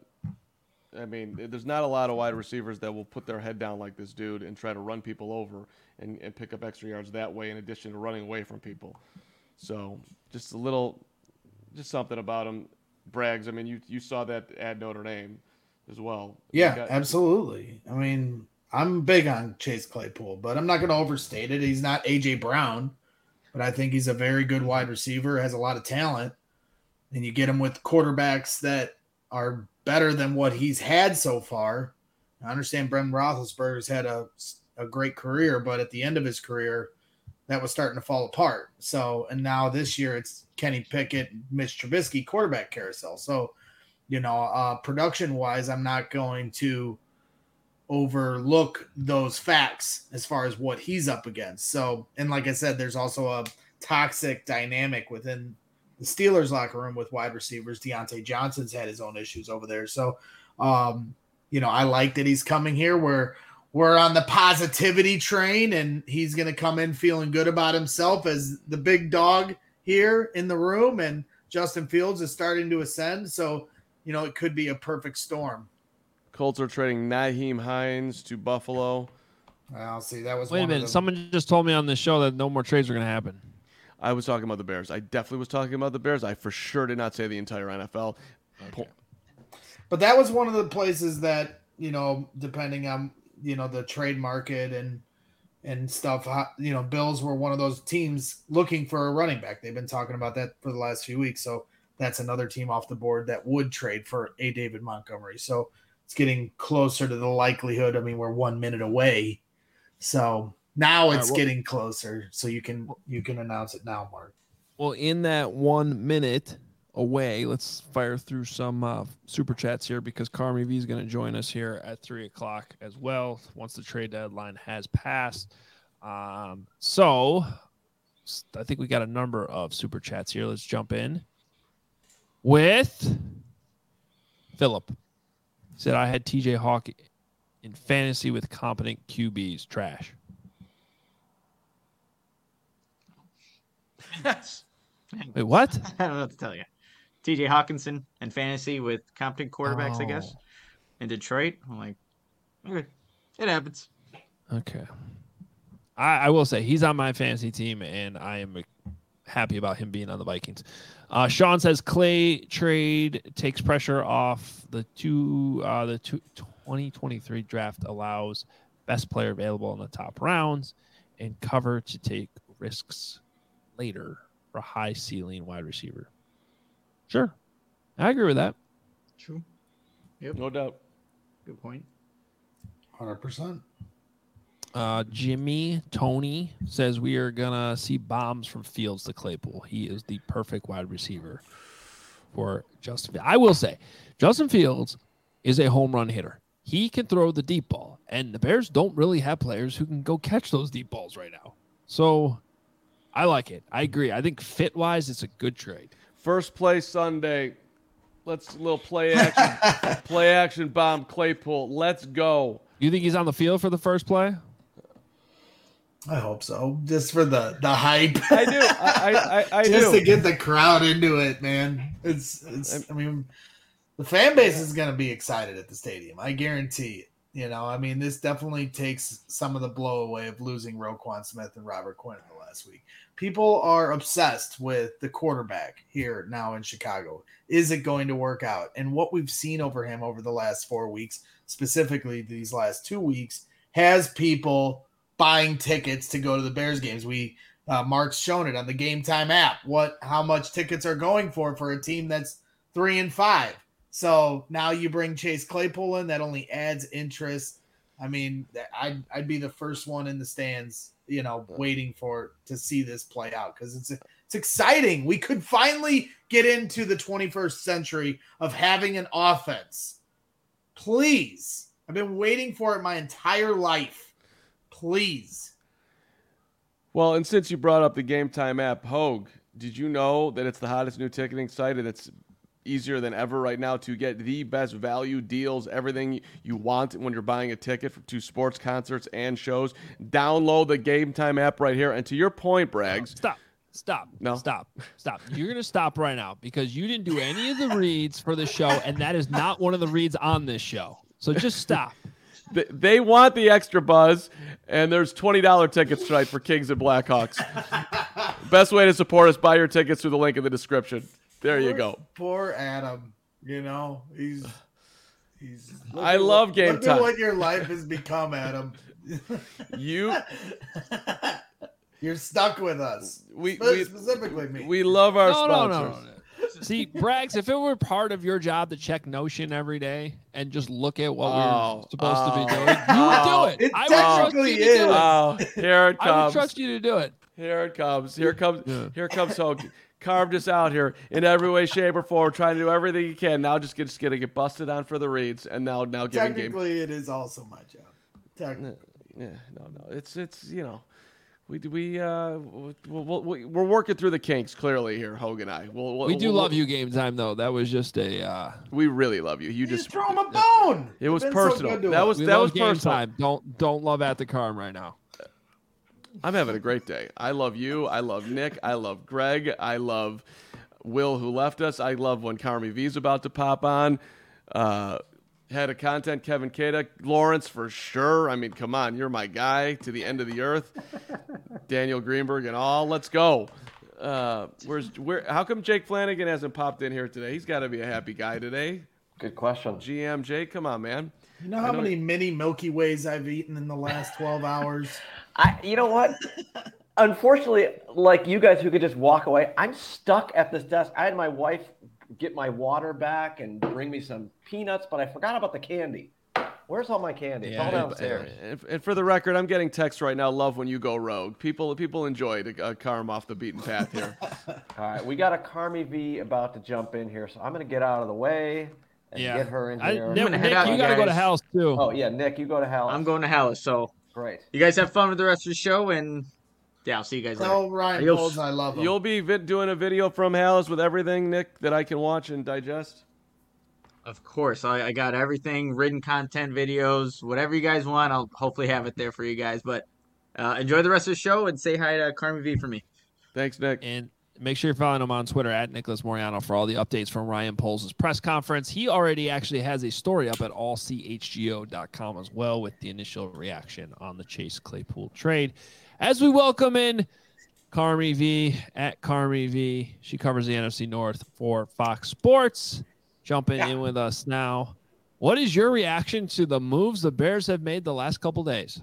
Speaker 2: I mean, there's not a lot of wide receivers that will put their head down like this dude and try to run people over and, and pick up extra yards that way in addition to running away from people. So just a little, just something about him. Braggs, I mean, you, you saw that at Notre Dame as well.
Speaker 5: Yeah,
Speaker 2: got,
Speaker 5: absolutely. I mean, I'm big on Chase Claypool, but I'm not going to overstate it. He's not A J Brown, but I think he's a very good wide receiver, has a lot of talent. And you get him with quarterbacks that are better than what he's had so far. I understand Brendan Roethlisberger's had a, a great career, but at the end of his career, that was starting to fall apart. So, and now this year it's Kenny Pickett, Mitch Trubisky quarterback carousel. So, you know, uh, production-wise, I'm not going to overlook those facts as far as what he's up against. So, and like I said, there's also a toxic dynamic within the Steelers locker room with wide receivers. Deontay Johnson's had his own issues over there. So, um, you know, I like that he's coming here. We're, we're on the positivity train, and he's going to come in feeling good about himself as the big dog here in the room. And Justin Fields is starting to ascend. So, you know, it could be a perfect storm.
Speaker 2: Colts are trading Nyheim Hines to Buffalo.
Speaker 5: I'll see. That was
Speaker 1: Wait
Speaker 5: one
Speaker 1: a minute.
Speaker 5: Of them.
Speaker 1: Someone just told me on this show that no more trades are going to happen.
Speaker 2: I was talking about the Bears. I definitely was talking about the Bears. I for sure did not say the entire N F L.
Speaker 1: Okay.
Speaker 5: But that was one of the places that, you know, depending on, you know, the trade market and and stuff, you know, Bills were one of those teams looking for a running back. They've been talking about that for the last few weeks. So that's another team off the board that would trade for a David Montgomery. So it's getting closer to the likelihood. I mean, we're one minute away. So now it's
Speaker 1: right, well,
Speaker 5: getting closer. So you can you can announce it now, Mark.
Speaker 1: Well, in that one minute away, let's fire through some uh, super chats here because Carmi V is going to join us here at three o'clock as well once the trade deadline has passed. Um, so I think we got a number of super chats here. Let's jump in with Philip. He said, I had T J Hawk in fantasy with competent Q Bs. Trash. Wait, what?
Speaker 6: I don't know what to tell you. T J Hawkinson and fantasy with competent quarterbacks,
Speaker 1: Oh.
Speaker 6: I guess. In Detroit, I'm like, okay, it happens.
Speaker 1: Okay. I, I will say he's on my fantasy team, and I am happy about him being on the Vikings. Uh, Sean says Clay trade takes pressure off the two. Uh, the two, twenty twenty-three draft allows best player available in the top rounds and cover to take risks later for high ceiling wide receiver. Sure, I agree with that.
Speaker 6: True. Yep.
Speaker 2: No doubt.
Speaker 6: Good point.
Speaker 5: one hundred percent.
Speaker 1: Uh, Jimmy Tony says we are gonna see bombs from Fields to Claypool. He is the perfect wide receiver for Justin. I will say, Justin Fields is a home run hitter. He can throw the deep ball, and the Bears don't really have players who can go catch those deep balls right now. So, I like it. I agree. I think fit wise, it's a good trade.
Speaker 2: First play Sunday. Let's little play action. play action bomb Claypool. Let's go.
Speaker 1: You think he's on the field for the first play?
Speaker 5: I hope so. Just for the, the hype.
Speaker 2: I do. I I, I, I
Speaker 5: Just
Speaker 2: do.
Speaker 5: to get the crowd into it, man. It's it's I mean the fan base is gonna be excited at the stadium. I guarantee it. You know, I mean, this definitely takes some of the blow away of losing Roquan Smith and Robert Quinn in the last week. People are obsessed with the quarterback here now in Chicago. Is it going to work out? And what we've seen over him over the last four weeks, specifically these last two weeks, has people buying tickets to go to the Bears games. We uh, Mark's shown it on the Game Time app. What, how much tickets are going for for a team that's three and five. So now you bring Chase Claypool in, that only adds interest. I mean, I'd I'd be the first one in the stands, you know, waiting for to see this play out because it's it's exciting. We could finally get into the twenty-first century of having an offense. Please, I've been waiting for it my entire life. Please.
Speaker 2: Well, and since you brought up the Game Time app, Hogue, did you know that it's the hottest new ticketing site and it's easier than ever right now to get the best value deals, everything you want when you're buying a ticket for, to sports, concerts, and shows? Download the Game Time app right here. And to your point, Braggs.
Speaker 1: Stop. Stop.
Speaker 2: No.
Speaker 1: Stop. Stop. You're going to stop right now because you didn't do any of the reads for the show, and that is not one of the reads on this show. So just stop.
Speaker 2: They, they want the extra buzz, and there's twenty dollars tickets tonight for Kings and Blackhawks. Best way to support us, buy your tickets through the link in the description. There
Speaker 5: poor,
Speaker 2: you go.
Speaker 5: Poor Adam. You know, he's he's.
Speaker 2: I love
Speaker 5: what,
Speaker 2: Game
Speaker 5: look
Speaker 2: Time.
Speaker 5: At what your life has become, Adam.
Speaker 2: You,
Speaker 5: You're stuck with us.
Speaker 2: we,
Speaker 5: Spe-
Speaker 2: we,
Speaker 5: specifically me.
Speaker 2: we love our
Speaker 1: No, no,
Speaker 2: sponsors.
Speaker 1: no, no, no. See, Braggs, if it were part of your job to check Notion every day and just look at what
Speaker 2: Oh,
Speaker 1: we're supposed
Speaker 2: oh,
Speaker 1: to be doing, you
Speaker 2: oh.
Speaker 1: would do it.
Speaker 5: It
Speaker 1: I would trust
Speaker 5: technically
Speaker 1: you to do it.
Speaker 2: Oh, here it
Speaker 1: I would
Speaker 2: comes.
Speaker 1: trust you to do it.
Speaker 2: Here it comes. Here comes.
Speaker 1: Yeah.
Speaker 2: Here comes Hogue. Carved us out here in every way, shape, or form, trying to do everything you can. Now just, get, just gonna get busted on for the reads, and now now giving game.
Speaker 5: Technically, it is also my job. Technically.
Speaker 2: Yeah, no, no. It's it's you know, We we uh we'll, we'll, we're working through the kinks clearly here, Hogan and I. We'll, we'll,
Speaker 1: We do
Speaker 2: we'll,
Speaker 1: love you, Game Time, though. That was just a. Uh,
Speaker 2: we really love you. You,
Speaker 5: You
Speaker 2: just
Speaker 5: just throw him a bone.
Speaker 2: It was
Speaker 5: You've been so
Speaker 2: personal.
Speaker 5: good to
Speaker 2: That
Speaker 5: us.
Speaker 2: was
Speaker 1: we
Speaker 2: that
Speaker 1: love
Speaker 2: was
Speaker 1: Game
Speaker 2: personal.
Speaker 1: Time. Don't don't love at the Carm right now.
Speaker 2: I'm having a great day. I love you. I love Nick. I love Greg. I love Will, who left us. I love when Carmi V's about to pop on. Uh, head of content, Kevin Kada. Lawrence, for sure. I mean, come on. You're my guy to the end of the earth. Daniel Greenberg and all. Let's go. Uh, where's where? How come Jake Flanagan hasn't popped in here today? He's got to be a happy guy today.
Speaker 4: Good question.
Speaker 2: G M Jake, come on, man.
Speaker 5: You know how many mini Milky Ways I've eaten in the last twelve hours?
Speaker 4: I, you know what? Unfortunately, like you guys who could just walk away, I'm stuck at this desk. I had my wife get my water back and bring me some peanuts, but I forgot about the candy. Where's all my candy? It's all
Speaker 1: Yeah,
Speaker 4: downstairs.
Speaker 2: And, and for the record, I'm getting texts right now. Love when you go rogue. People people enjoy a uh, Carm off the beaten path here.
Speaker 4: All right, we got a Carmi V about to jump in here, so I'm going to get out of the way and
Speaker 1: Yeah.
Speaker 4: get her in
Speaker 1: I,
Speaker 4: here.
Speaker 1: Nick,
Speaker 6: gonna head
Speaker 1: Nick,
Speaker 6: out,
Speaker 1: you
Speaker 6: you
Speaker 1: got to go to
Speaker 6: guys.
Speaker 1: house, too.
Speaker 4: Oh, yeah, Nick, you go to hell.
Speaker 6: I'm going to Hallis. So
Speaker 4: Great.
Speaker 6: you guys have fun with the rest of the show, and yeah, I'll see you guys later.
Speaker 5: Tell Ryan
Speaker 6: Adios.
Speaker 5: Poles I love him.
Speaker 2: You'll be vi- doing a video from Hallis with everything, Nick, that I can watch and digest.
Speaker 6: Of course, I, I got everything, written content, videos, whatever you guys want. I'll hopefully have it there for you guys. But uh, enjoy the rest of the show and say hi to Carmi V for me.
Speaker 2: Thanks, Nick.
Speaker 1: And make sure you're following him on Twitter at Nicholas Moriano for all the updates from Ryan Poles' press conference. He already actually has a story up at all c h g o dot com as well with the initial reaction on the Chase Claypool trade. As we welcome in Carmi V at Carmi V. She covers the N F C North for Fox Sports. Jumping
Speaker 7: Yeah.
Speaker 1: in with us now. What is your reaction to the moves the Bears have made the last couple days?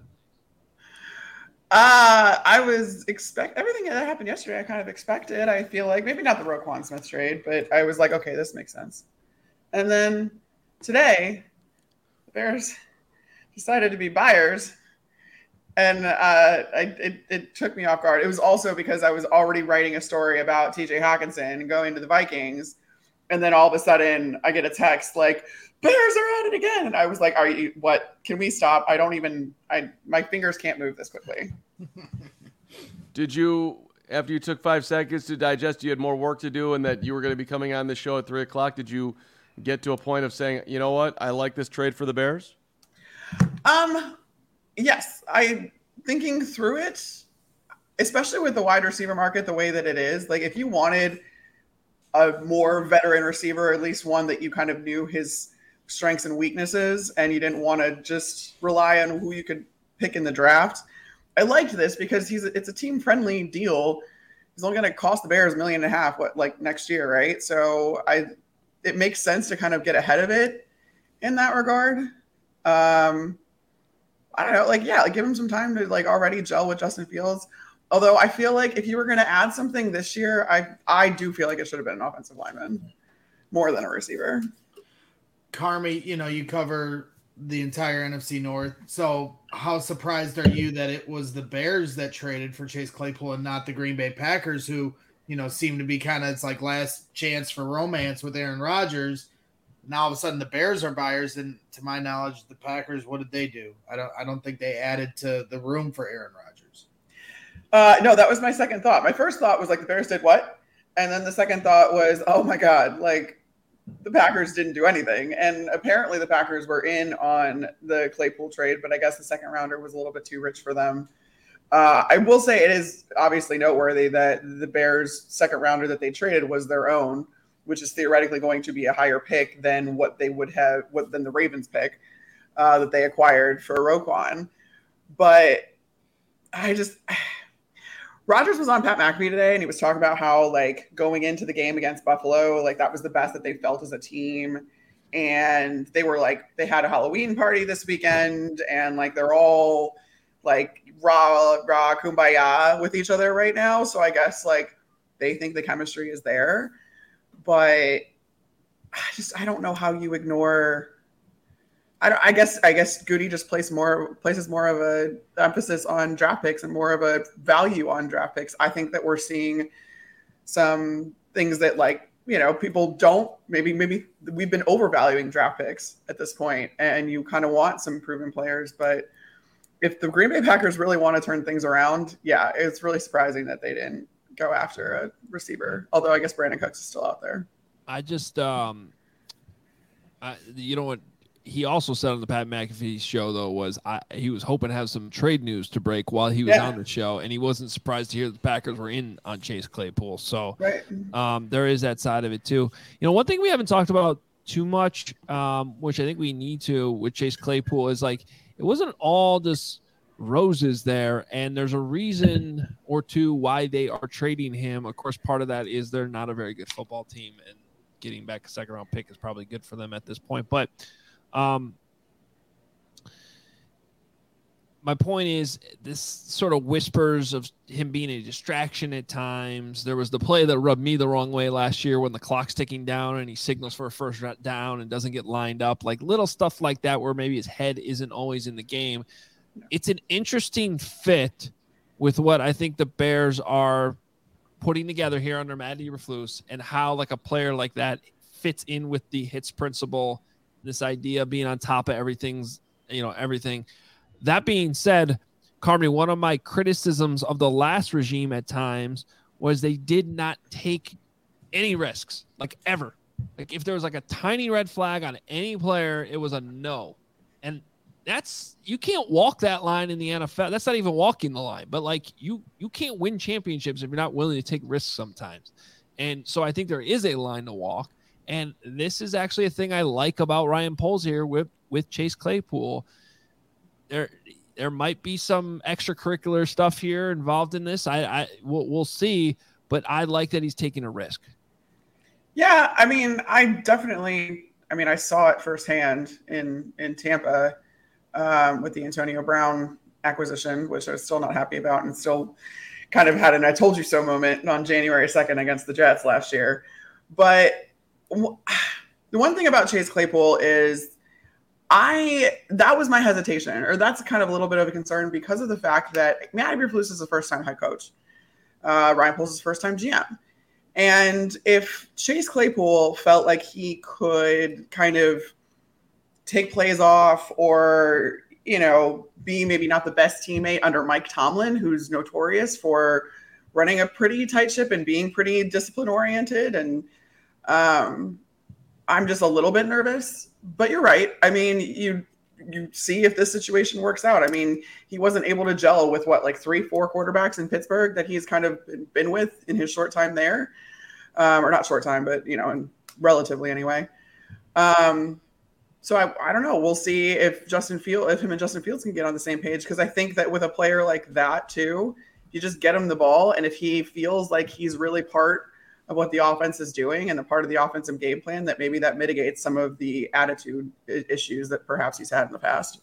Speaker 7: Uh, I was expect everything that happened yesterday. I kind of expected. I feel like maybe not the Roquan Smith trade, but I was like, okay, this makes sense. And then today, the Bears decided to be buyers, and uh, I, it it took me off guard. It was also because I was already writing a story about T J Hawkinson going to the Vikings, and then all of a sudden I get a text like, Bears are at it again. And I was like, are you, what, can we stop? I don't even, I, my fingers can't move this quickly.
Speaker 2: Did you, after you took five seconds to digest, you had more work to do and that you were going to be coming on this show at three o'clock. Did you get to a point of saying, you know what, I like this trade for the Bears?
Speaker 7: Um, yes, I thinking through it, especially with the wide receiver market, the way that it is, like if you wanted a more veteran receiver, at least one that you kind of knew his strengths and weaknesses, and you didn't want to just rely on who you could pick in the draft. I liked this because he's it's a team friendly deal. He's only going to cost the Bears a million and a half, what, like next year, right? So I, it makes sense to kind of get ahead of it in that regard. Um, I don't know, like yeah, like give him some time to like already gel with Justin Fields. Although I feel like if you were going to add something this year, I I do feel like it should have been an offensive lineman more than a receiver.
Speaker 5: Carmi, you know, you cover the entire N F C North. So how surprised are you that it was the Bears that traded for Chase Claypool and not the Green Bay Packers, who, you know, seem to be kind of, it's like last chance for romance with Aaron Rodgers. Now all of a sudden the Bears are buyers, and to my knowledge, the Packers, what did they do? I don't I don't think they added to the room for Aaron Rodgers.
Speaker 7: Uh, no, that was my second thought. My first thought was like the Bears did what? And then the second thought was, oh my God, like the Packers didn't do anything. And apparently the Packers were in on the Claypool trade, but I guess the second rounder was a little bit too rich for them. Uh, I will say it is obviously noteworthy that the Bears' second rounder that they traded was their own, which is theoretically going to be a higher pick than what they would have, what than the Ravens pick uh, that they acquired for Roquan. But I just... Rodgers was on Pat McAfee today, and he was talking about how, like, going into the game against Buffalo, like, that was the best that they felt as a team. And they were, like, they had a Halloween party this weekend, and, like, they're all, like, rah, rah, kumbaya with each other right now. So I guess, like, they think the chemistry is there. But I just, I don't know how you ignore... I, don't, I guess I guess Goody just places more places more of a emphasis on draft picks and more of a value on draft picks. I think that we're seeing some things that, like, you know, people don't maybe maybe we've been overvaluing draft picks at this point, and you kind of want some proven players. But if the Green Bay Packers really want to turn things around, yeah, it's really surprising that they didn't go after a receiver. Although I guess Brandon Cooks is still out there.
Speaker 1: I just, um, I, you know what? He also said on the Pat McAfee show, though, was I, he was hoping to have some trade news to break while he was
Speaker 7: Yeah.
Speaker 1: on the show, and he wasn't surprised to hear the Packers were in on Chase Claypool. So
Speaker 7: Right.
Speaker 1: um, there is that side of it, too. You know, one thing we haven't talked about too much, um, which I think we need to with Chase Claypool, is like it wasn't all just roses there, and there's a reason or two why they are trading him. Of course, part of that is they're not a very good football team, and getting back a second round pick is probably good for them at this point. But um, my point is this sort of whispers of him being a distraction at times. There was the play that rubbed me the wrong way last year when the clock's ticking down and he signals for a first down and doesn't get lined up, like little stuff like that where maybe his head isn't always in the game. It's an interesting fit with what I think the Bears are putting together here under Matt Eberflus and how like a player like that fits in with the hits principle, this idea of being on top of everything's, you know, everything. That being said, Carmi, one of my criticisms of the last regime at times was they did not take any risks, like ever. Like if there was like a tiny red flag on any player, it was a no. And that's, you can't walk that line in the N F L. That's not even walking the line, but like you, you can't win championships if you're not willing to take risks sometimes. And so I think there is a line to walk. And this is actually a thing I like about Ryan Poles here with, with Chase Claypool. There, there might be some extracurricular stuff here involved in this. I, I we'll, we'll see, but I like that he's taking a risk.
Speaker 7: Yeah, I mean, I definitely, I mean, I saw it firsthand in in Tampa um, with the Antonio Brown acquisition, which I was still not happy about, and still kind of had an "I told you so" moment on January second against the Jets last year. But w- the one thing about Chase Claypool is, I that was my hesitation, or that's kind of a little bit of a concern because of the fact that Matt Eberflus is the first-time head coach. Uh, Ryan Poles is first-time G M. And if Chase Claypool felt like he could kind of take plays off or, you know, be maybe not the best teammate under Mike Tomlin, who's notorious for running a pretty tight ship and being pretty discipline-oriented, and um, I'm just a little bit nervous. But you're right. I mean, you you see if this situation works out. I mean, he wasn't able to gel with what, like three, four quarterbacks in Pittsburgh that he's kind of been with in his short time there, um, or not short time, but you know, and relatively anyway. Um, so I, I don't know. We'll see if Justin Field, if him and Justin Fields can get on the same page, because I think that with a player like that too, you just get him the ball, and if he feels like he's really part of what the offense is doing and a part of the offensive game plan, that maybe that mitigates some of the attitude issues that perhaps he's had in the past.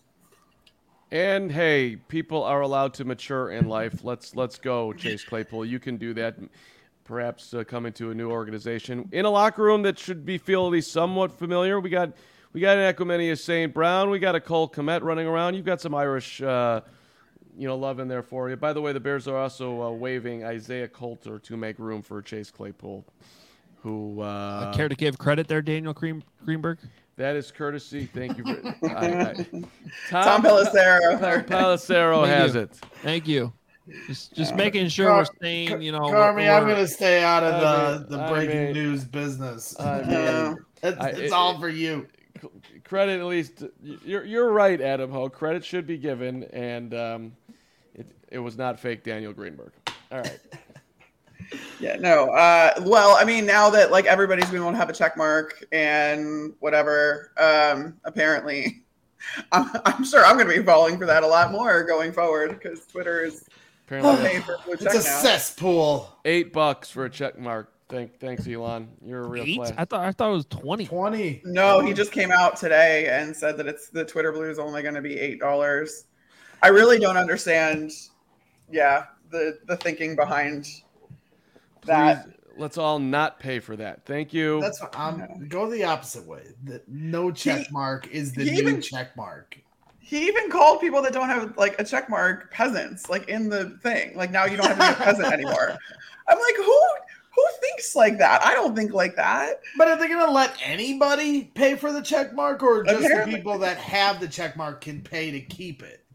Speaker 2: And hey, people are allowed to mature in life. Let's let's go, Chase Claypool. You can do that. Perhaps uh, come into a new organization in a locker room that should be feel at least somewhat familiar. We got we got an Equimania Saint Brown. We got a Cole Kmet running around. You've got some Irish, uh, you know, love in there for you. By the way, the Bears are also uh, waiving Isaiah Coulter to make room for Chase Claypool, who uh,
Speaker 1: Uh, care to give credit there, Daniel Green, Greenberg?
Speaker 2: that is courtesy. Thank you. For, I, I,
Speaker 7: Tom Pelissero.
Speaker 2: Tom Pelissero
Speaker 1: Thank
Speaker 2: has
Speaker 1: you.
Speaker 2: it.
Speaker 1: Thank you. Just just making sure
Speaker 5: Car-
Speaker 1: we're staying, you know.
Speaker 5: Carmi,
Speaker 1: we're-
Speaker 5: I'm
Speaker 1: we're-
Speaker 5: going to stay out of
Speaker 2: I
Speaker 5: the,
Speaker 2: mean-
Speaker 5: the
Speaker 2: I
Speaker 5: breaking
Speaker 2: mean-
Speaker 5: news business.
Speaker 2: I mean,
Speaker 7: Yeah.
Speaker 5: it's
Speaker 2: I-
Speaker 5: it's
Speaker 2: it-
Speaker 5: all for you.
Speaker 2: Credit at least. You're you're right, Adam Ho. Credit should be given, and um, it it was not fake Daniel Greenberg. All right.
Speaker 7: Yeah, no. Uh, well, I mean, now that like everybody's going to want to have a check mark and whatever, um, apparently, I'm, I'm sure I'm going to be falling for that a lot more going forward because Twitter is
Speaker 2: Apparently,
Speaker 7: paying for a blue
Speaker 5: It's
Speaker 7: check
Speaker 5: a
Speaker 7: now.
Speaker 5: cesspool.
Speaker 2: eight bucks for a check mark. Thank, thanks, Elon. You're a real
Speaker 1: Eight?
Speaker 2: player.
Speaker 1: I thought I thought it was twenty.
Speaker 5: twenty.
Speaker 7: No, he just came out today and said that it's the Twitter blue is only going to be eight dollars. I really don't understand. Yeah, the the thinking behind that.
Speaker 2: Please, let's all not pay for that. Thank you.
Speaker 5: That's what I'm go the opposite way. The no check
Speaker 7: He-
Speaker 5: mark is the
Speaker 7: he
Speaker 5: new
Speaker 7: even-
Speaker 5: check mark.
Speaker 7: He even called people that don't have like a check mark peasants, like in the thing. Like now you don't have to be a peasant anymore. I'm like, who who thinks like that? I don't think like that.
Speaker 5: But are they going to let anybody pay for the check mark, or just
Speaker 7: Apparently.
Speaker 5: the people that have the check mark can pay to keep it?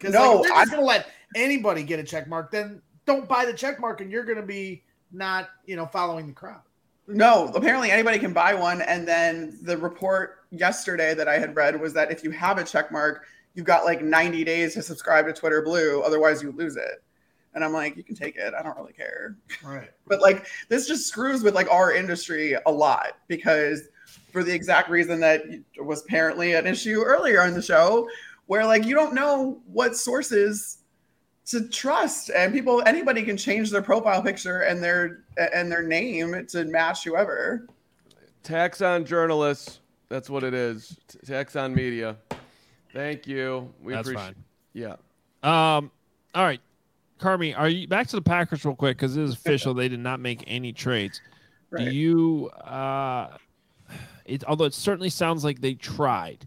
Speaker 5: Because
Speaker 7: No,
Speaker 5: like, they're just
Speaker 7: I-
Speaker 5: going to let anybody get a check mark. Then don't buy the check mark, and you're going to be not, you know, following the crowd.
Speaker 7: No, apparently anybody can buy one. And then the report yesterday that I had read was that if you have a check mark, you've got like ninety days to subscribe to Twitter Blue. Otherwise, you lose it. And I'm like, you can take it. I don't really care.
Speaker 5: Right.
Speaker 7: But like, this just screws with like our industry a lot because for the exact reason that was apparently an issue earlier in the show, where like you don't know what sources to trust, and people, anybody can change their profile picture and their and their name to match whoever.
Speaker 2: Tax on journalists. That's what it is. Tax on media. Thank you. We
Speaker 1: That's
Speaker 2: appreciate.
Speaker 1: fine.
Speaker 2: Yeah.
Speaker 1: Um. All right, Carmi, are you back to the Packers real quick because it is official? They did not make any trades.
Speaker 7: Right.
Speaker 1: Do you? Uh, it although it certainly sounds like they tried.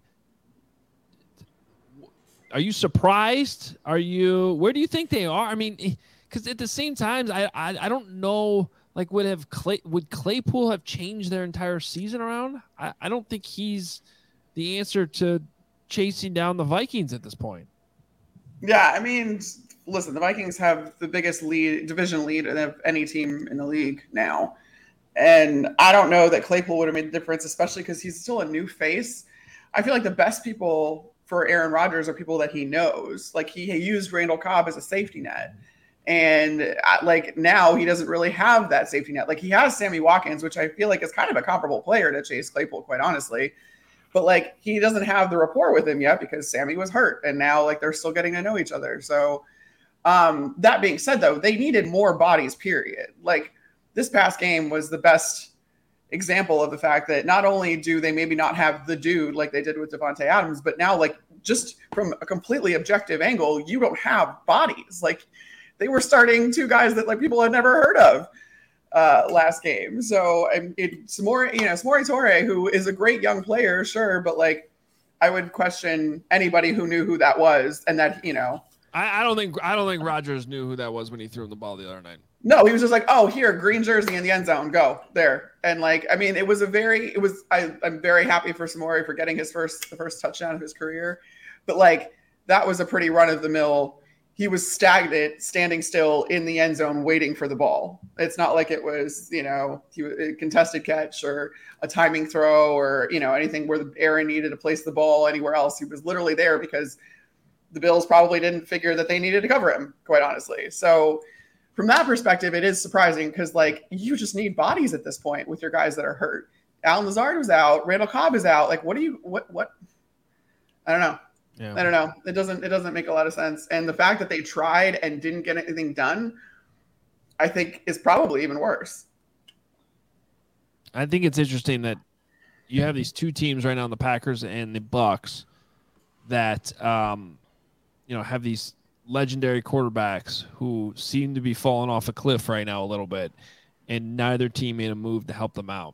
Speaker 1: Are you surprised? Are you? Where do you think they are? I mean, because at the same time, I, I I don't know. Like, would have Clay would Claypool have changed their entire season around? I, I don't think he's the answer to chasing down the Vikings at this point.
Speaker 7: Yeah, I mean, listen, the Vikings have the biggest lead, division lead of any team in the league now. And I don't know that Claypool would have made a difference, especially because he's still a new face. I feel like the best people for Aaron Rodgers are people that he knows. Like, he, he used Randall Cobb as a safety net. And like now he doesn't really have that safety net. Like, he has Sammy Watkins, which I feel like is kind of a comparable player to Chase Claypool, quite honestly. But like, he doesn't have the rapport with him yet because Sammy was hurt. And now like they're still getting to know each other. So um, that being said, though, they needed more bodies, period. Like, this past game was the best example of the fact that not only do they maybe not have the dude like they did with Devontae Adams, but now like just from a completely objective angle, you don't have bodies. Like, they were starting two guys that like people had never heard of uh, last game. So and it Samori, you know, Samori Torre, who is a great young player, sure, but like I would question anybody who knew who that was, and that, you know,
Speaker 1: I, I don't think I don't think Rodgers knew who that was when he threw him the ball the other night.
Speaker 7: no, he was just like, oh, here, green jersey in the end zone, go there. And like, I mean, it was a very, it was, I, I'm very happy for Samori for getting his first, the first touchdown of his career. But like, that was a pretty run of the mill. He was stagnant, standing still in the end zone, waiting for the ball. It's not like it was, you know, he, a contested catch or a timing throw or, you know, anything where Aaron needed to place the ball anywhere else. He was literally there because the Bills probably didn't figure that they needed to cover him, quite honestly. So from that perspective, it is surprising because, like, you just need bodies at this point with your guys that are hurt. Alan Lazard was out. Randall Cobb is out. Like, what do you, what, what? I don't know.
Speaker 1: Yeah.
Speaker 7: I don't know. It doesn't, it doesn't make a lot of sense. And the fact that they tried and didn't get anything done, I think is probably even worse.
Speaker 1: I think it's interesting that you have these two teams right now, the Packers and the Bucks, that, um, you know, have these legendary quarterbacks who seem to be falling off a cliff right now a little bit, and neither team made a move to help them out.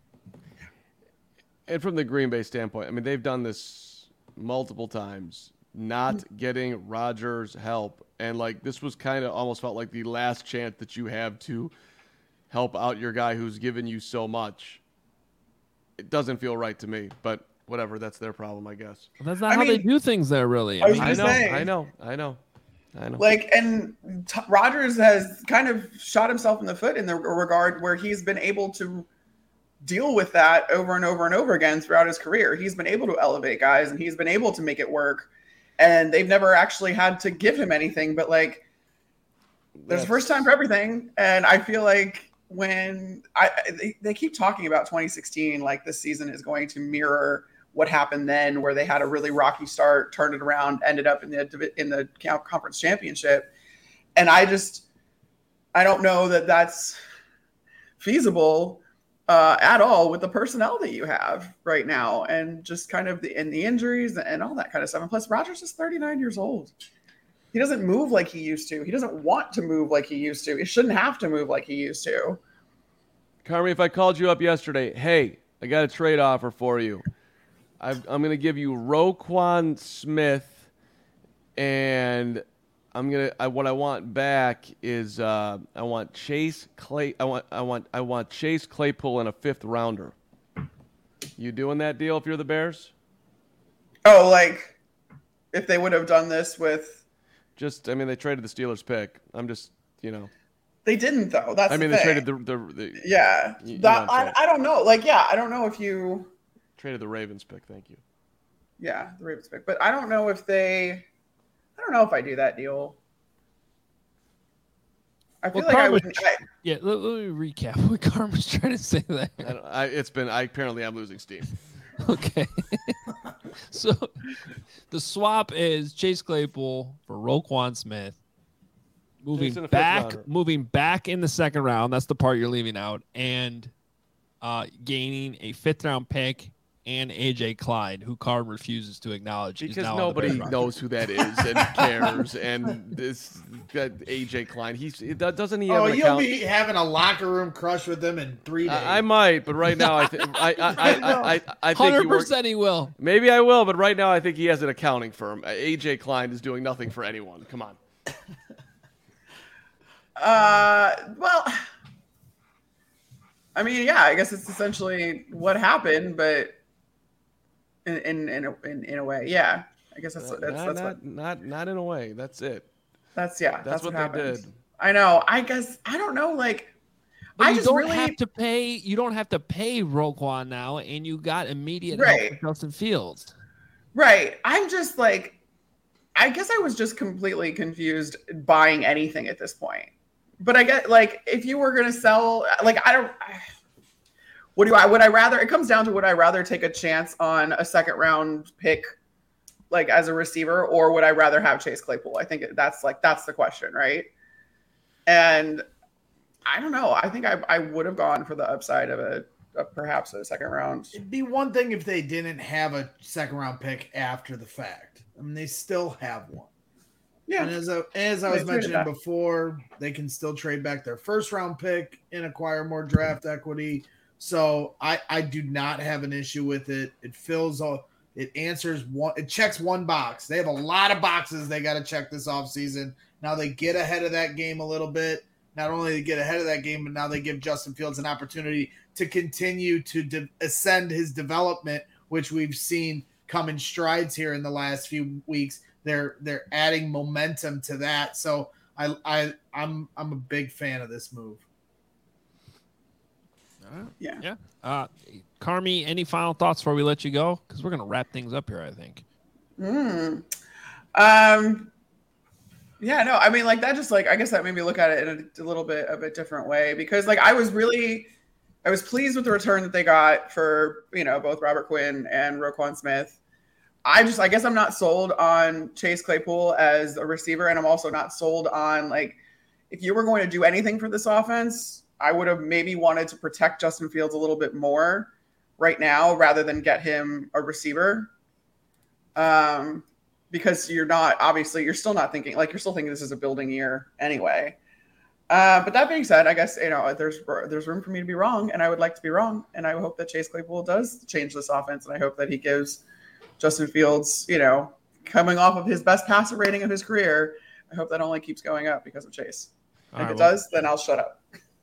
Speaker 2: And from the Green Bay standpoint, I mean, they've done this multiple times, not getting Rodgers help. And like, this was kind of almost felt like the last chance that you have to help out your guy who's given you so much. It doesn't feel right to me, but whatever, that's their problem, I guess.
Speaker 1: Well, that's not
Speaker 7: I
Speaker 1: how
Speaker 7: mean,
Speaker 1: they do things there, really.
Speaker 7: I was
Speaker 1: mean,
Speaker 2: I
Speaker 7: gonna
Speaker 2: know,
Speaker 7: say-
Speaker 2: I know, I know, I know.
Speaker 7: Like, and T- Rodgers has kind of shot himself in the foot in the regard where he's been able to deal with that over and over and over again throughout his career. He's been able to elevate guys and he's been able to make it work. And they've never actually had to give him anything, but like, there's a first time for everything. And I feel like when I they, they keep talking about twenty sixteen, like this season is going to mirror what happened then, where they had a really rocky start, turned it around, ended up in the in the conference championship. And I just, I don't know that that's feasible uh, at all with the personnel that you have right now, and just kind of the and the injuries and all that kind of stuff. And plus, Rodgers is thirty-nine years old. He doesn't move like he used to. He doesn't want to move like he used to. He shouldn't have to move like he used to.
Speaker 2: Carmi, if I called you up yesterday, hey, I got a trade offer for you. I've, I'm going to give you Roquan Smith, and I'm gonna. I, what I want back is uh, I want Chase Clay. I want. I want. I want Chase Claypool in a fifth rounder. You doing that deal if you're the Bears?
Speaker 7: Oh, like if they would have done this with
Speaker 2: Just, I mean, they traded the Steelers pick. I'm just, you know.
Speaker 7: They didn't though. That's
Speaker 2: I mean,
Speaker 7: the
Speaker 2: they
Speaker 7: thing.
Speaker 2: traded the, the, the
Speaker 7: yeah.
Speaker 2: you- you know
Speaker 7: that
Speaker 2: what I'm
Speaker 7: I, I don't know. Like, yeah, I don't know if you.
Speaker 2: traded the Ravens pick. Thank you.
Speaker 7: Yeah, the Ravens pick, but I don't know if they. I don't know if I do that deal. I feel
Speaker 1: Well,
Speaker 7: like I
Speaker 1: Carmen-
Speaker 7: would. I,
Speaker 1: Yeah, let, let me recap what Carmen's trying to say there.
Speaker 2: I don't, I, it's been. I apparently I'm losing steam.
Speaker 1: Okay. So the swap is Chase Claypool for Roquan Smith. Moving
Speaker 2: Jason, a fifth
Speaker 1: back,
Speaker 2: rounder.
Speaker 1: moving back in the second round. That's the part you're leaving out, and uh, gaining a fifth round pick and A J Klein, who Card refuses to acknowledge. is
Speaker 2: Because
Speaker 1: now on the
Speaker 2: nobody
Speaker 1: Bears roster.
Speaker 2: knows who that is and cares. And this that A J Klein, he's that doesn't he have
Speaker 5: Oh,
Speaker 2: an
Speaker 5: you'll
Speaker 2: account?
Speaker 5: be having a locker room crush with them in three days.
Speaker 2: I, I might, but right now I think I I I, I, I, I think
Speaker 1: Hundred
Speaker 2: he works.
Speaker 1: percent, he will.
Speaker 2: Maybe I will, but right now I think he has an accounting firm. A J Klein is doing nothing for anyone. Come on.
Speaker 7: uh, well, I mean, yeah, I guess it's essentially what happened, but in in in a, in, in a way, yeah. I guess that's
Speaker 2: not,
Speaker 7: that's
Speaker 2: not,
Speaker 7: that's
Speaker 2: not,
Speaker 7: what
Speaker 2: not not in a way. That's it.
Speaker 7: that's yeah.
Speaker 2: That's,
Speaker 7: That's,
Speaker 2: what,
Speaker 7: what,
Speaker 2: they
Speaker 7: happened.
Speaker 2: did.
Speaker 7: I know. I guess I don't know. Like,
Speaker 1: But
Speaker 7: I
Speaker 1: you
Speaker 7: just
Speaker 1: don't
Speaker 7: really
Speaker 1: have to pay. You don't have to pay Roquan now, and you got immediate help
Speaker 7: Right.
Speaker 1: with Justin Fields.
Speaker 7: right. I'm just like, I guess I was just completely confused buying anything at this point. But I get like, if you were gonna sell, like, I don't. What do I? Would I rather? It comes down to would I rather take a chance on a second round pick, like as a receiver, or would I rather have Chase Claypool? I think that's like that's the question, right? And I don't know. I think I I would have gone for the upside of a of perhaps a second round.
Speaker 5: It'd be one thing if they didn't have a second round pick after the fact. I mean, they still have one.
Speaker 7: Yeah,
Speaker 5: And as I, as I
Speaker 7: They
Speaker 5: was
Speaker 7: traded
Speaker 5: mentioning
Speaker 7: that.
Speaker 5: before, they can still trade back their first round pick and acquire more draft equity. So I, I do not have an issue with it. It fills all, it answers one, it checks one box. They have a lot of boxes they got to check this offseason. Now they get ahead of that game a little bit. Not only they get ahead of that game, but now they give Justin Fields an opportunity to continue to de- ascend his development, which we've seen come in strides here in the last few weeks. They're they're adding momentum to that. So I I I'm I'm a big fan of this move.
Speaker 7: yeah.
Speaker 1: Yeah. Uh, Carmi, any final thoughts before we let you go? Because we're gonna wrap things up here, I think.
Speaker 7: Mm. Um. Yeah, no, I mean, like that. Just like I guess that made me look at it in a, a little bit of a different way because, like, I was really, I was pleased with the return that they got for you know both Robert Quinn and Roquan Smith. I just, I guess, I'm not sold on Chase Claypool as a receiver, and I'm also not sold on like if you were going to do anything for this offense, I would have maybe wanted to protect Justin Fields a little bit more right now rather than get him a receiver. Um. Because you're not, obviously, you're still not thinking, like, you're still thinking this is a building year anyway. Uh, but that being said, I guess, you know, there's there's room for me to be wrong, and I would like to be wrong. And I hope that Chase Claypool does change this offense, and I hope that he gives Justin Fields, you know, coming off of his best passer rating of his career, I hope that only keeps going up because of Chase.
Speaker 1: All
Speaker 7: if
Speaker 1: right,
Speaker 7: it
Speaker 1: well-
Speaker 7: does, then I'll shut up.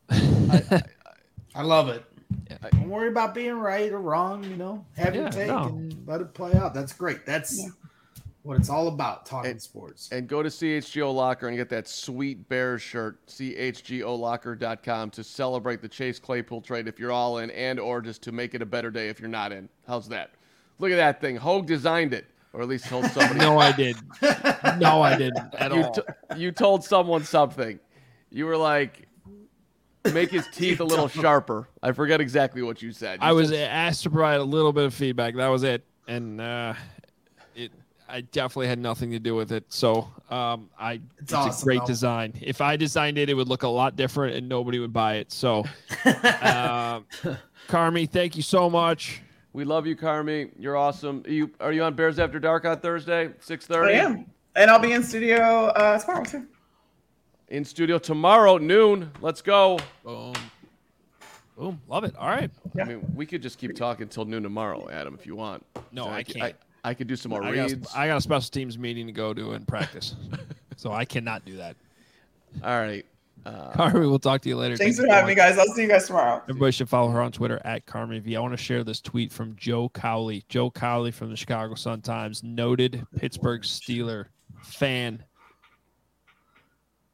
Speaker 5: I love it.
Speaker 1: Yeah.
Speaker 5: Don't worry about being right or wrong. You know, have
Speaker 1: Yeah,
Speaker 5: your take
Speaker 1: no.
Speaker 5: and let it play out. That's great. That's
Speaker 7: Yeah.
Speaker 5: what it's all about. Talking
Speaker 2: And-
Speaker 5: sports.
Speaker 2: And go to C H G O Locker and get that sweet Bears shirt, C H G O locker dot com, to celebrate the Chase Claypool trade if you're all in, and or just to make it a better day if you're not in. How's that? Look at that thing. Hogue designed it, or at least told somebody.
Speaker 1: No, I did. No, I didn't at
Speaker 2: you,
Speaker 1: all.
Speaker 2: t- you told someone something. You were like, make his teeth a little sharper. I forget exactly what you said. You
Speaker 1: I was
Speaker 2: said-
Speaker 1: asked to provide a little bit of feedback. That was it, and uh, it. I definitely had nothing to do with it. So um, I, it's,
Speaker 5: It's
Speaker 1: a
Speaker 5: awesome,
Speaker 1: great
Speaker 5: though.
Speaker 1: design. If I designed it, it would look a lot different, and nobody would buy it. So, uh, Carmi, thank you so much.
Speaker 2: We love you, Carmi. You're awesome. Are you are you on Bears After Dark on Thursday, six
Speaker 7: I
Speaker 2: thirty?
Speaker 7: am. And I'll be in studio uh, tomorrow, too.
Speaker 2: In studio tomorrow, noon. Let's go.
Speaker 1: Boom, boom, love it. All right.
Speaker 2: I mean, we could just keep talking until noon tomorrow, Adam, if you want.
Speaker 1: No,
Speaker 2: So
Speaker 1: I
Speaker 2: c-
Speaker 1: can't.
Speaker 2: I, I could do some more
Speaker 1: I got,
Speaker 2: reads.
Speaker 1: a, I got a special teams meeting to go to and practice, so I cannot do that.
Speaker 2: All right. Uh,
Speaker 1: Carmi, we'll talk to you later.
Speaker 7: Thanks
Speaker 1: Thank
Speaker 7: for
Speaker 1: you so
Speaker 7: having me,
Speaker 1: much.
Speaker 7: guys. I'll see you guys tomorrow.
Speaker 1: Everybody should follow her on Twitter at Carmi V. I want to share this tweet from Joe Cowley. Joe Cowley from the Chicago Sun-Times, noted Pittsburgh Steeler fan,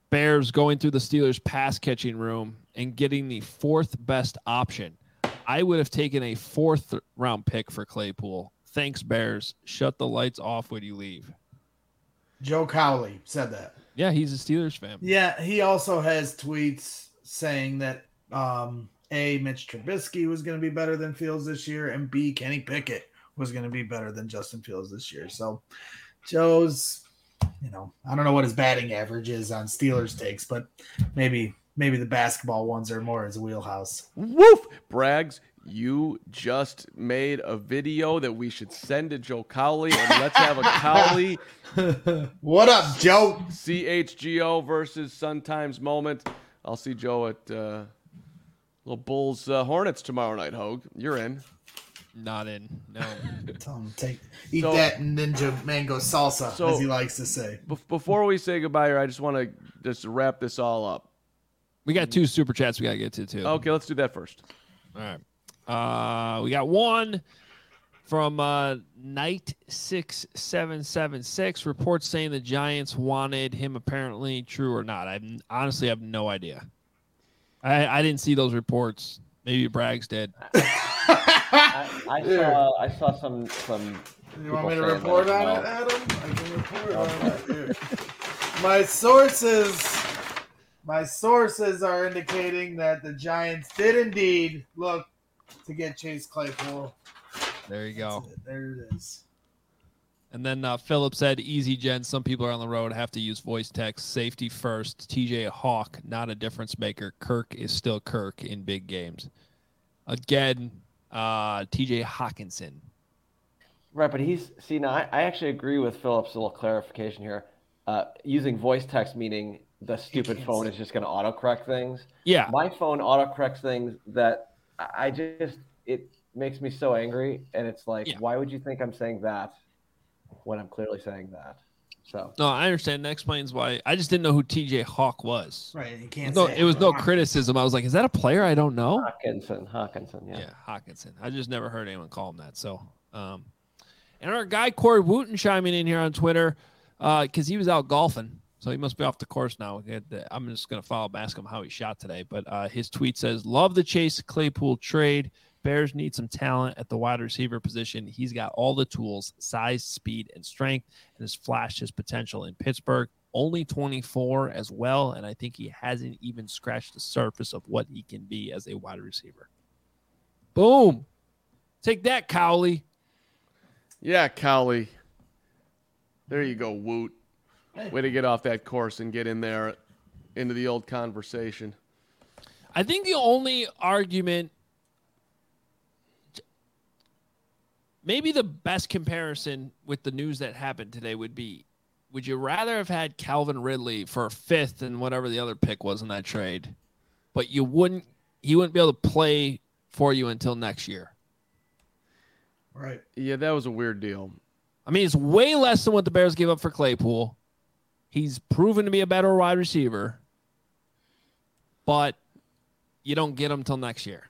Speaker 1: Bears going through the Steelers pass catching room and getting the fourth best option. I would have taken a fourth round pick for Claypool. Thanks, Bears. Shut the lights off when you leave.
Speaker 5: Joe Cowley said that.
Speaker 1: Yeah, he's a Steelers fan.
Speaker 5: Yeah, he also has tweets saying that um, A, Mitch Trubisky was going to be better than Fields this year, and B, Kenny Pickett was going to be better than Justin Fields this year. So Joe's, you know, I don't know what his batting average is on Steelers takes, but maybe maybe the basketball ones are more his wheelhouse.
Speaker 2: Woof! Braggs, you just made a video that we should send to Joe Cowley, and let's have a Cowley.
Speaker 5: What up, Joe?
Speaker 2: C H G O versus Sun Times moment. I'll see Joe at uh, little Bulls uh, Hornets tomorrow night, Hogue. You're in.
Speaker 1: Not in. No.
Speaker 5: Tell him take eat
Speaker 2: So-
Speaker 5: that ninja mango salsa,
Speaker 2: So-
Speaker 5: as he likes to say.
Speaker 2: Be- before we say goodbye here, I just want to just wrap this all up.
Speaker 1: We got two super chats we got to get to, too.
Speaker 2: Okay, let's do that first.
Speaker 1: All right. Uh, we got one from uh, Night six seven seven six. Reports saying the Giants wanted him, apparently true or not. I honestly have no idea. I, I didn't see those reports. Maybe Braggs did.
Speaker 4: I, I saw I saw some some.
Speaker 5: You want me to
Speaker 4: people saying
Speaker 5: report
Speaker 4: that
Speaker 5: on
Speaker 4: as
Speaker 5: it,
Speaker 4: well.
Speaker 5: Adam? I can report on it here. My sources, my sources are indicating that the Giants did indeed look to get Chase Claypool.
Speaker 1: There you go.
Speaker 5: That's it. There it is.
Speaker 1: And then uh, Philip said, easy, Jen. Some people are on the road, have to use voice text. Safety first. T J Hawk, not a difference maker. Kirk is still Kirk in big games. Again, uh, T J Hawkinson.
Speaker 4: Right, but he's see now. I, I actually agree with Philip's little clarification here. Uh, using voice text meaning the stupid
Speaker 5: can't
Speaker 4: phone
Speaker 5: see.
Speaker 4: is just going to autocorrect things.
Speaker 1: Yeah.
Speaker 4: My phone autocorrects things that I I just it makes me so angry, and it's like,
Speaker 1: Yeah.
Speaker 4: why would you think I'm saying that when I'm clearly saying that? So
Speaker 1: No, I understand. That explains why. I just didn't know who T J Hawk was.
Speaker 5: Right, you can't.
Speaker 1: No,
Speaker 5: say
Speaker 1: it was no
Speaker 5: Hawk.
Speaker 1: criticism. I was like, is that a player I don't know?
Speaker 4: Hawkinson, Hawkinson, yeah.
Speaker 1: Yeah, Hawkinson. I just never heard anyone call him that. So, um, and our guy Corey Wooten chiming in here on Twitter because he was out golfing, so he must be off the course now. We had the- I'm just gonna follow up, ask him how he shot today. But uh, his tweet says, "Love the Chase Claypool trade. Bears need some talent at the wide receiver position. He's got all the tools, size, speed, and strength, and has flashed his potential in Pittsburgh. Only twenty-four as well, and I think he hasn't even scratched the surface of what he can be as a wide receiver." Boom. Take that, Cowley.
Speaker 2: Yeah, Cowley. There you go, Woot. Way to get off that course and get in there into the old conversation.
Speaker 1: I think the only argument, maybe the best comparison with the news that happened today would be, would you rather have had Calvin Ridley for a fifth and whatever the other pick was in that trade, but you wouldn't, he wouldn't be able to play for you until next year?
Speaker 5: Right.
Speaker 2: Yeah, that was a weird deal.
Speaker 1: I mean, it's way less than what the Bears gave up for Claypool. He's proven to be a better wide receiver, but you don't get him till next year.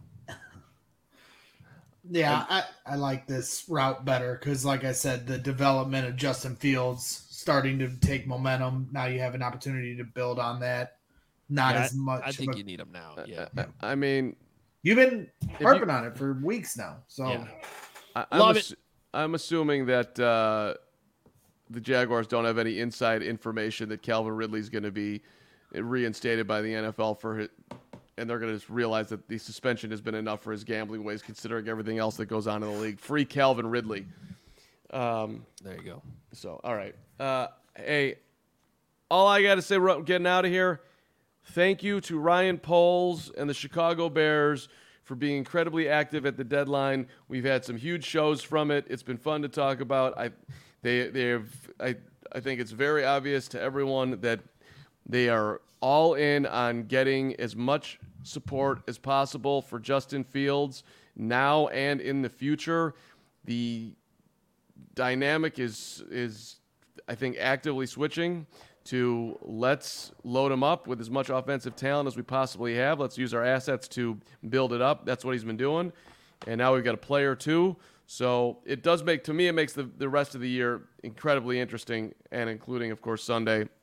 Speaker 5: Yeah, I, I like this route better because, like I said, the development of Justin Fields starting to take momentum. Now you have an opportunity to build on that. Not
Speaker 1: Yeah,
Speaker 5: as much.
Speaker 1: I think
Speaker 5: of a-
Speaker 1: you need him now. Yeah.
Speaker 2: I, I mean,
Speaker 5: You've been
Speaker 2: you-
Speaker 5: harping on it for weeks now. So
Speaker 1: Yeah.
Speaker 2: I, I'm,
Speaker 1: Love
Speaker 2: assu- I'm assuming that uh, the Jaguars don't have any inside information that Calvin Ridley's going to be reinstated by the N F L for his, and they're going to just realize that the suspension has been enough for his gambling ways, considering everything else that goes on in the league. Free Calvin Ridley. Um,
Speaker 1: There you go.
Speaker 2: so, all right. Uh, hey, all I got to say, we're getting out of here. Thank you to Ryan Poles and the Chicago Bears for being incredibly active at the deadline. We've had some huge shows from it. It's been fun to talk about. I, they, they've, I, I think it's very obvious to everyone that they are all in on getting as much support as possible for Justin Fields now and in the future. The dynamic is is I think actively switching to let's load him up with as much offensive talent as we possibly have. Let's use our assets to build it up. That's what he's been doing. And now we've got a player too. So it does make, to me, it makes the, the rest of the year incredibly interesting, and including, of course, Sunday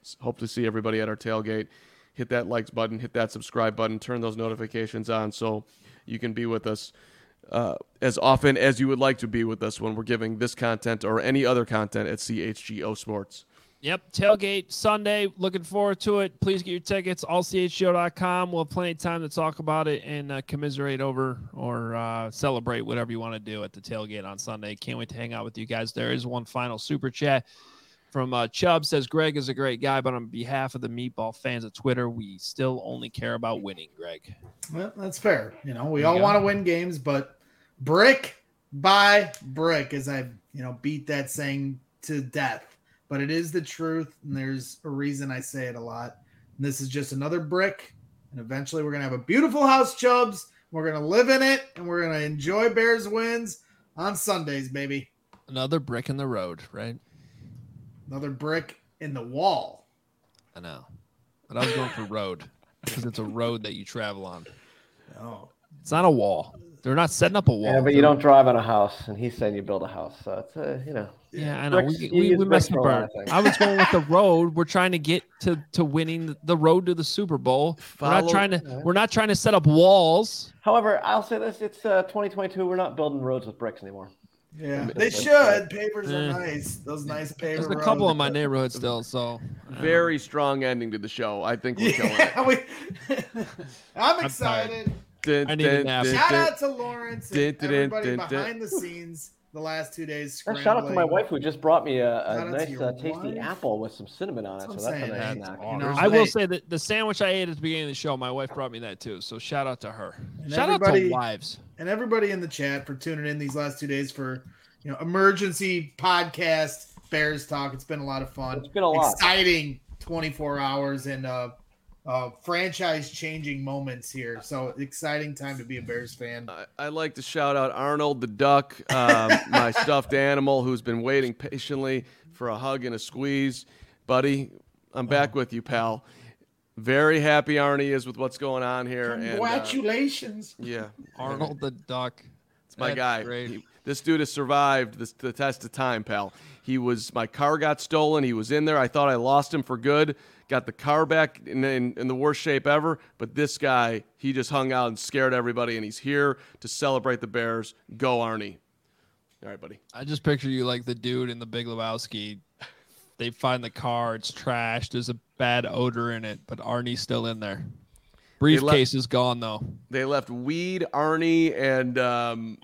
Speaker 2: Hope to see everybody at our tailgate. Hit that likes button, hit that subscribe button, turn those notifications on so you can be with us uh, as often as you would like to be with us when we're giving this content or any other content at C H G O Sports.
Speaker 1: Yep, tailgate Sunday. Looking forward to it. Please get your tickets, all c h g o dot com. We'll have plenty of time to talk about it and uh, commiserate over or uh, celebrate whatever you want to do at the tailgate on Sunday. Can't wait to hang out with you guys. There is one final super chat from uh, Chubb. Says, Greg is a great guy, but on behalf of the Meatball fans of Twitter, we still only care about winning, Greg.
Speaker 5: Well, that's fair. You know, we
Speaker 1: There you
Speaker 5: all
Speaker 1: go.
Speaker 5: want to win games, but brick by brick, as I, you know, beat that saying to death. But it is the truth, and there's a reason I say it a lot. And this is just another brick, and eventually we're going to have a beautiful house, Chubbs. We're going to live in it, and we're going to enjoy Bears wins on Sundays, baby.
Speaker 1: Another brick in the road, right?
Speaker 5: Another brick in the wall.
Speaker 1: I know. But I was going for road because it's a road that you travel on.
Speaker 5: Oh,
Speaker 1: It's not a wall. They're not setting up a wall.
Speaker 4: Yeah, but you don't drive on a house, and he's saying you build a house. So it's, uh, you know.
Speaker 1: Yeah, I know.
Speaker 4: Bricks-
Speaker 1: we
Speaker 4: you
Speaker 1: we,
Speaker 4: use
Speaker 1: we
Speaker 4: bricks
Speaker 1: messed
Speaker 4: for
Speaker 1: up
Speaker 4: a lot
Speaker 1: our,
Speaker 4: of things.
Speaker 1: I was going with the road. We're trying to get to, to winning the road to the Super Bowl. We're not
Speaker 2: Follow-
Speaker 1: trying to we're not trying to set up walls.
Speaker 4: However, I'll say this: it's uh, twenty twenty-two. We're not building roads with bricks anymore.
Speaker 5: yeah. They should. Papers are
Speaker 1: Eh.
Speaker 5: nice. Those nice paper
Speaker 1: There's a couple
Speaker 5: roads.
Speaker 1: in my neighborhood still, so
Speaker 2: Very strong ending to the show. I think we're killing it.
Speaker 5: Yeah, we, I'm excited.
Speaker 2: Dun,
Speaker 1: I need a
Speaker 2: dun,
Speaker 1: nap.
Speaker 2: dun,
Speaker 5: Shout
Speaker 2: dun.
Speaker 5: out to Lawrence
Speaker 2: Dun,
Speaker 5: and
Speaker 2: dun, dun,
Speaker 5: everybody
Speaker 2: dun, dun.
Speaker 5: behind the scenes the last two days.
Speaker 4: And
Speaker 5: Scrambling.
Speaker 4: shout out to my wife who just brought me a,
Speaker 5: Shout
Speaker 4: a
Speaker 5: out to
Speaker 4: nice,
Speaker 5: your
Speaker 4: uh, tasty
Speaker 5: wife.
Speaker 4: apple with some cinnamon on it.
Speaker 5: That's
Speaker 4: So
Speaker 5: what I'm
Speaker 4: that's a
Speaker 5: saying.
Speaker 4: nice
Speaker 5: That's
Speaker 4: snack.
Speaker 5: You know,
Speaker 1: I will
Speaker 5: hey,
Speaker 1: say that the sandwich I ate at the beginning of the show, my wife brought me that too. So shout out to her.
Speaker 5: And
Speaker 1: Shout out to
Speaker 5: everybody-
Speaker 1: wives.
Speaker 5: and everybody in the chat for tuning in these last two days for you know emergency podcast Bears talk. It's been a lot of fun.
Speaker 4: It's been a lot.
Speaker 5: Exciting twenty-four hours and uh, uh, franchise changing moments here. So exciting time to be a Bears fan.
Speaker 2: I, I'd like to shout out Arnold the duck, um, my stuffed animal, who's been waiting patiently for a hug and a squeeze. Buddy, I'm back with you, pal. Very happy Arnie is with what's going on here. And, uh,
Speaker 5: Congratulations.
Speaker 2: yeah,
Speaker 1: Arnold the Duck.
Speaker 2: it's my
Speaker 1: That's
Speaker 2: guy.
Speaker 1: great.
Speaker 2: He- this dude has survived this, the test of time, pal. He was my car got stolen. He was in there. I thought I lost him for good. Got the car back in, in, in the worst shape ever. But this guy, he just hung out and scared everybody, and he's here to celebrate the Bears. Go, Arnie. All right, buddy.
Speaker 1: I just picture you like the dude in the Big Lebowski. They find the car, it's trashed, there's a bad odor in it, but Arnie's still in there. Briefcase is gone though.
Speaker 2: They left Weed, Arnie, and um,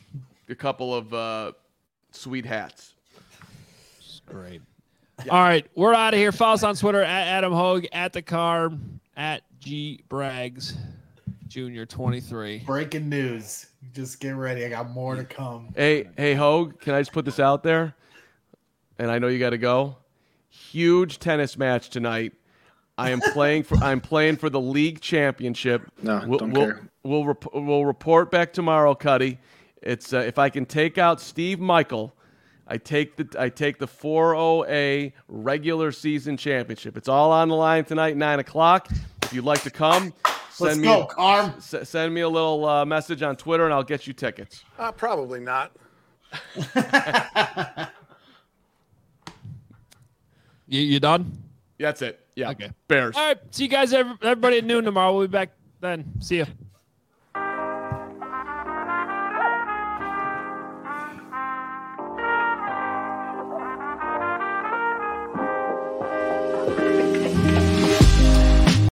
Speaker 2: a couple of uh, sweet hats.
Speaker 1: Great. All right, we're out of here. Follow us on Twitter at Adam Hogue, at the car, at G Braggs, Junior twenty-three.
Speaker 5: Breaking news. Just get ready. I got more to come.
Speaker 2: Hey, hey, Hogue, can I just put this out there? And I know you got to go. Huge tennis match tonight. I am playing for. I'm playing for the league championship.
Speaker 6: No,
Speaker 2: we'll,
Speaker 6: don't
Speaker 2: we'll,
Speaker 6: care.
Speaker 2: We'll rep- we'll report back tomorrow, Cuddy. It's uh, if I can take out Steve Michael, I take the I take the four oh A regular season championship. It's all on the line tonight, nine o'clock. If you'd like to come, send
Speaker 5: Let's
Speaker 2: me
Speaker 5: go,
Speaker 2: a,
Speaker 5: Carm.
Speaker 2: s- send me a little uh, message on Twitter, and I'll get you tickets.
Speaker 8: Uh, probably not.
Speaker 1: You, you done?
Speaker 2: That's it. Yeah.
Speaker 1: Okay.
Speaker 2: Bears.
Speaker 1: All right. See you guys, every- everybody at noon tomorrow. We'll be back then. See you.